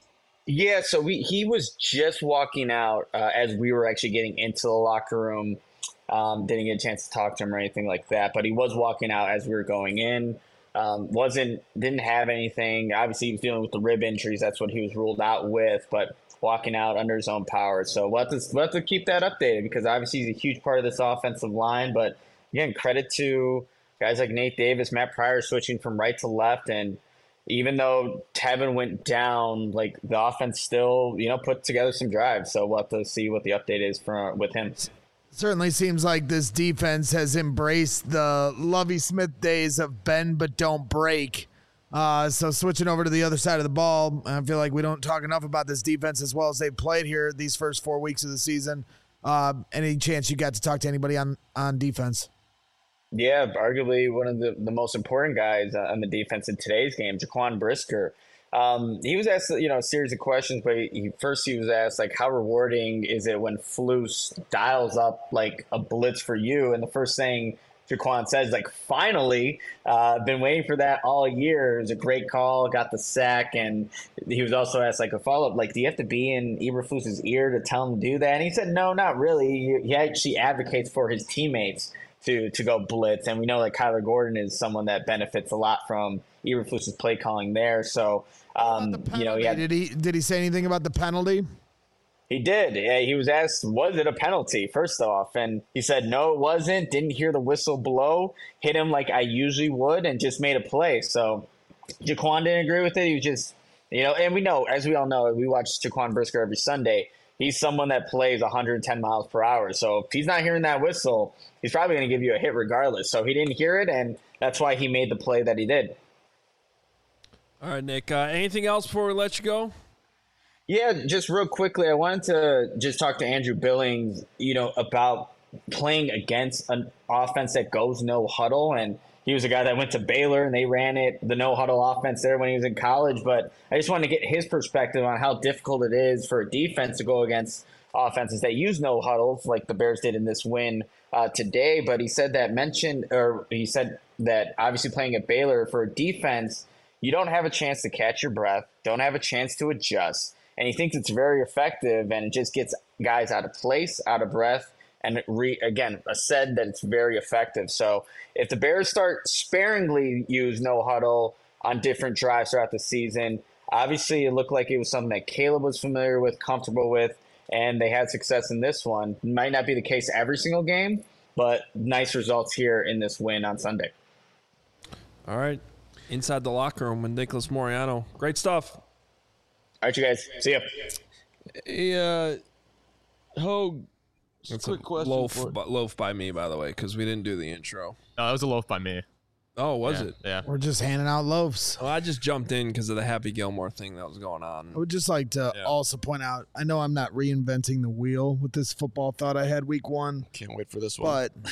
Yeah, so we he was just walking out uh, as we were actually getting into the locker room. Um, didn't get a chance to talk to him or anything like that, but he was walking out as we were going in. Um, wasn't didn't have anything. Obviously, he was dealing with the rib injuries. That's what he was ruled out with. But walking out under his own power. So we'll have to, we'll have to keep that updated because obviously he's a huge part of this offensive line. But again, credit to guys like Nate Davis, Matt Pryor switching from right to left, and even though Tevin went down, like the offense still, you know, put together some drives. So we'll have to see what the update is for with him. Certainly seems like this defense has embraced the Lovie Smith days of bend but don't break. Uh, so switching over to the other side of the ball, I feel like we don't talk enough about this defense as well as they've played here these first four weeks of the season. Uh, any chance you got to talk to anybody on, on defense? Yeah, arguably one of the, the most important guys on the defense in today's game, Jaquan Brisker. Um, he was asked, you know, a series of questions, but he, first he was asked, like, how rewarding is it when Flus dials up, like, a blitz for you? And the first thing Jaquan says, like, finally, uh, been waiting for that all year. It was a great call, got the sack, and he was also asked, like, a follow-up, like, do you have to be in Eberflus's ear to tell him to do that? And he said, no, not really. He actually advocates for his teammates to to go blitz. And we know that Kyler Gordon is someone that benefits a lot from Eberflus's play calling there. So, um, you know, he had, did he did he say anything about the penalty? He did. Yeah, he was asked, was it a penalty, first off? And he said, no, it wasn't. Didn't hear the whistle blow. Hit him like I usually would and just made a play. So Jaquan didn't agree with it. He was just, you know, and we know, as we all know, we watch Jaquan Brisker every Sunday. He's someone that plays one hundred ten miles per hour. So if he's not hearing that whistle, he's probably going to give you a hit regardless. So he didn't hear it, and that's why he made the play that he did. All right, Nick. Uh, anything else before we let you go? Yeah, just real quickly, I wanted to just talk to Andrew Billings, you know, about playing against an offense that goes no huddle. And he was a guy that went to Baylor, and they ran it, the no huddle offense there when he was in college. But I just wanted to get his perspective on how difficult it is for a defense to go against offenses that use no huddles like the Bears did in this win uh, today. But he said that mentioned, or he said that obviously playing at Baylor for a defense, you don't have a chance to catch your breath, don't have a chance to adjust. And he thinks it's very effective, and it just gets guys out of place, out of breath. And re, again, said that it's very effective. So if the Bears start sparingly use no huddle on different drives throughout the season, obviously it looked like it was something that Caleb was familiar with, comfortable with, and they had success in this one. Might not be the case every single game, but nice results here in this win on Sunday. All right. Inside the locker room with Nicholas Moreano. Great stuff. All right, you guys. See ya. Hey, uh, Hogue. That's quick a question loaf, for- bu- loaf by me, by the way, because we didn't do the intro. No, that was a loaf by me. Oh, was Yeah, it? yeah. We're just handing out loaves. Well, I just jumped in because of the Happy Gilmore thing that was going on. I would just like to Yeah. also point out, I know I'm not reinventing the wheel with this football thought I had week one. Can't wait for this one. But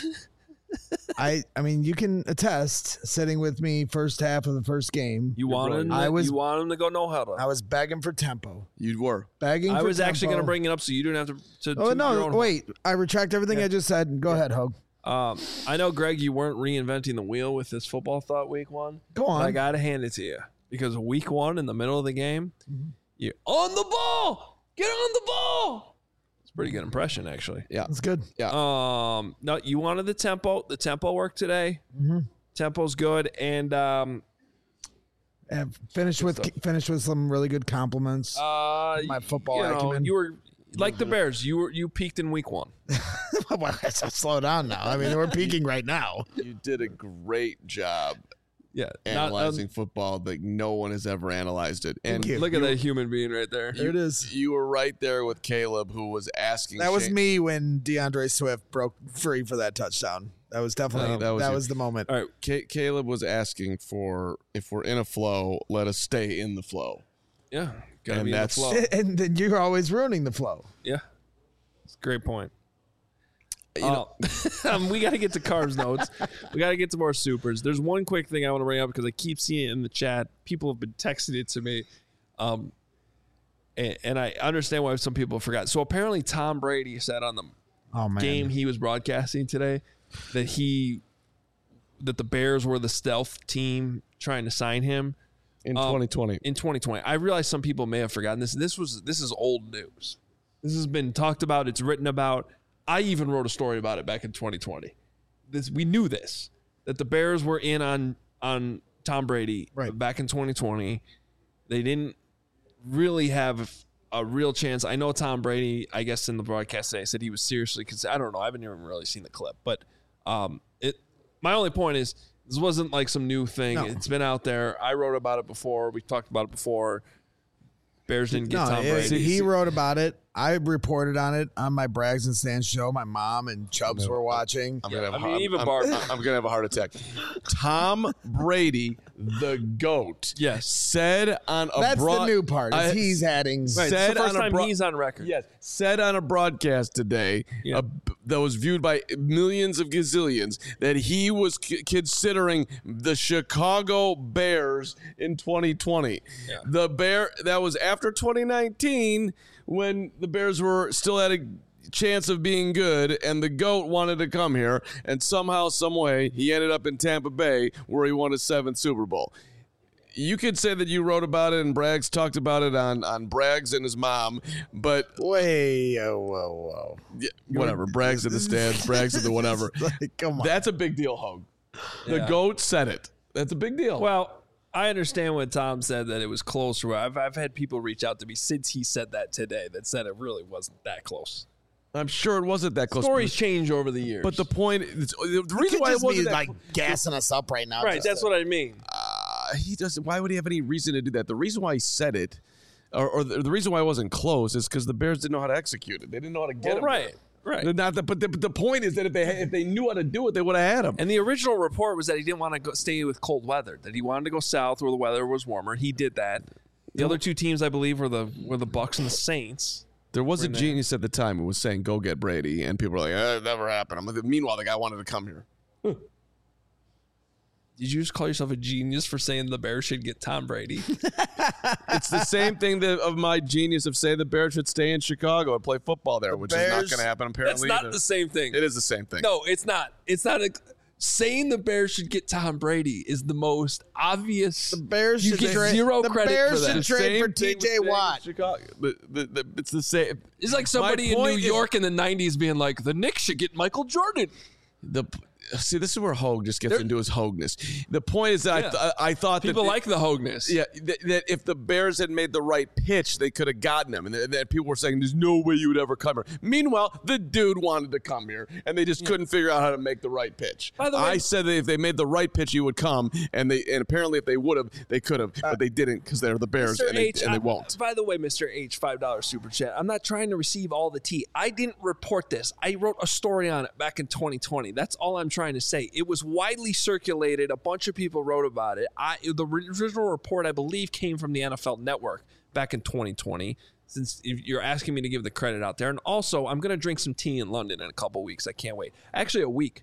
I I mean, you can attest, sitting with me first half of the first game. You wanted him, I was you want him to go no huddle. I was begging for tempo. You were. Begging I for was actually going to tempo. bring it up so you didn't have to. to Oh, toot your no, own wait. I retract everything I just said. Go ahead, Hogue. Um, I know, Greg, you weren't reinventing the wheel with this football thought week one. Go but on. I got to hand it to you because week one in the middle of the game, you're on the ball. Get on the ball. It's a pretty good impression, actually. Yeah. That's good. Yeah. Um, no, you wanted the tempo. The tempo worked today. Mm-hmm. Tempo's good. And um, And finished with finished with some really good compliments. uh, My football you know, acumen. you were like the Bears. You were you peaked in week one. Well, so slow down now. I mean, we're peaking right now. You did a great job Yeah, not- analyzing um, football like no one has ever analyzed it. And you. Look at that human being right there. There it is. You were right there with Caleb, who was asking. That was Shane- me when DeAndre Swift broke free for that touchdown. That was definitely Uh, that was, was you. the moment. All right, Ca- Caleb was asking for if we're in a flow, let us stay in the flow. yeah, gotta And be that's- in the flow. And then you're always ruining the flow. Yeah, it's a great point. You know, Uh, um, we got to get to Carbs notes. We got to get to more supers. There's one quick thing I want to bring up because I keep seeing it in the chat. People have been texting it to me. Um, and, and I understand why some people forgot. So apparently Tom Brady said on the oh, man. game he was broadcasting today that he that the Bears were the stealth team trying to sign him in um, twenty twenty. In twenty twenty, I realize some people may have forgotten this. This was this is old news. This has been talked about. It's written about. I even wrote a story about it back in twenty twenty. This we knew this that the Bears were in on on Tom Brady right. back in twenty twenty. They didn't really have a real chance. I know Tom Brady, I guess in the broadcast today, said he was seriously considered. I don't know. I haven't even really seen the clip. But um, it. my only point is this wasn't like some new thing. No. It's been out there. I wrote about it before. We talked about it before. Bears didn't get no, Tom Brady. He wrote about it. I reported on it on my Braggs and Stans show. My mom and Chubbs no, were watching. I'm gonna have, I mean, even Bart. I'm, I'm gonna have a heart attack. Tom Brady, the GOAT, yes, said on a that's broad, the new part. Is uh, he's adding. Right, said it's the first on time a bro- he's on record. Yes, said on a broadcast today yeah. uh, that was viewed by millions of gazillions that he was c- considering the Chicago Bears in twenty twenty. Yeah. The Bear that was after twenty nineteen when the Bears were still at a chance of being good, and the GOAT wanted to come here, and somehow, some way, he ended up in Tampa Bay where he won his seventh Super Bowl. You could say that you wrote about it and Braggs talked about it on, on Braggs and his mom, but wait, oh, whoa, whoa, yeah, whatever. Braggs in the stands, Braggs in the whatever. Like, come on, that's a big deal, Hogue. The Yeah. GOAT said it. That's a big deal. Well, I understand when Tom said that it was close. I've I've had people reach out to me since he said that today that said it really wasn't that close. I'm sure it wasn't that close. Stories change over the years, But the point, the He reason could why it just wasn't be that like gassing us up right now. right? just That's to- what I mean. Uh, he doesn't. Why would he have any reason to do that? The reason why he said it, or, or the, the reason why it wasn't close, is because the Bears didn't know how to execute it. They didn't know how to get Well, him. right, right. Not the, but the, but the point is that if they if they knew how to do it, they would have had him. And the original report was that he didn't want to go, stay with cold weather. That he wanted to go south where the weather was warmer. He did that. The other two teams, I believe, were the were the Bucks and the Saints. There was a Were in genius at the time who was saying, "Go get Brady," and people were like, eh, "It never happened." I'm like, meanwhile, the guy wanted to come here. Did you just call yourself a genius for saying the Bears should get Tom Brady? It's the same thing that of my genius of say the Bears should stay in Chicago and play football there, which is not Bears- going to happen That's apparently. not either. the same thing. It is the same thing. No, it's not. It's not. A, saying the Bears should get Tom Brady is the most obvious. The Bears you should get trade- zero the credit Bears for that. should trade for Same thing T J with staying in Watt. Chicago. The, the, the, it's the same. It's like somebody in New point is- York in the nineties being like, the Knicks should get Michael Jordan. The see, this is where Hogue just gets They're- into his Hogeness. The point is that Yeah. I, th- I thought People that like the Hogeness. Yeah, th- that if the Bears had made the right pitch, they could have gotten him. And th- that people were saying, "There's no way you would ever come here." Meanwhile, the dude wanted to come here, and they just couldn't figure out how to make the right pitch. By the way- I said that if they made the right pitch, he would come, and they and apparently if they would have, they could have, but they didn't because they're the Bears, Mister and they, H, and they I'm- won't. By the way, Mister H, five dollar super chat. I'm not trying to receive all the tea. I didn't report this. I wrote a story on it back in twenty twenty. That's all I'm trying to say. It was widely circulated. A bunch of people wrote about it. I the original report, I believe, came from the N F L Network back in twenty twenty. Since you're asking me to give the credit out there, and also I'm going to drink some tea in London in a couple weeks. I can't wait. Actually, a week.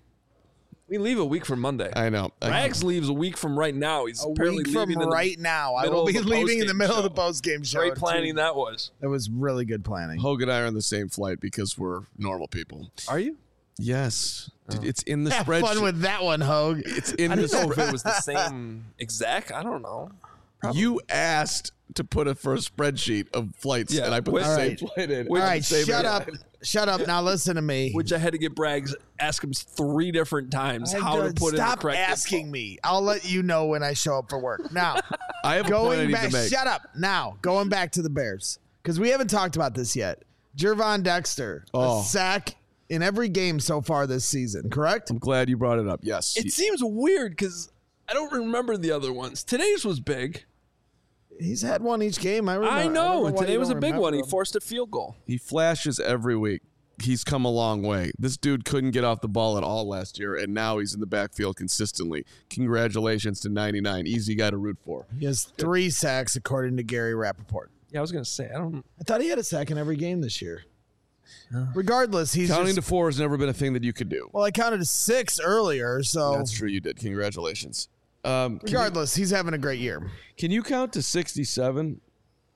We leave a week from Monday. I know. I- Rags leaves a week from right now. He's A apparently week from leaving in the right now. I middle will of be the leaving in the post-game middle of the show. post game show. Great planning that was. That was really good planning. Hogue and I are on the same flight because we're normal people. Are you? Yes, it's in the Have spreadsheet. fun with that one, Hogue. It's in I the didn't know if spreadsheet. it was the same exact. I don't know. Probably. You asked to put a first spreadsheet of flights, Yeah, and I put which- the same Alright. flight in. All right, Same shut up. airline. Shut up. Now listen to me. Which I had to get Braggs ask him three different times how to put in the Stop correct asking info. me. I'll let you know when I show up for work. Now, I have a point I going need back. to make. Shut up. Now, going back to the Bears because we haven't talked about this yet. Jervon Dexter, Oh. a sack in every game so far this season. Correct? I'm glad you brought it up. Yes. It seems weird because I don't remember the other ones. Today's was big. He's had one each game. I remember. I don't know. And why today you was a don't big one. He remember him. forced a field goal. He flashes every week. He's come a long way. This dude couldn't get off the ball at all last year, and now he's in the backfield consistently. Congratulations to ninety-nine. Easy guy to root for. He has three sacks according to Gary Rappaport. Yeah, I was gonna say I don't. I thought he had a sack in every game this year. Regardless, he's Counting just, to four has never been a thing that you could do. well. I counted to six earlier, so That's true. You did. Congratulations. Um, can, you, regardless, he's having a great year. can you count to sixty-seven?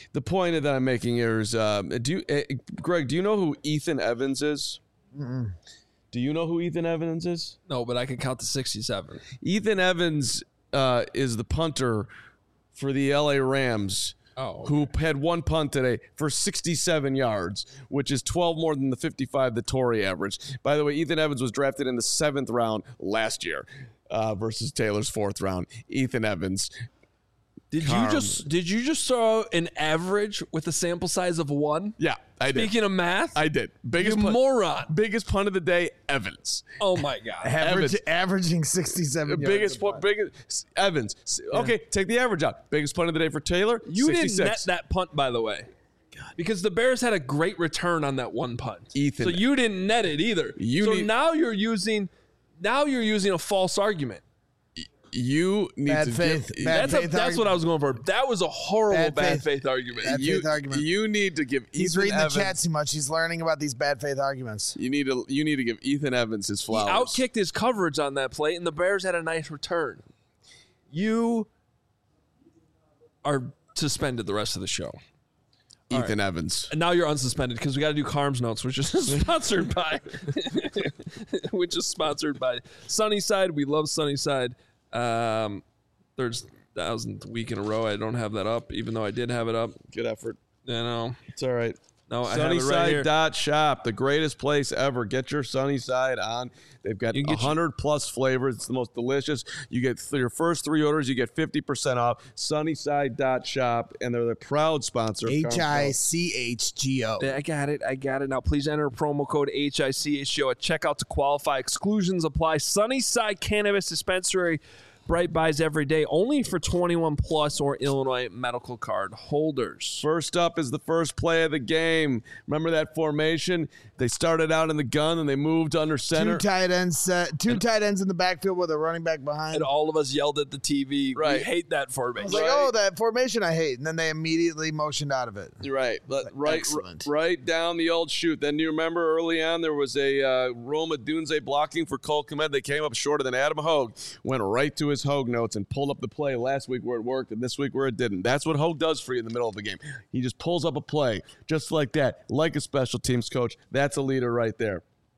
the point that I'm making here is, um, do you, uh, Greg? Do you know who Ethan Evans is? Mm-mm. Do you know who Ethan Evans is? No, but I can count to sixty-seven. Ethan Evans uh, is the punter for the L A Rams. Oh, okay. Who had one punt today for sixty-seven yards, which is twelve more than the fifty-five that Torrey averaged. By the way, Ethan Evans was drafted in the seventh round last year uh, versus Taylor's fourth round. Ethan Evans. Did Carm. you just did you just throw an average with a sample size of one? Yeah, I did. Speaking of math, I did. Biggest you punt, moron. Biggest punt of the day, Evans. Oh my god. Average, averaging sixty-seven. Biggest yards punt, biggest Evans. Okay, take the average out. Biggest punt of the day for Taylor. You sixty-six. didn't net that punt, by the way. God. Because the Bears had a great return on that one punt. Ethan. So you didn't net it either. You so need, now you're using now you're using a false argument. You need bad to faith. give, bad that's faith a, that's argument. what I was going for. That was a horrible Bad bad, faith. faith, argument. Bad you, faith argument. You need to give. He's Ethan reading Evans, the chat too much. He's learning about these bad faith arguments. You need to. You need to give Ethan Evans his flowers. He outkicked his coverage on that play, and the Bears had a nice return. You are suspended the rest of the show. Ethan right. Evans. And now you're unsuspended because we got to do Carm's Notes, which is sponsored by, which is sponsored by Sunnyside. We love Sunnyside. Um, there's thousandth week in a row. I don't have that up, even though I did have it up. Good effort. I know. It's all right. No, I have it right Sunnyside here. dot shop, the greatest place ever. Get your Sunnyside on. They've got You can get one hundred plus flavors. It's the most delicious. You get th- your first three orders, you get fifty percent off. Sunnyside dot shop, and they're the proud sponsor of H I C H G O. I got it. I got it. Now, please enter promo code H I C H G O at checkout to qualify. Exclusions apply. Sunnyside Cannabis Dispensary. Bright buys every day, only for twenty-one plus or Illinois medical card holders. First up is the first play of the game. Remember that formation? They started out in the gun and they moved under center. Two tight ends set, two and, tight ends in the backfield with a running back behind. And all of us yelled at the T V. Right. We hate that formation. I was like, right. oh, that formation I hate. And then they immediately motioned out of it. Right. Right. Excellent. Right down the old chute. Then you remember early on there was a uh, Roma Dunze blocking for Cole Kmet. They came up shorter than Adam Hogue. Went right to his Hogue notes and pulled up the play last week where it worked and this week where it didn't. That's what Hogue does for you in the middle of the game. He just pulls up a play just like that, like a special teams coach. That's a leader right there.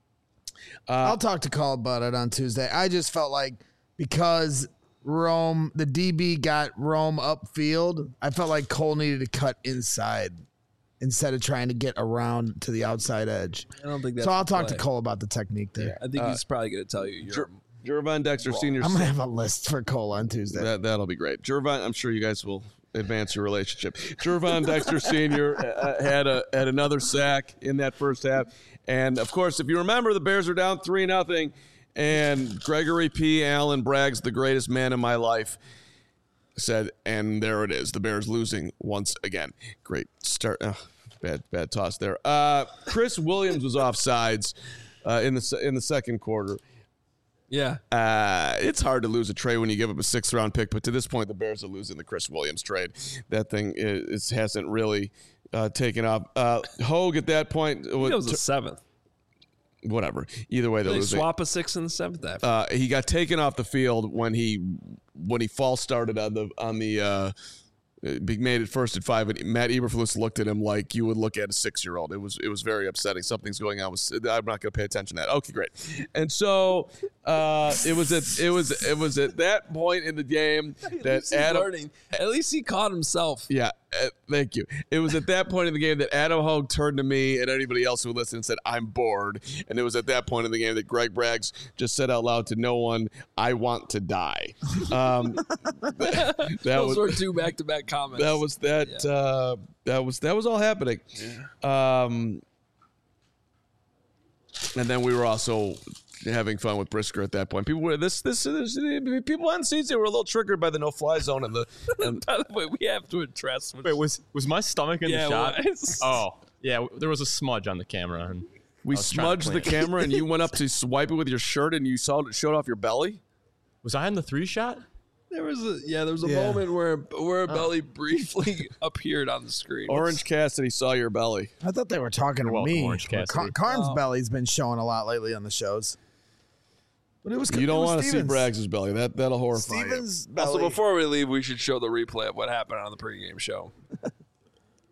Uh, I'll talk to Cole about it on Tuesday. I just felt like because Rome, the D B got Rome upfield, I felt like Cole needed to cut inside instead of trying to get around to the outside edge. I don't think that's so. I'll talk play. to Cole about the technique there. Yeah, I think uh, he's probably going to tell you. You're Jer- Jervon Dexter wrong. Senior. I'm going to have a list for Cole on Tuesday. That, that'll be great. Jervon, I'm sure you guys will advance your relationship. Jervon Dexter Senior uh, had a had another sack in that first half. And, of course, if you remember, the Bears are down three nothing, and Gregory P. Allen Bragg's the greatest man in my life. Said, and there it is. The Bears losing once again. Great start. Oh, bad, bad toss there. Uh, Chris Williams was offsides uh, in the in the second quarter. Yeah. Uh, it's hard to lose a trade when you give up a sixth round pick, but to this point, the Bears are losing the Chris Williams trade. That thing is, hasn't really uh, taken off. Uh, Hogue at that point it was a seventh. Whatever. Either way, they're they losing. Swap a sixth and the seventh. After. Uh, he got taken off the field when he when he false started on the on the. Uh, made it first at five, and Matt Eberflus looked at him like you would look at a six-year-old. It was it was very upsetting. Something's going on. I'm not going to pay attention to that. Okay, great. And so uh, it was at it was it was at that point in the game that Adam. Learning. At least he caught himself. Yeah, uh, thank you. It was at that point in the game that Adam Hogue turned to me and anybody else who listened and said, "I'm bored." And it was at that point in the game that Greg Braggs just said out loud to no one, "I want to die." Um, that, that Those was, were two back-to-back comments. That was that. Yeah. Uh, that was that was all happening. Yeah. Um, and then we were also having fun with Brisker at that point. People were this this, this people on seats they were a little triggered by the no fly zone and the. And by the way, we have to address. Wait, was was my stomach in yeah, the shot? Was. Oh, yeah. There was a smudge on the camera, and we smudged the camera, and you went up to swipe it with your shirt, and you saw it showed off your belly. Was I in the three shot? There was a yeah. There was a Yeah. moment where where a belly briefly appeared on the screen. Orange Cassidy saw your belly. I thought they were talking to welcome, me. Orange Cassidy. Car- Carm's Oh. belly's been showing a lot lately on the shows. But it was You don't want to see Stevens. Braggs' belly. That that'll horrify Stevens' you. belly. Also, before we leave, we should show the replay of what happened on the pregame show.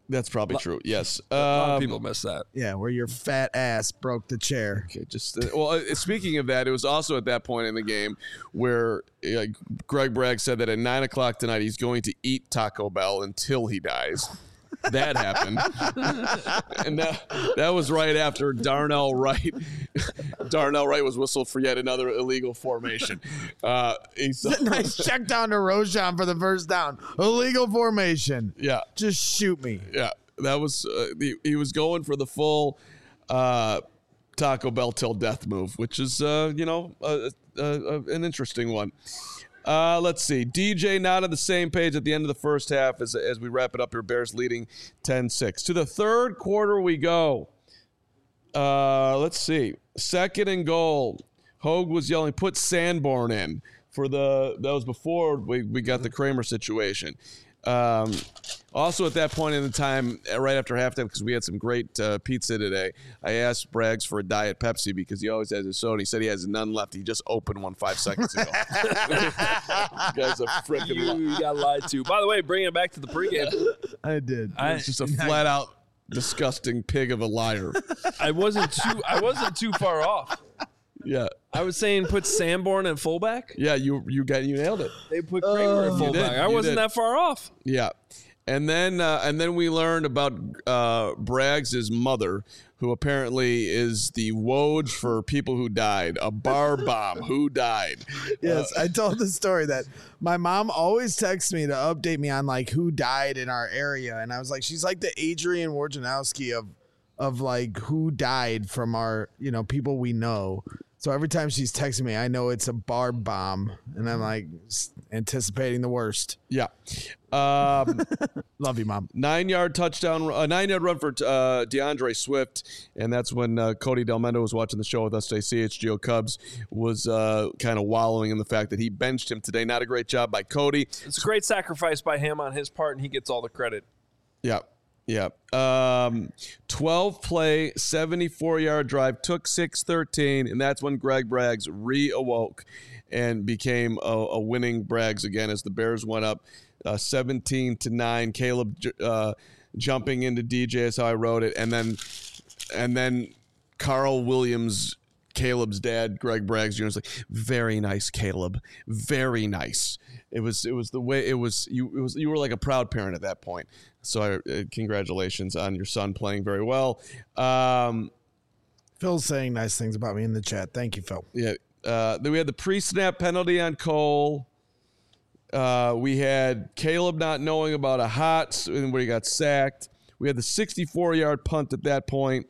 That's probably true. Yes. A lot of Um, people miss that. Yeah, where your fat ass broke the chair. Okay, just uh, well. Uh, speaking of that, it was also at that point in the game where uh, Greg Bragg said that at nine o'clock tonight he's going to eat Taco Bell until he dies. That happened, and that that was right after Darnell Wright. Darnell Wright was whistled for yet another illegal formation. Uh, he's Nice check down to Roschon for the first down. Illegal formation. Yeah, just shoot me. Yeah, that was uh, he, he was going for the full uh, Taco Bell till death move, which is uh, you know uh, uh, uh, an interesting one. Uh, let's see. D J not on the same page at the end of the first half as, as we wrap it up here. Bears leading ten six. To the third quarter we go. Uh, let's see. Second and goal. Hogue was yelling, put Sanborn in. For the That was before we, we got the Kramer situation. Um, also at that point in the time, right after halftime, because we had some great uh, pizza today, I asked Braggs for a Diet Pepsi because he always has his soda. He said he has none left. He just opened one five seconds ago. This guy's a freaking You li- got lied to. By the way, bringing it back to the pregame. I did. I, It's just a flat out disgusting pig of a liar. I wasn't too. I wasn't too far off. Yeah. I was saying put Sanborn at fullback. Yeah, you you got you nailed it. They put Kramer at You fullback. did, I you wasn't did. that far off. Yeah. And then uh, and then we learned about uh, Braggs' mother, who apparently is the Woj for people who died, a bar bomb who died. Yes, I told the story that my mom always texts me to update me on like who died in our area, and I was like, she's like the Adrian Wojnarowski of of like who died from our you know people we know. So every time she's texting me, I know it's a bar bomb, and I'm like s- anticipating the worst. Yeah. Um, Love you, Mom. Nine yard touchdown, a nine yard run for uh, DeAndre Swift, and that's when uh, Cody Delmendo was watching the show with us today. C H G O Cubs was uh, kind of wallowing in the fact that he benched him today. Not a great job by Cody. It's a great sacrifice by him on his part, and he gets all the credit. Yeah. Yeah. Um, twelve play, seventy-four yard drive, took six thirteen, and that's when Greg Braggs reawoke and became a, a winning Braggs again as the Bears went up uh, seventeen to nine. Caleb uh, jumping into D J is how I wrote it, and then and then Carl Williams, Caleb's dad, Greg Braggs Junior was like, very nice, Caleb, very nice. It was it was the way it was you it was you were like a proud parent at that point. So I, uh, congratulations on your son playing very well. Um, Phil's saying nice things about me in the chat. Thank you, Phil. yeah. Uh, then we had the pre-snap penalty on Cole. Uh, we had Caleb not knowing about a hot where he got sacked. We had the sixty-four yard punt at that point.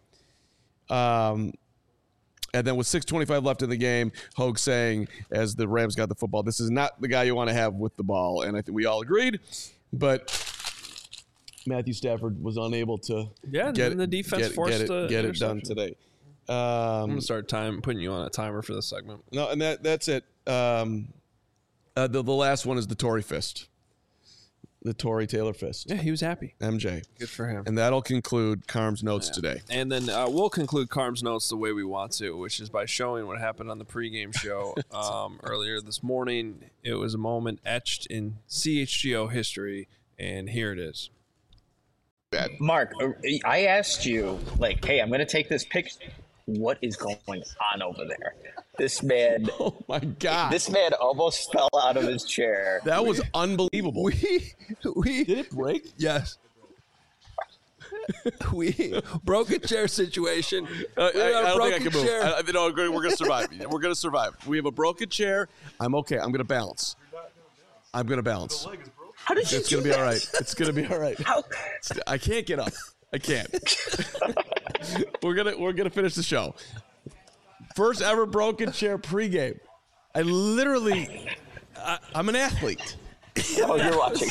Um, and then with six twenty-five left in the game, Hogue saying, as the Rams got the football, this is not the guy you want to have with the ball. And I think we all agreed. But Matthew Stafford was unable to Yeah, get, and the defense get, forced get it, the get it done interception. today. Um, I'm gonna start time putting you on a timer for this segment. No, and that that's it. Um, uh, the the last one is the Tory fist, the Tory Taylor fist. Yeah, he was happy. M J, Good for him. and that'll conclude Carm's notes today. And then uh, we'll conclude Carm's notes the way we want to, which is by showing what happened on the pregame show um, earlier this morning. It was a moment etched in C H G O history, and here it is. Mark, I asked you, like, hey, I'm going to take this picture. What is going on over there? This man. Oh, my God. This man almost fell out of his chair. That was unbelievable. We, we Did it break? Yes. We broke a chair situation. Uh, We I, had a I don't think I broken can move. chair. I, I, no, we're going to survive. We're going to survive. We have a broken chair. I'm okay. I'm going to balance. I'm going to balance. How did you It's do going to be all that? right. It's going to be all right. How? I can't get up. I can't. we're gonna we're gonna finish the show. First ever broken chair pregame. I literally, I, I'm an athlete. Oh, you're watching.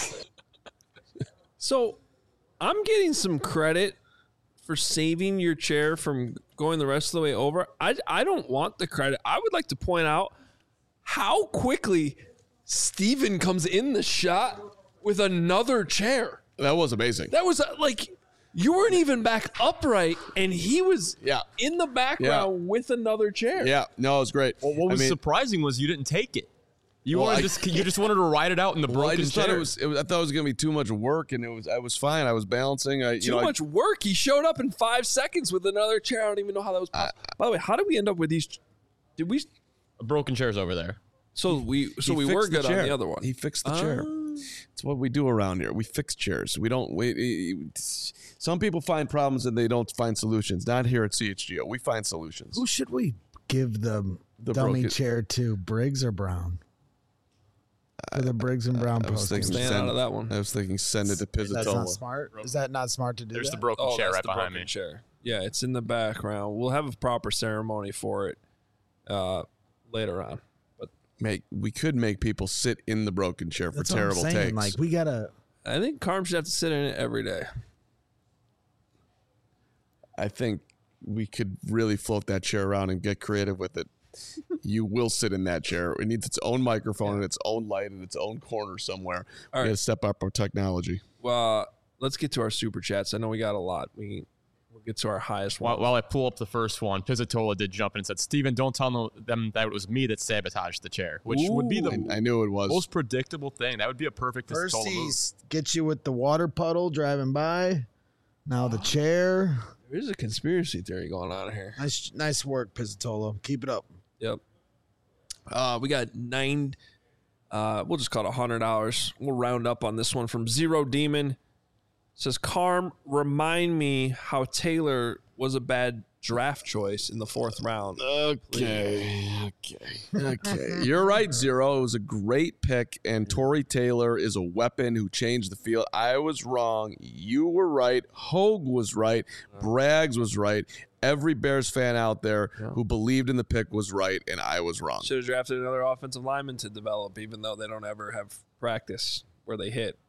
So I'm getting some credit for saving your chair from going the rest of the way over. I, I don't want the credit. I would like to point out how quickly Steven comes in the shot with another chair. That was amazing. That was uh, like you weren't even back upright, and he was Yeah. in the background with another chair. Yeah, no, it was great. Well, what I was mean, surprising was you didn't take it. You Well, wanted I- just you just wanted to ride it out in the Well, I broken just chair. thought it was, it was. I thought it was going to be too much work, and it was. I was fine. I was balancing. I, you Too know, I- much work. He showed up in five seconds with another chair. I don't even know how that was possible. By the way, how did we end up with these? Did we? Broken chairs over there. So we so He we fixed were the good on chair. the other one. He fixed the chair. It's what we do around here. We fix chairs. We don't. We, some people find problems and they don't find solutions. Not here at C H G O. We find solutions. Who should we give the, The dummy broken- chair to? Briggs or Brown? For the Briggs and Brown I was post. thinking Staying send, out of that one. I was thinking send it to That's not Pizzatola. smart. Is that not smart to do? There's that? the broken Oh, chair that's right the behind broken me. chair. Yeah, it's in the background. We'll have a proper ceremony for it uh, later on. But Make we could make people sit in the broken chair for That's what I'm terrible saying. takes. Like we gotta. I think Carm should have to sit in it every day. I think we could really float that chair around and get creative with it. You will sit in that chair. It needs its own microphone and its own light and its own corner somewhere. All We right. got to step up our technology. Well, uh, let's get to our super chats. I know we got a lot. We we'll get to our highest one. While, while I pull up the first one, Pizzatola did jump in and said, Steven, don't tell no- them that it was me that sabotaged the chair, which would be the I, I knew it was. most predictable thing. That would be a perfect First Pizzatola he move. s- gets you with the water puddle driving by. Now the chair. There's a conspiracy theory going on here. Nice, nice work, Pizzatola. Keep it up. Yep. Uh, we got nine. Uh, we'll just call it a hundred dollars. We'll round up on this one from Zero Demon. Says Carm, remind me how Taylor was a bad draft choice in the fourth round. Okay. Okay. Okay. You're right, Zero. It was a great pick, and Torrey Taylor is a weapon who changed the field. I was wrong. You were right. Hogue was right. Braggs was right. Every Bears fan out there who believed in the pick was right, and I was wrong. Should have drafted another offensive lineman to develop, even though they don't ever have practice where they hit.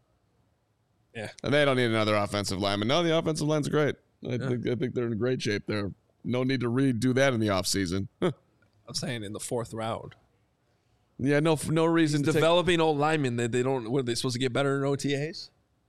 Yeah. And they don't need another offensive lineman. No, the offensive line's great. I, think, I think they're in great shape there. No need to redo that in the offseason. I'm saying in the fourth round. Yeah, no no reason to take- Developing old linemen, they, they don't, what are they supposed to get better in O T As?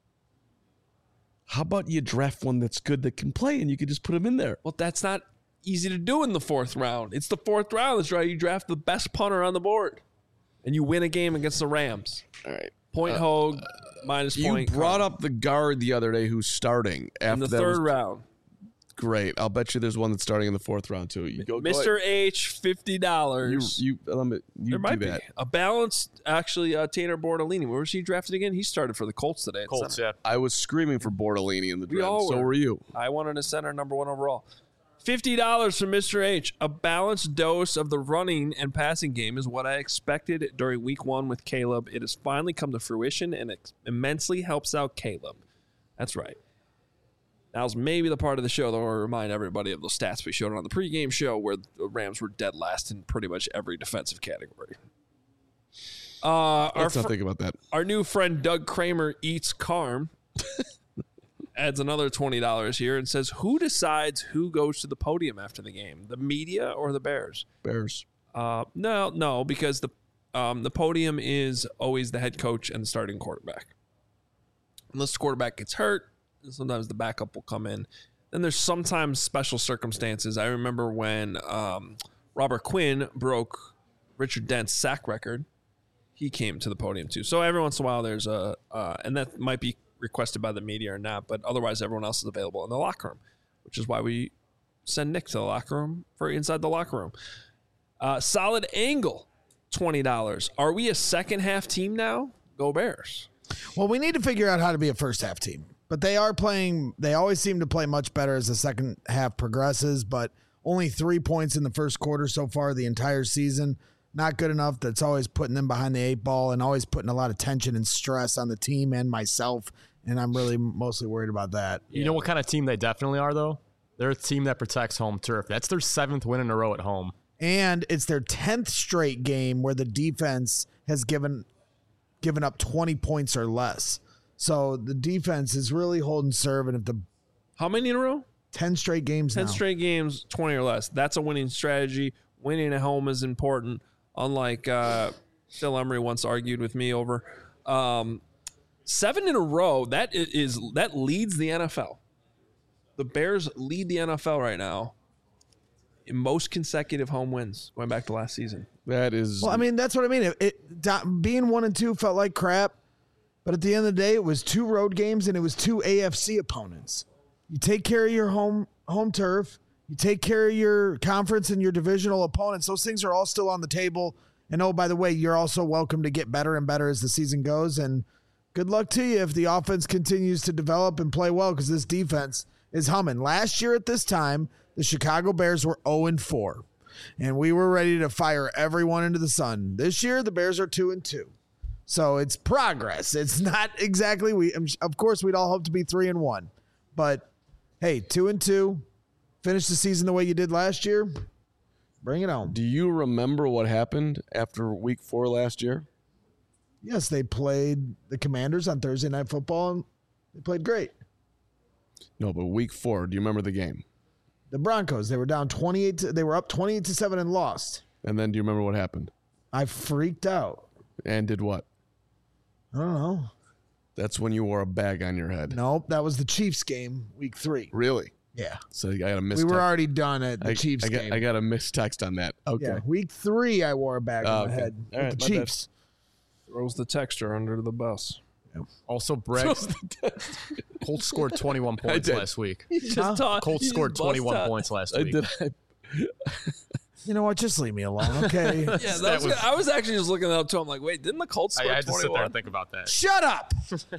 How about you draft one that's good that can play and you can just put him in there? Well, that's not easy to do in the fourth round. It's the fourth round. That's right. You draft the best punter on the board, and you win a game against the Rams. All right. Point Uh, Hogue, minus You point. brought Carm. up the guard the other day who's starting after in the that third was- round. Great. I'll bet you there's one that's starting in the fourth round too. You go, go Mister ahead. H, fifty dollars. You you let me you There might do be that. a balanced. Actually, uh, Tanner Bordolini. Where was he drafted again? He started for the Colts today. at Colts, center. yeah. I was screaming for Bordolini in the We draft. all So were. were you. I wanted a center, number one overall. Fifty dollars from Mister H. A balanced dose of the running and passing game is what I expected during Week One with Caleb. It has finally come to fruition, and it immensely helps out Caleb. That's right. Now's maybe the part of the show that will remind everybody of those stats we showed on the pregame show, where the Rams were dead last in pretty much every defensive category. Uh, our Let's not fr- think about that. Our new friend Doug Kramer eats Carm. Adds another twenty dollars here and says, who decides who goes to the podium after the game, the media or the Bears? Bears. Uh, no, no, because the um, the podium is always the head coach and the starting quarterback. Unless the quarterback gets hurt, sometimes the backup will come in. Then there's sometimes special circumstances. I remember when um, Robert Quinn broke Richard Dent's sack record. He came to the podium too. So every once in a while there's a, uh, and that might be requested by the media or not, but otherwise everyone else is available in the locker room, which is why we send Nick to the locker room for inside the locker room. Uh, solid angle, twenty dollars. Are we a second half team now? Go Bears. Well, we need to figure out how to be a first half team. But they are playing, they always seem to play much better as the second half progresses, but only three points in the first quarter so far the entire season. Not good enough. That's always putting them behind the eight ball and always putting a lot of tension and stress on the team and myself. And I'm really mostly worried about that. You know what kind of team they definitely are, though? They're a team that protects home turf. That's their seventh win in a row at home. And it's their tenth straight game where the defense has given given up twenty points or less. So the defense is really holding serve. And if the how many in a row? ten straight games. ten now. straight games, twenty or less. That's a winning strategy. Winning at home is important. Unlike uh, Phil Emery once argued with me over um, seven in a row. That is that leads the N F L. The Bears lead the N F L right now most consecutive home wins going back to last season. That is. Well, I mean, that's what I mean. It, it da- being one and two felt like crap, but at the end of the day, it was two road games and it was two A F C opponents. You take care of your home home turf. You take care of your conference and your divisional opponents. Those things are all still on the table. And oh, by the way, you're also welcome to get better and better as the season goes. And good luck to you if the offense continues to develop and play well, because this defense is humming. Last year at this time, the Chicago Bears were oh and four, and we were ready to fire everyone into the sun. This year, the Bears are two and two. So it's progress. It's not exactly we. Of course, we'd all hope to be three and one, but hey, two and two. Finish the season the way you did last year. Bring it on. Do you remember what happened after week four last year? Yes, they played the Commanders on Thursday Night Football, and they played great. No, but week four, do you remember the game? The Broncos, they were down twenty-eight. To, they were up twenty-eight to seven and lost. And then do you remember what happened? I freaked out. And did what? I don't know. That's when you wore a bag on your head. Nope, that was the Chiefs game, week three. Really? Yeah. So I got a missed We were text. already done at the I, Chiefs I got, game. I got a missed text on that. Okay. Yeah, week three, I wore a bag Oh, on my okay. head All with right, the my bad. Chiefs. Throws the texture under the bus. Also, Bregs. Colts scored twenty-one points did. last week. You just taught- Colts you scored just bust twenty-one out. points last I week. did. I, You know what? Just leave me alone, okay? Yeah, that That was, was- I was actually just looking that up too. I'm like, wait, didn't the Colts I, score I had to sit there twenty-one? and think about that. Shut up.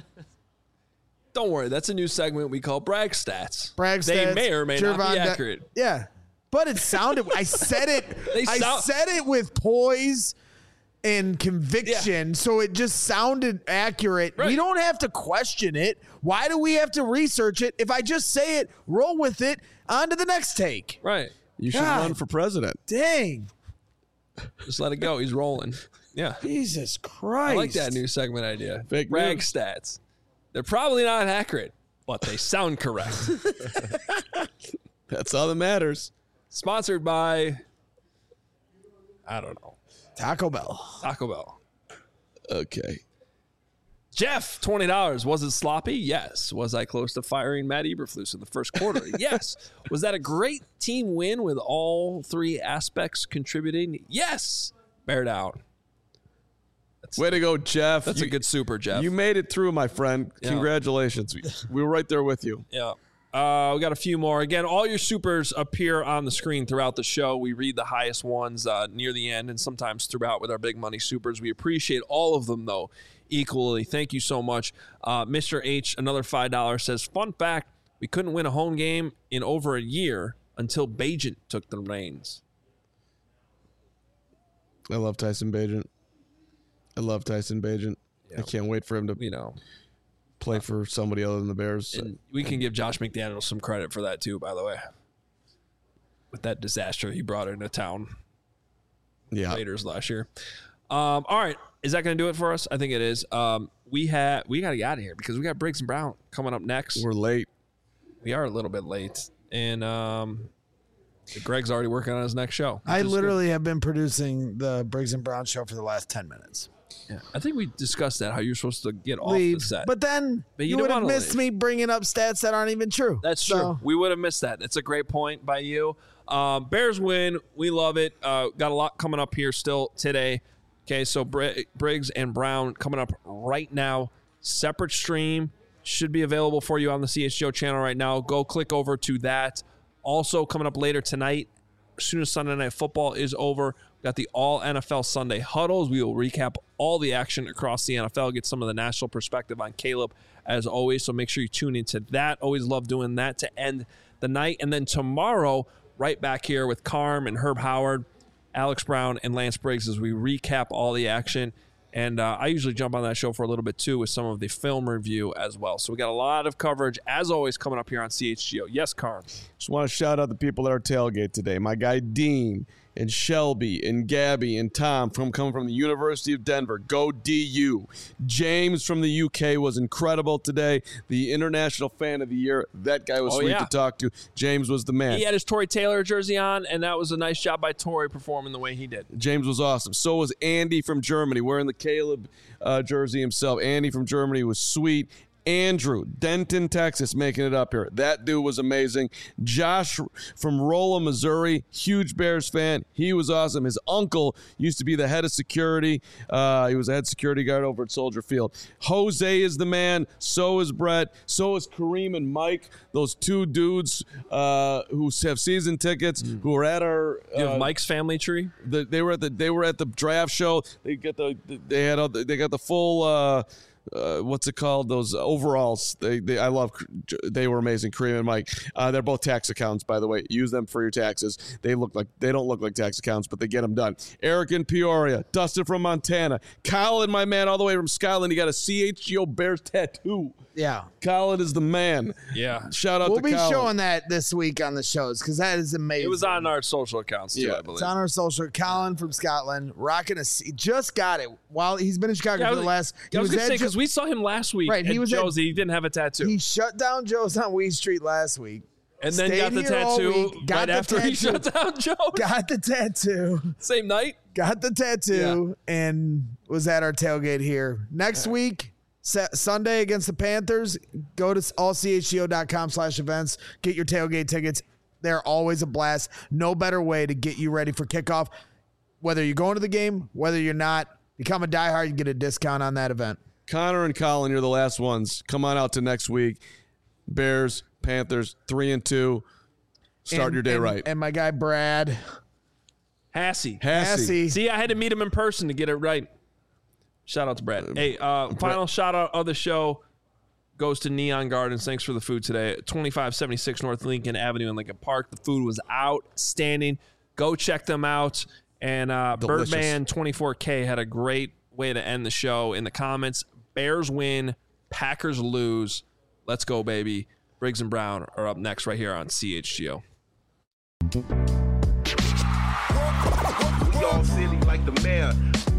Don't worry, that's a new segment we call Brag Stats. Brag They stats, may or may not Gervon be Da- accurate. Yeah, but it sounded. I said it. They I sound- said it with poise and conviction, so it just sounded accurate. Right. We don't have to question it. Why do we have to research it? If I just say it, roll with it. On to the next take. Right. you should God. run for president. Dang, Just let it go. He's rolling. Yeah. Jesus Christ! I like that new segment idea. Fake Brag news. Stats. They're probably not accurate, but they sound correct. That's all that matters. Sponsored by, I don't know, Taco Bell. Taco Bell. Okay. Jeff, twenty dollars. Was it sloppy? Yes. Was I close to firing Matt Eberflus in the first quarter? Yes. Was that a great team win with all three aspects contributing? Yes. Bear down. That's, Way to go, Jeff. that's you, a good super, Jeff. You made it through, my friend. Yeah. Congratulations. We, we were right there with you. Yeah. Uh, we got a few more. Again, all your supers appear on the screen throughout the show. We read the highest ones uh, near the end and sometimes throughout with our big money supers. We appreciate all of them, though, equally. Thank you so much. Uh, Mister H, another five dollars, says, fun fact, we couldn't win a home game in over a year until Bajent took the reins. I love Tyson Bagent. I love Tyson Bagent. Yeah. I can't wait for him to You know, play for somebody other than the Bears. and we can give Josh McDaniels some credit for that, too, by the way. With that disaster he brought into town. yeah. Raiders last year. Um, all right, is that going to do it for us? I think it is. Um, we have we got to get out of here because we got Briggs and Brown coming up next. We're late. We are a little bit late, and um, Greg's already working on his next show. I which is literally have been producing the Briggs and Brown show for the last ten minutes. good. Yeah, I think we discussed that how you're supposed to get off Leave, the set, but then But you you, don't would have wanna missed leave. me bringing up stats that aren't even true. that's So- true. We would have missed that. It's a great point by you. Um, Bears win. We love it. Uh, got a lot coming up here still today. Okay, so Br- Briggs and Brown coming up right now. Separate stream should be available for you on the C H G O channel right now. Go click over to that. Also coming up later tonight, as soon as Sunday Night Football is over, we got the All N F L Sunday Huddles. We will recap all the action across the N F L, get some of the national perspective on Caleb as always. So make sure you tune into that. Always love doing that to end the night. And then tomorrow, right back here with Carm and Herb Howard, Alex Brown, and Lance Briggs as we recap all the action. And uh, I usually jump on that show for a little bit, too, with some of the film review as well. So we got a lot of coverage, as always, coming up here on C H G O. Yes, Carm. Just want to shout out the people at our tailgate today. My guy Dean and Shelby and Gabby and Tom from coming from the University of Denver. Go D U. James from the U K was incredible today. The International Fan of the Year. That guy was Oh, sweet yeah. to talk to. James was the man. He had his Tory Taylor jersey on, and that was a nice job by Tory performing the way he did. James was awesome. So was Andy from Germany wearing the Caleb uh, jersey himself. Andy from Germany was sweet. Andrew, Denton, Texas, making it up here. That dude was amazing. Josh from Rolla, Missouri, huge Bears fan. He was awesome. His uncle used to be the head of security. Uh, he was a head security guard over at Soldier Field. Jose is the man. So is Brett. So is Kareem and Mike. Those two dudes uh, who have season tickets, mm. who were at our. Uh, you have Mike's family tree. The, they were at the. They were at the draft show. They get the. They had. All the, they got the full. Uh, Uh, what's it called? Those overalls. They, they, I love. They were amazing. Kareem and Mike. Uh, they're both tax accountants, by the way. Use them for your taxes. They look like they don't look like tax accountants, but they get them done. Eric in Peoria, Dustin from Montana, Colin, my man, all the way from Scotland. He got a C H G O Bears tattoo. Yeah, Colin is the man. Yeah, shout out. We'll to be Colin. showing that this week on the shows because that is amazing. It was on our social accounts too, yeah, I believe. It's on our social. Colin from Scotland, rocking a. C- just got it while he's been in Chicago yeah, for was, the last. I was, was gonna say Jo- because we saw him last week. Right, he was Joe's. at, He didn't have a tattoo. He shut down Joe's on Weed Street last week. And then Stayed got the here all tattoo week, got right the after tattoo, he shut down Joe. Got the tattoo. Same night. Got the tattoo yeah. and was at our tailgate here. Next week, sa- Sunday against the Panthers, go to all c h g o dot com slash events. Get your tailgate tickets. They're always a blast. No better way to get you ready for kickoff. Whether you're going to the game, whether you're not, become a diehard, you get a discount on that event. Connor and Colin, you're the last ones. Come on out to next week. Bears, Panthers, three and two. Start and, your day and, right. And my guy Brad Hassey. Hassey. See, I had to meet him in person to get it right. Shout out to Brad. Hey, uh, final shout out of the show goes to Neon Gardens. Thanks for the food today. twenty-five seventy-six North Lincoln Avenue in Lincoln Park. The food was outstanding. Go check them out. And uh, Birdman twenty-four K had a great way to end the show in the comments. Bears win, Packers lose. Let's go, baby. Briggs and Brown are up next right here on C H G O. We all silly like the mayor.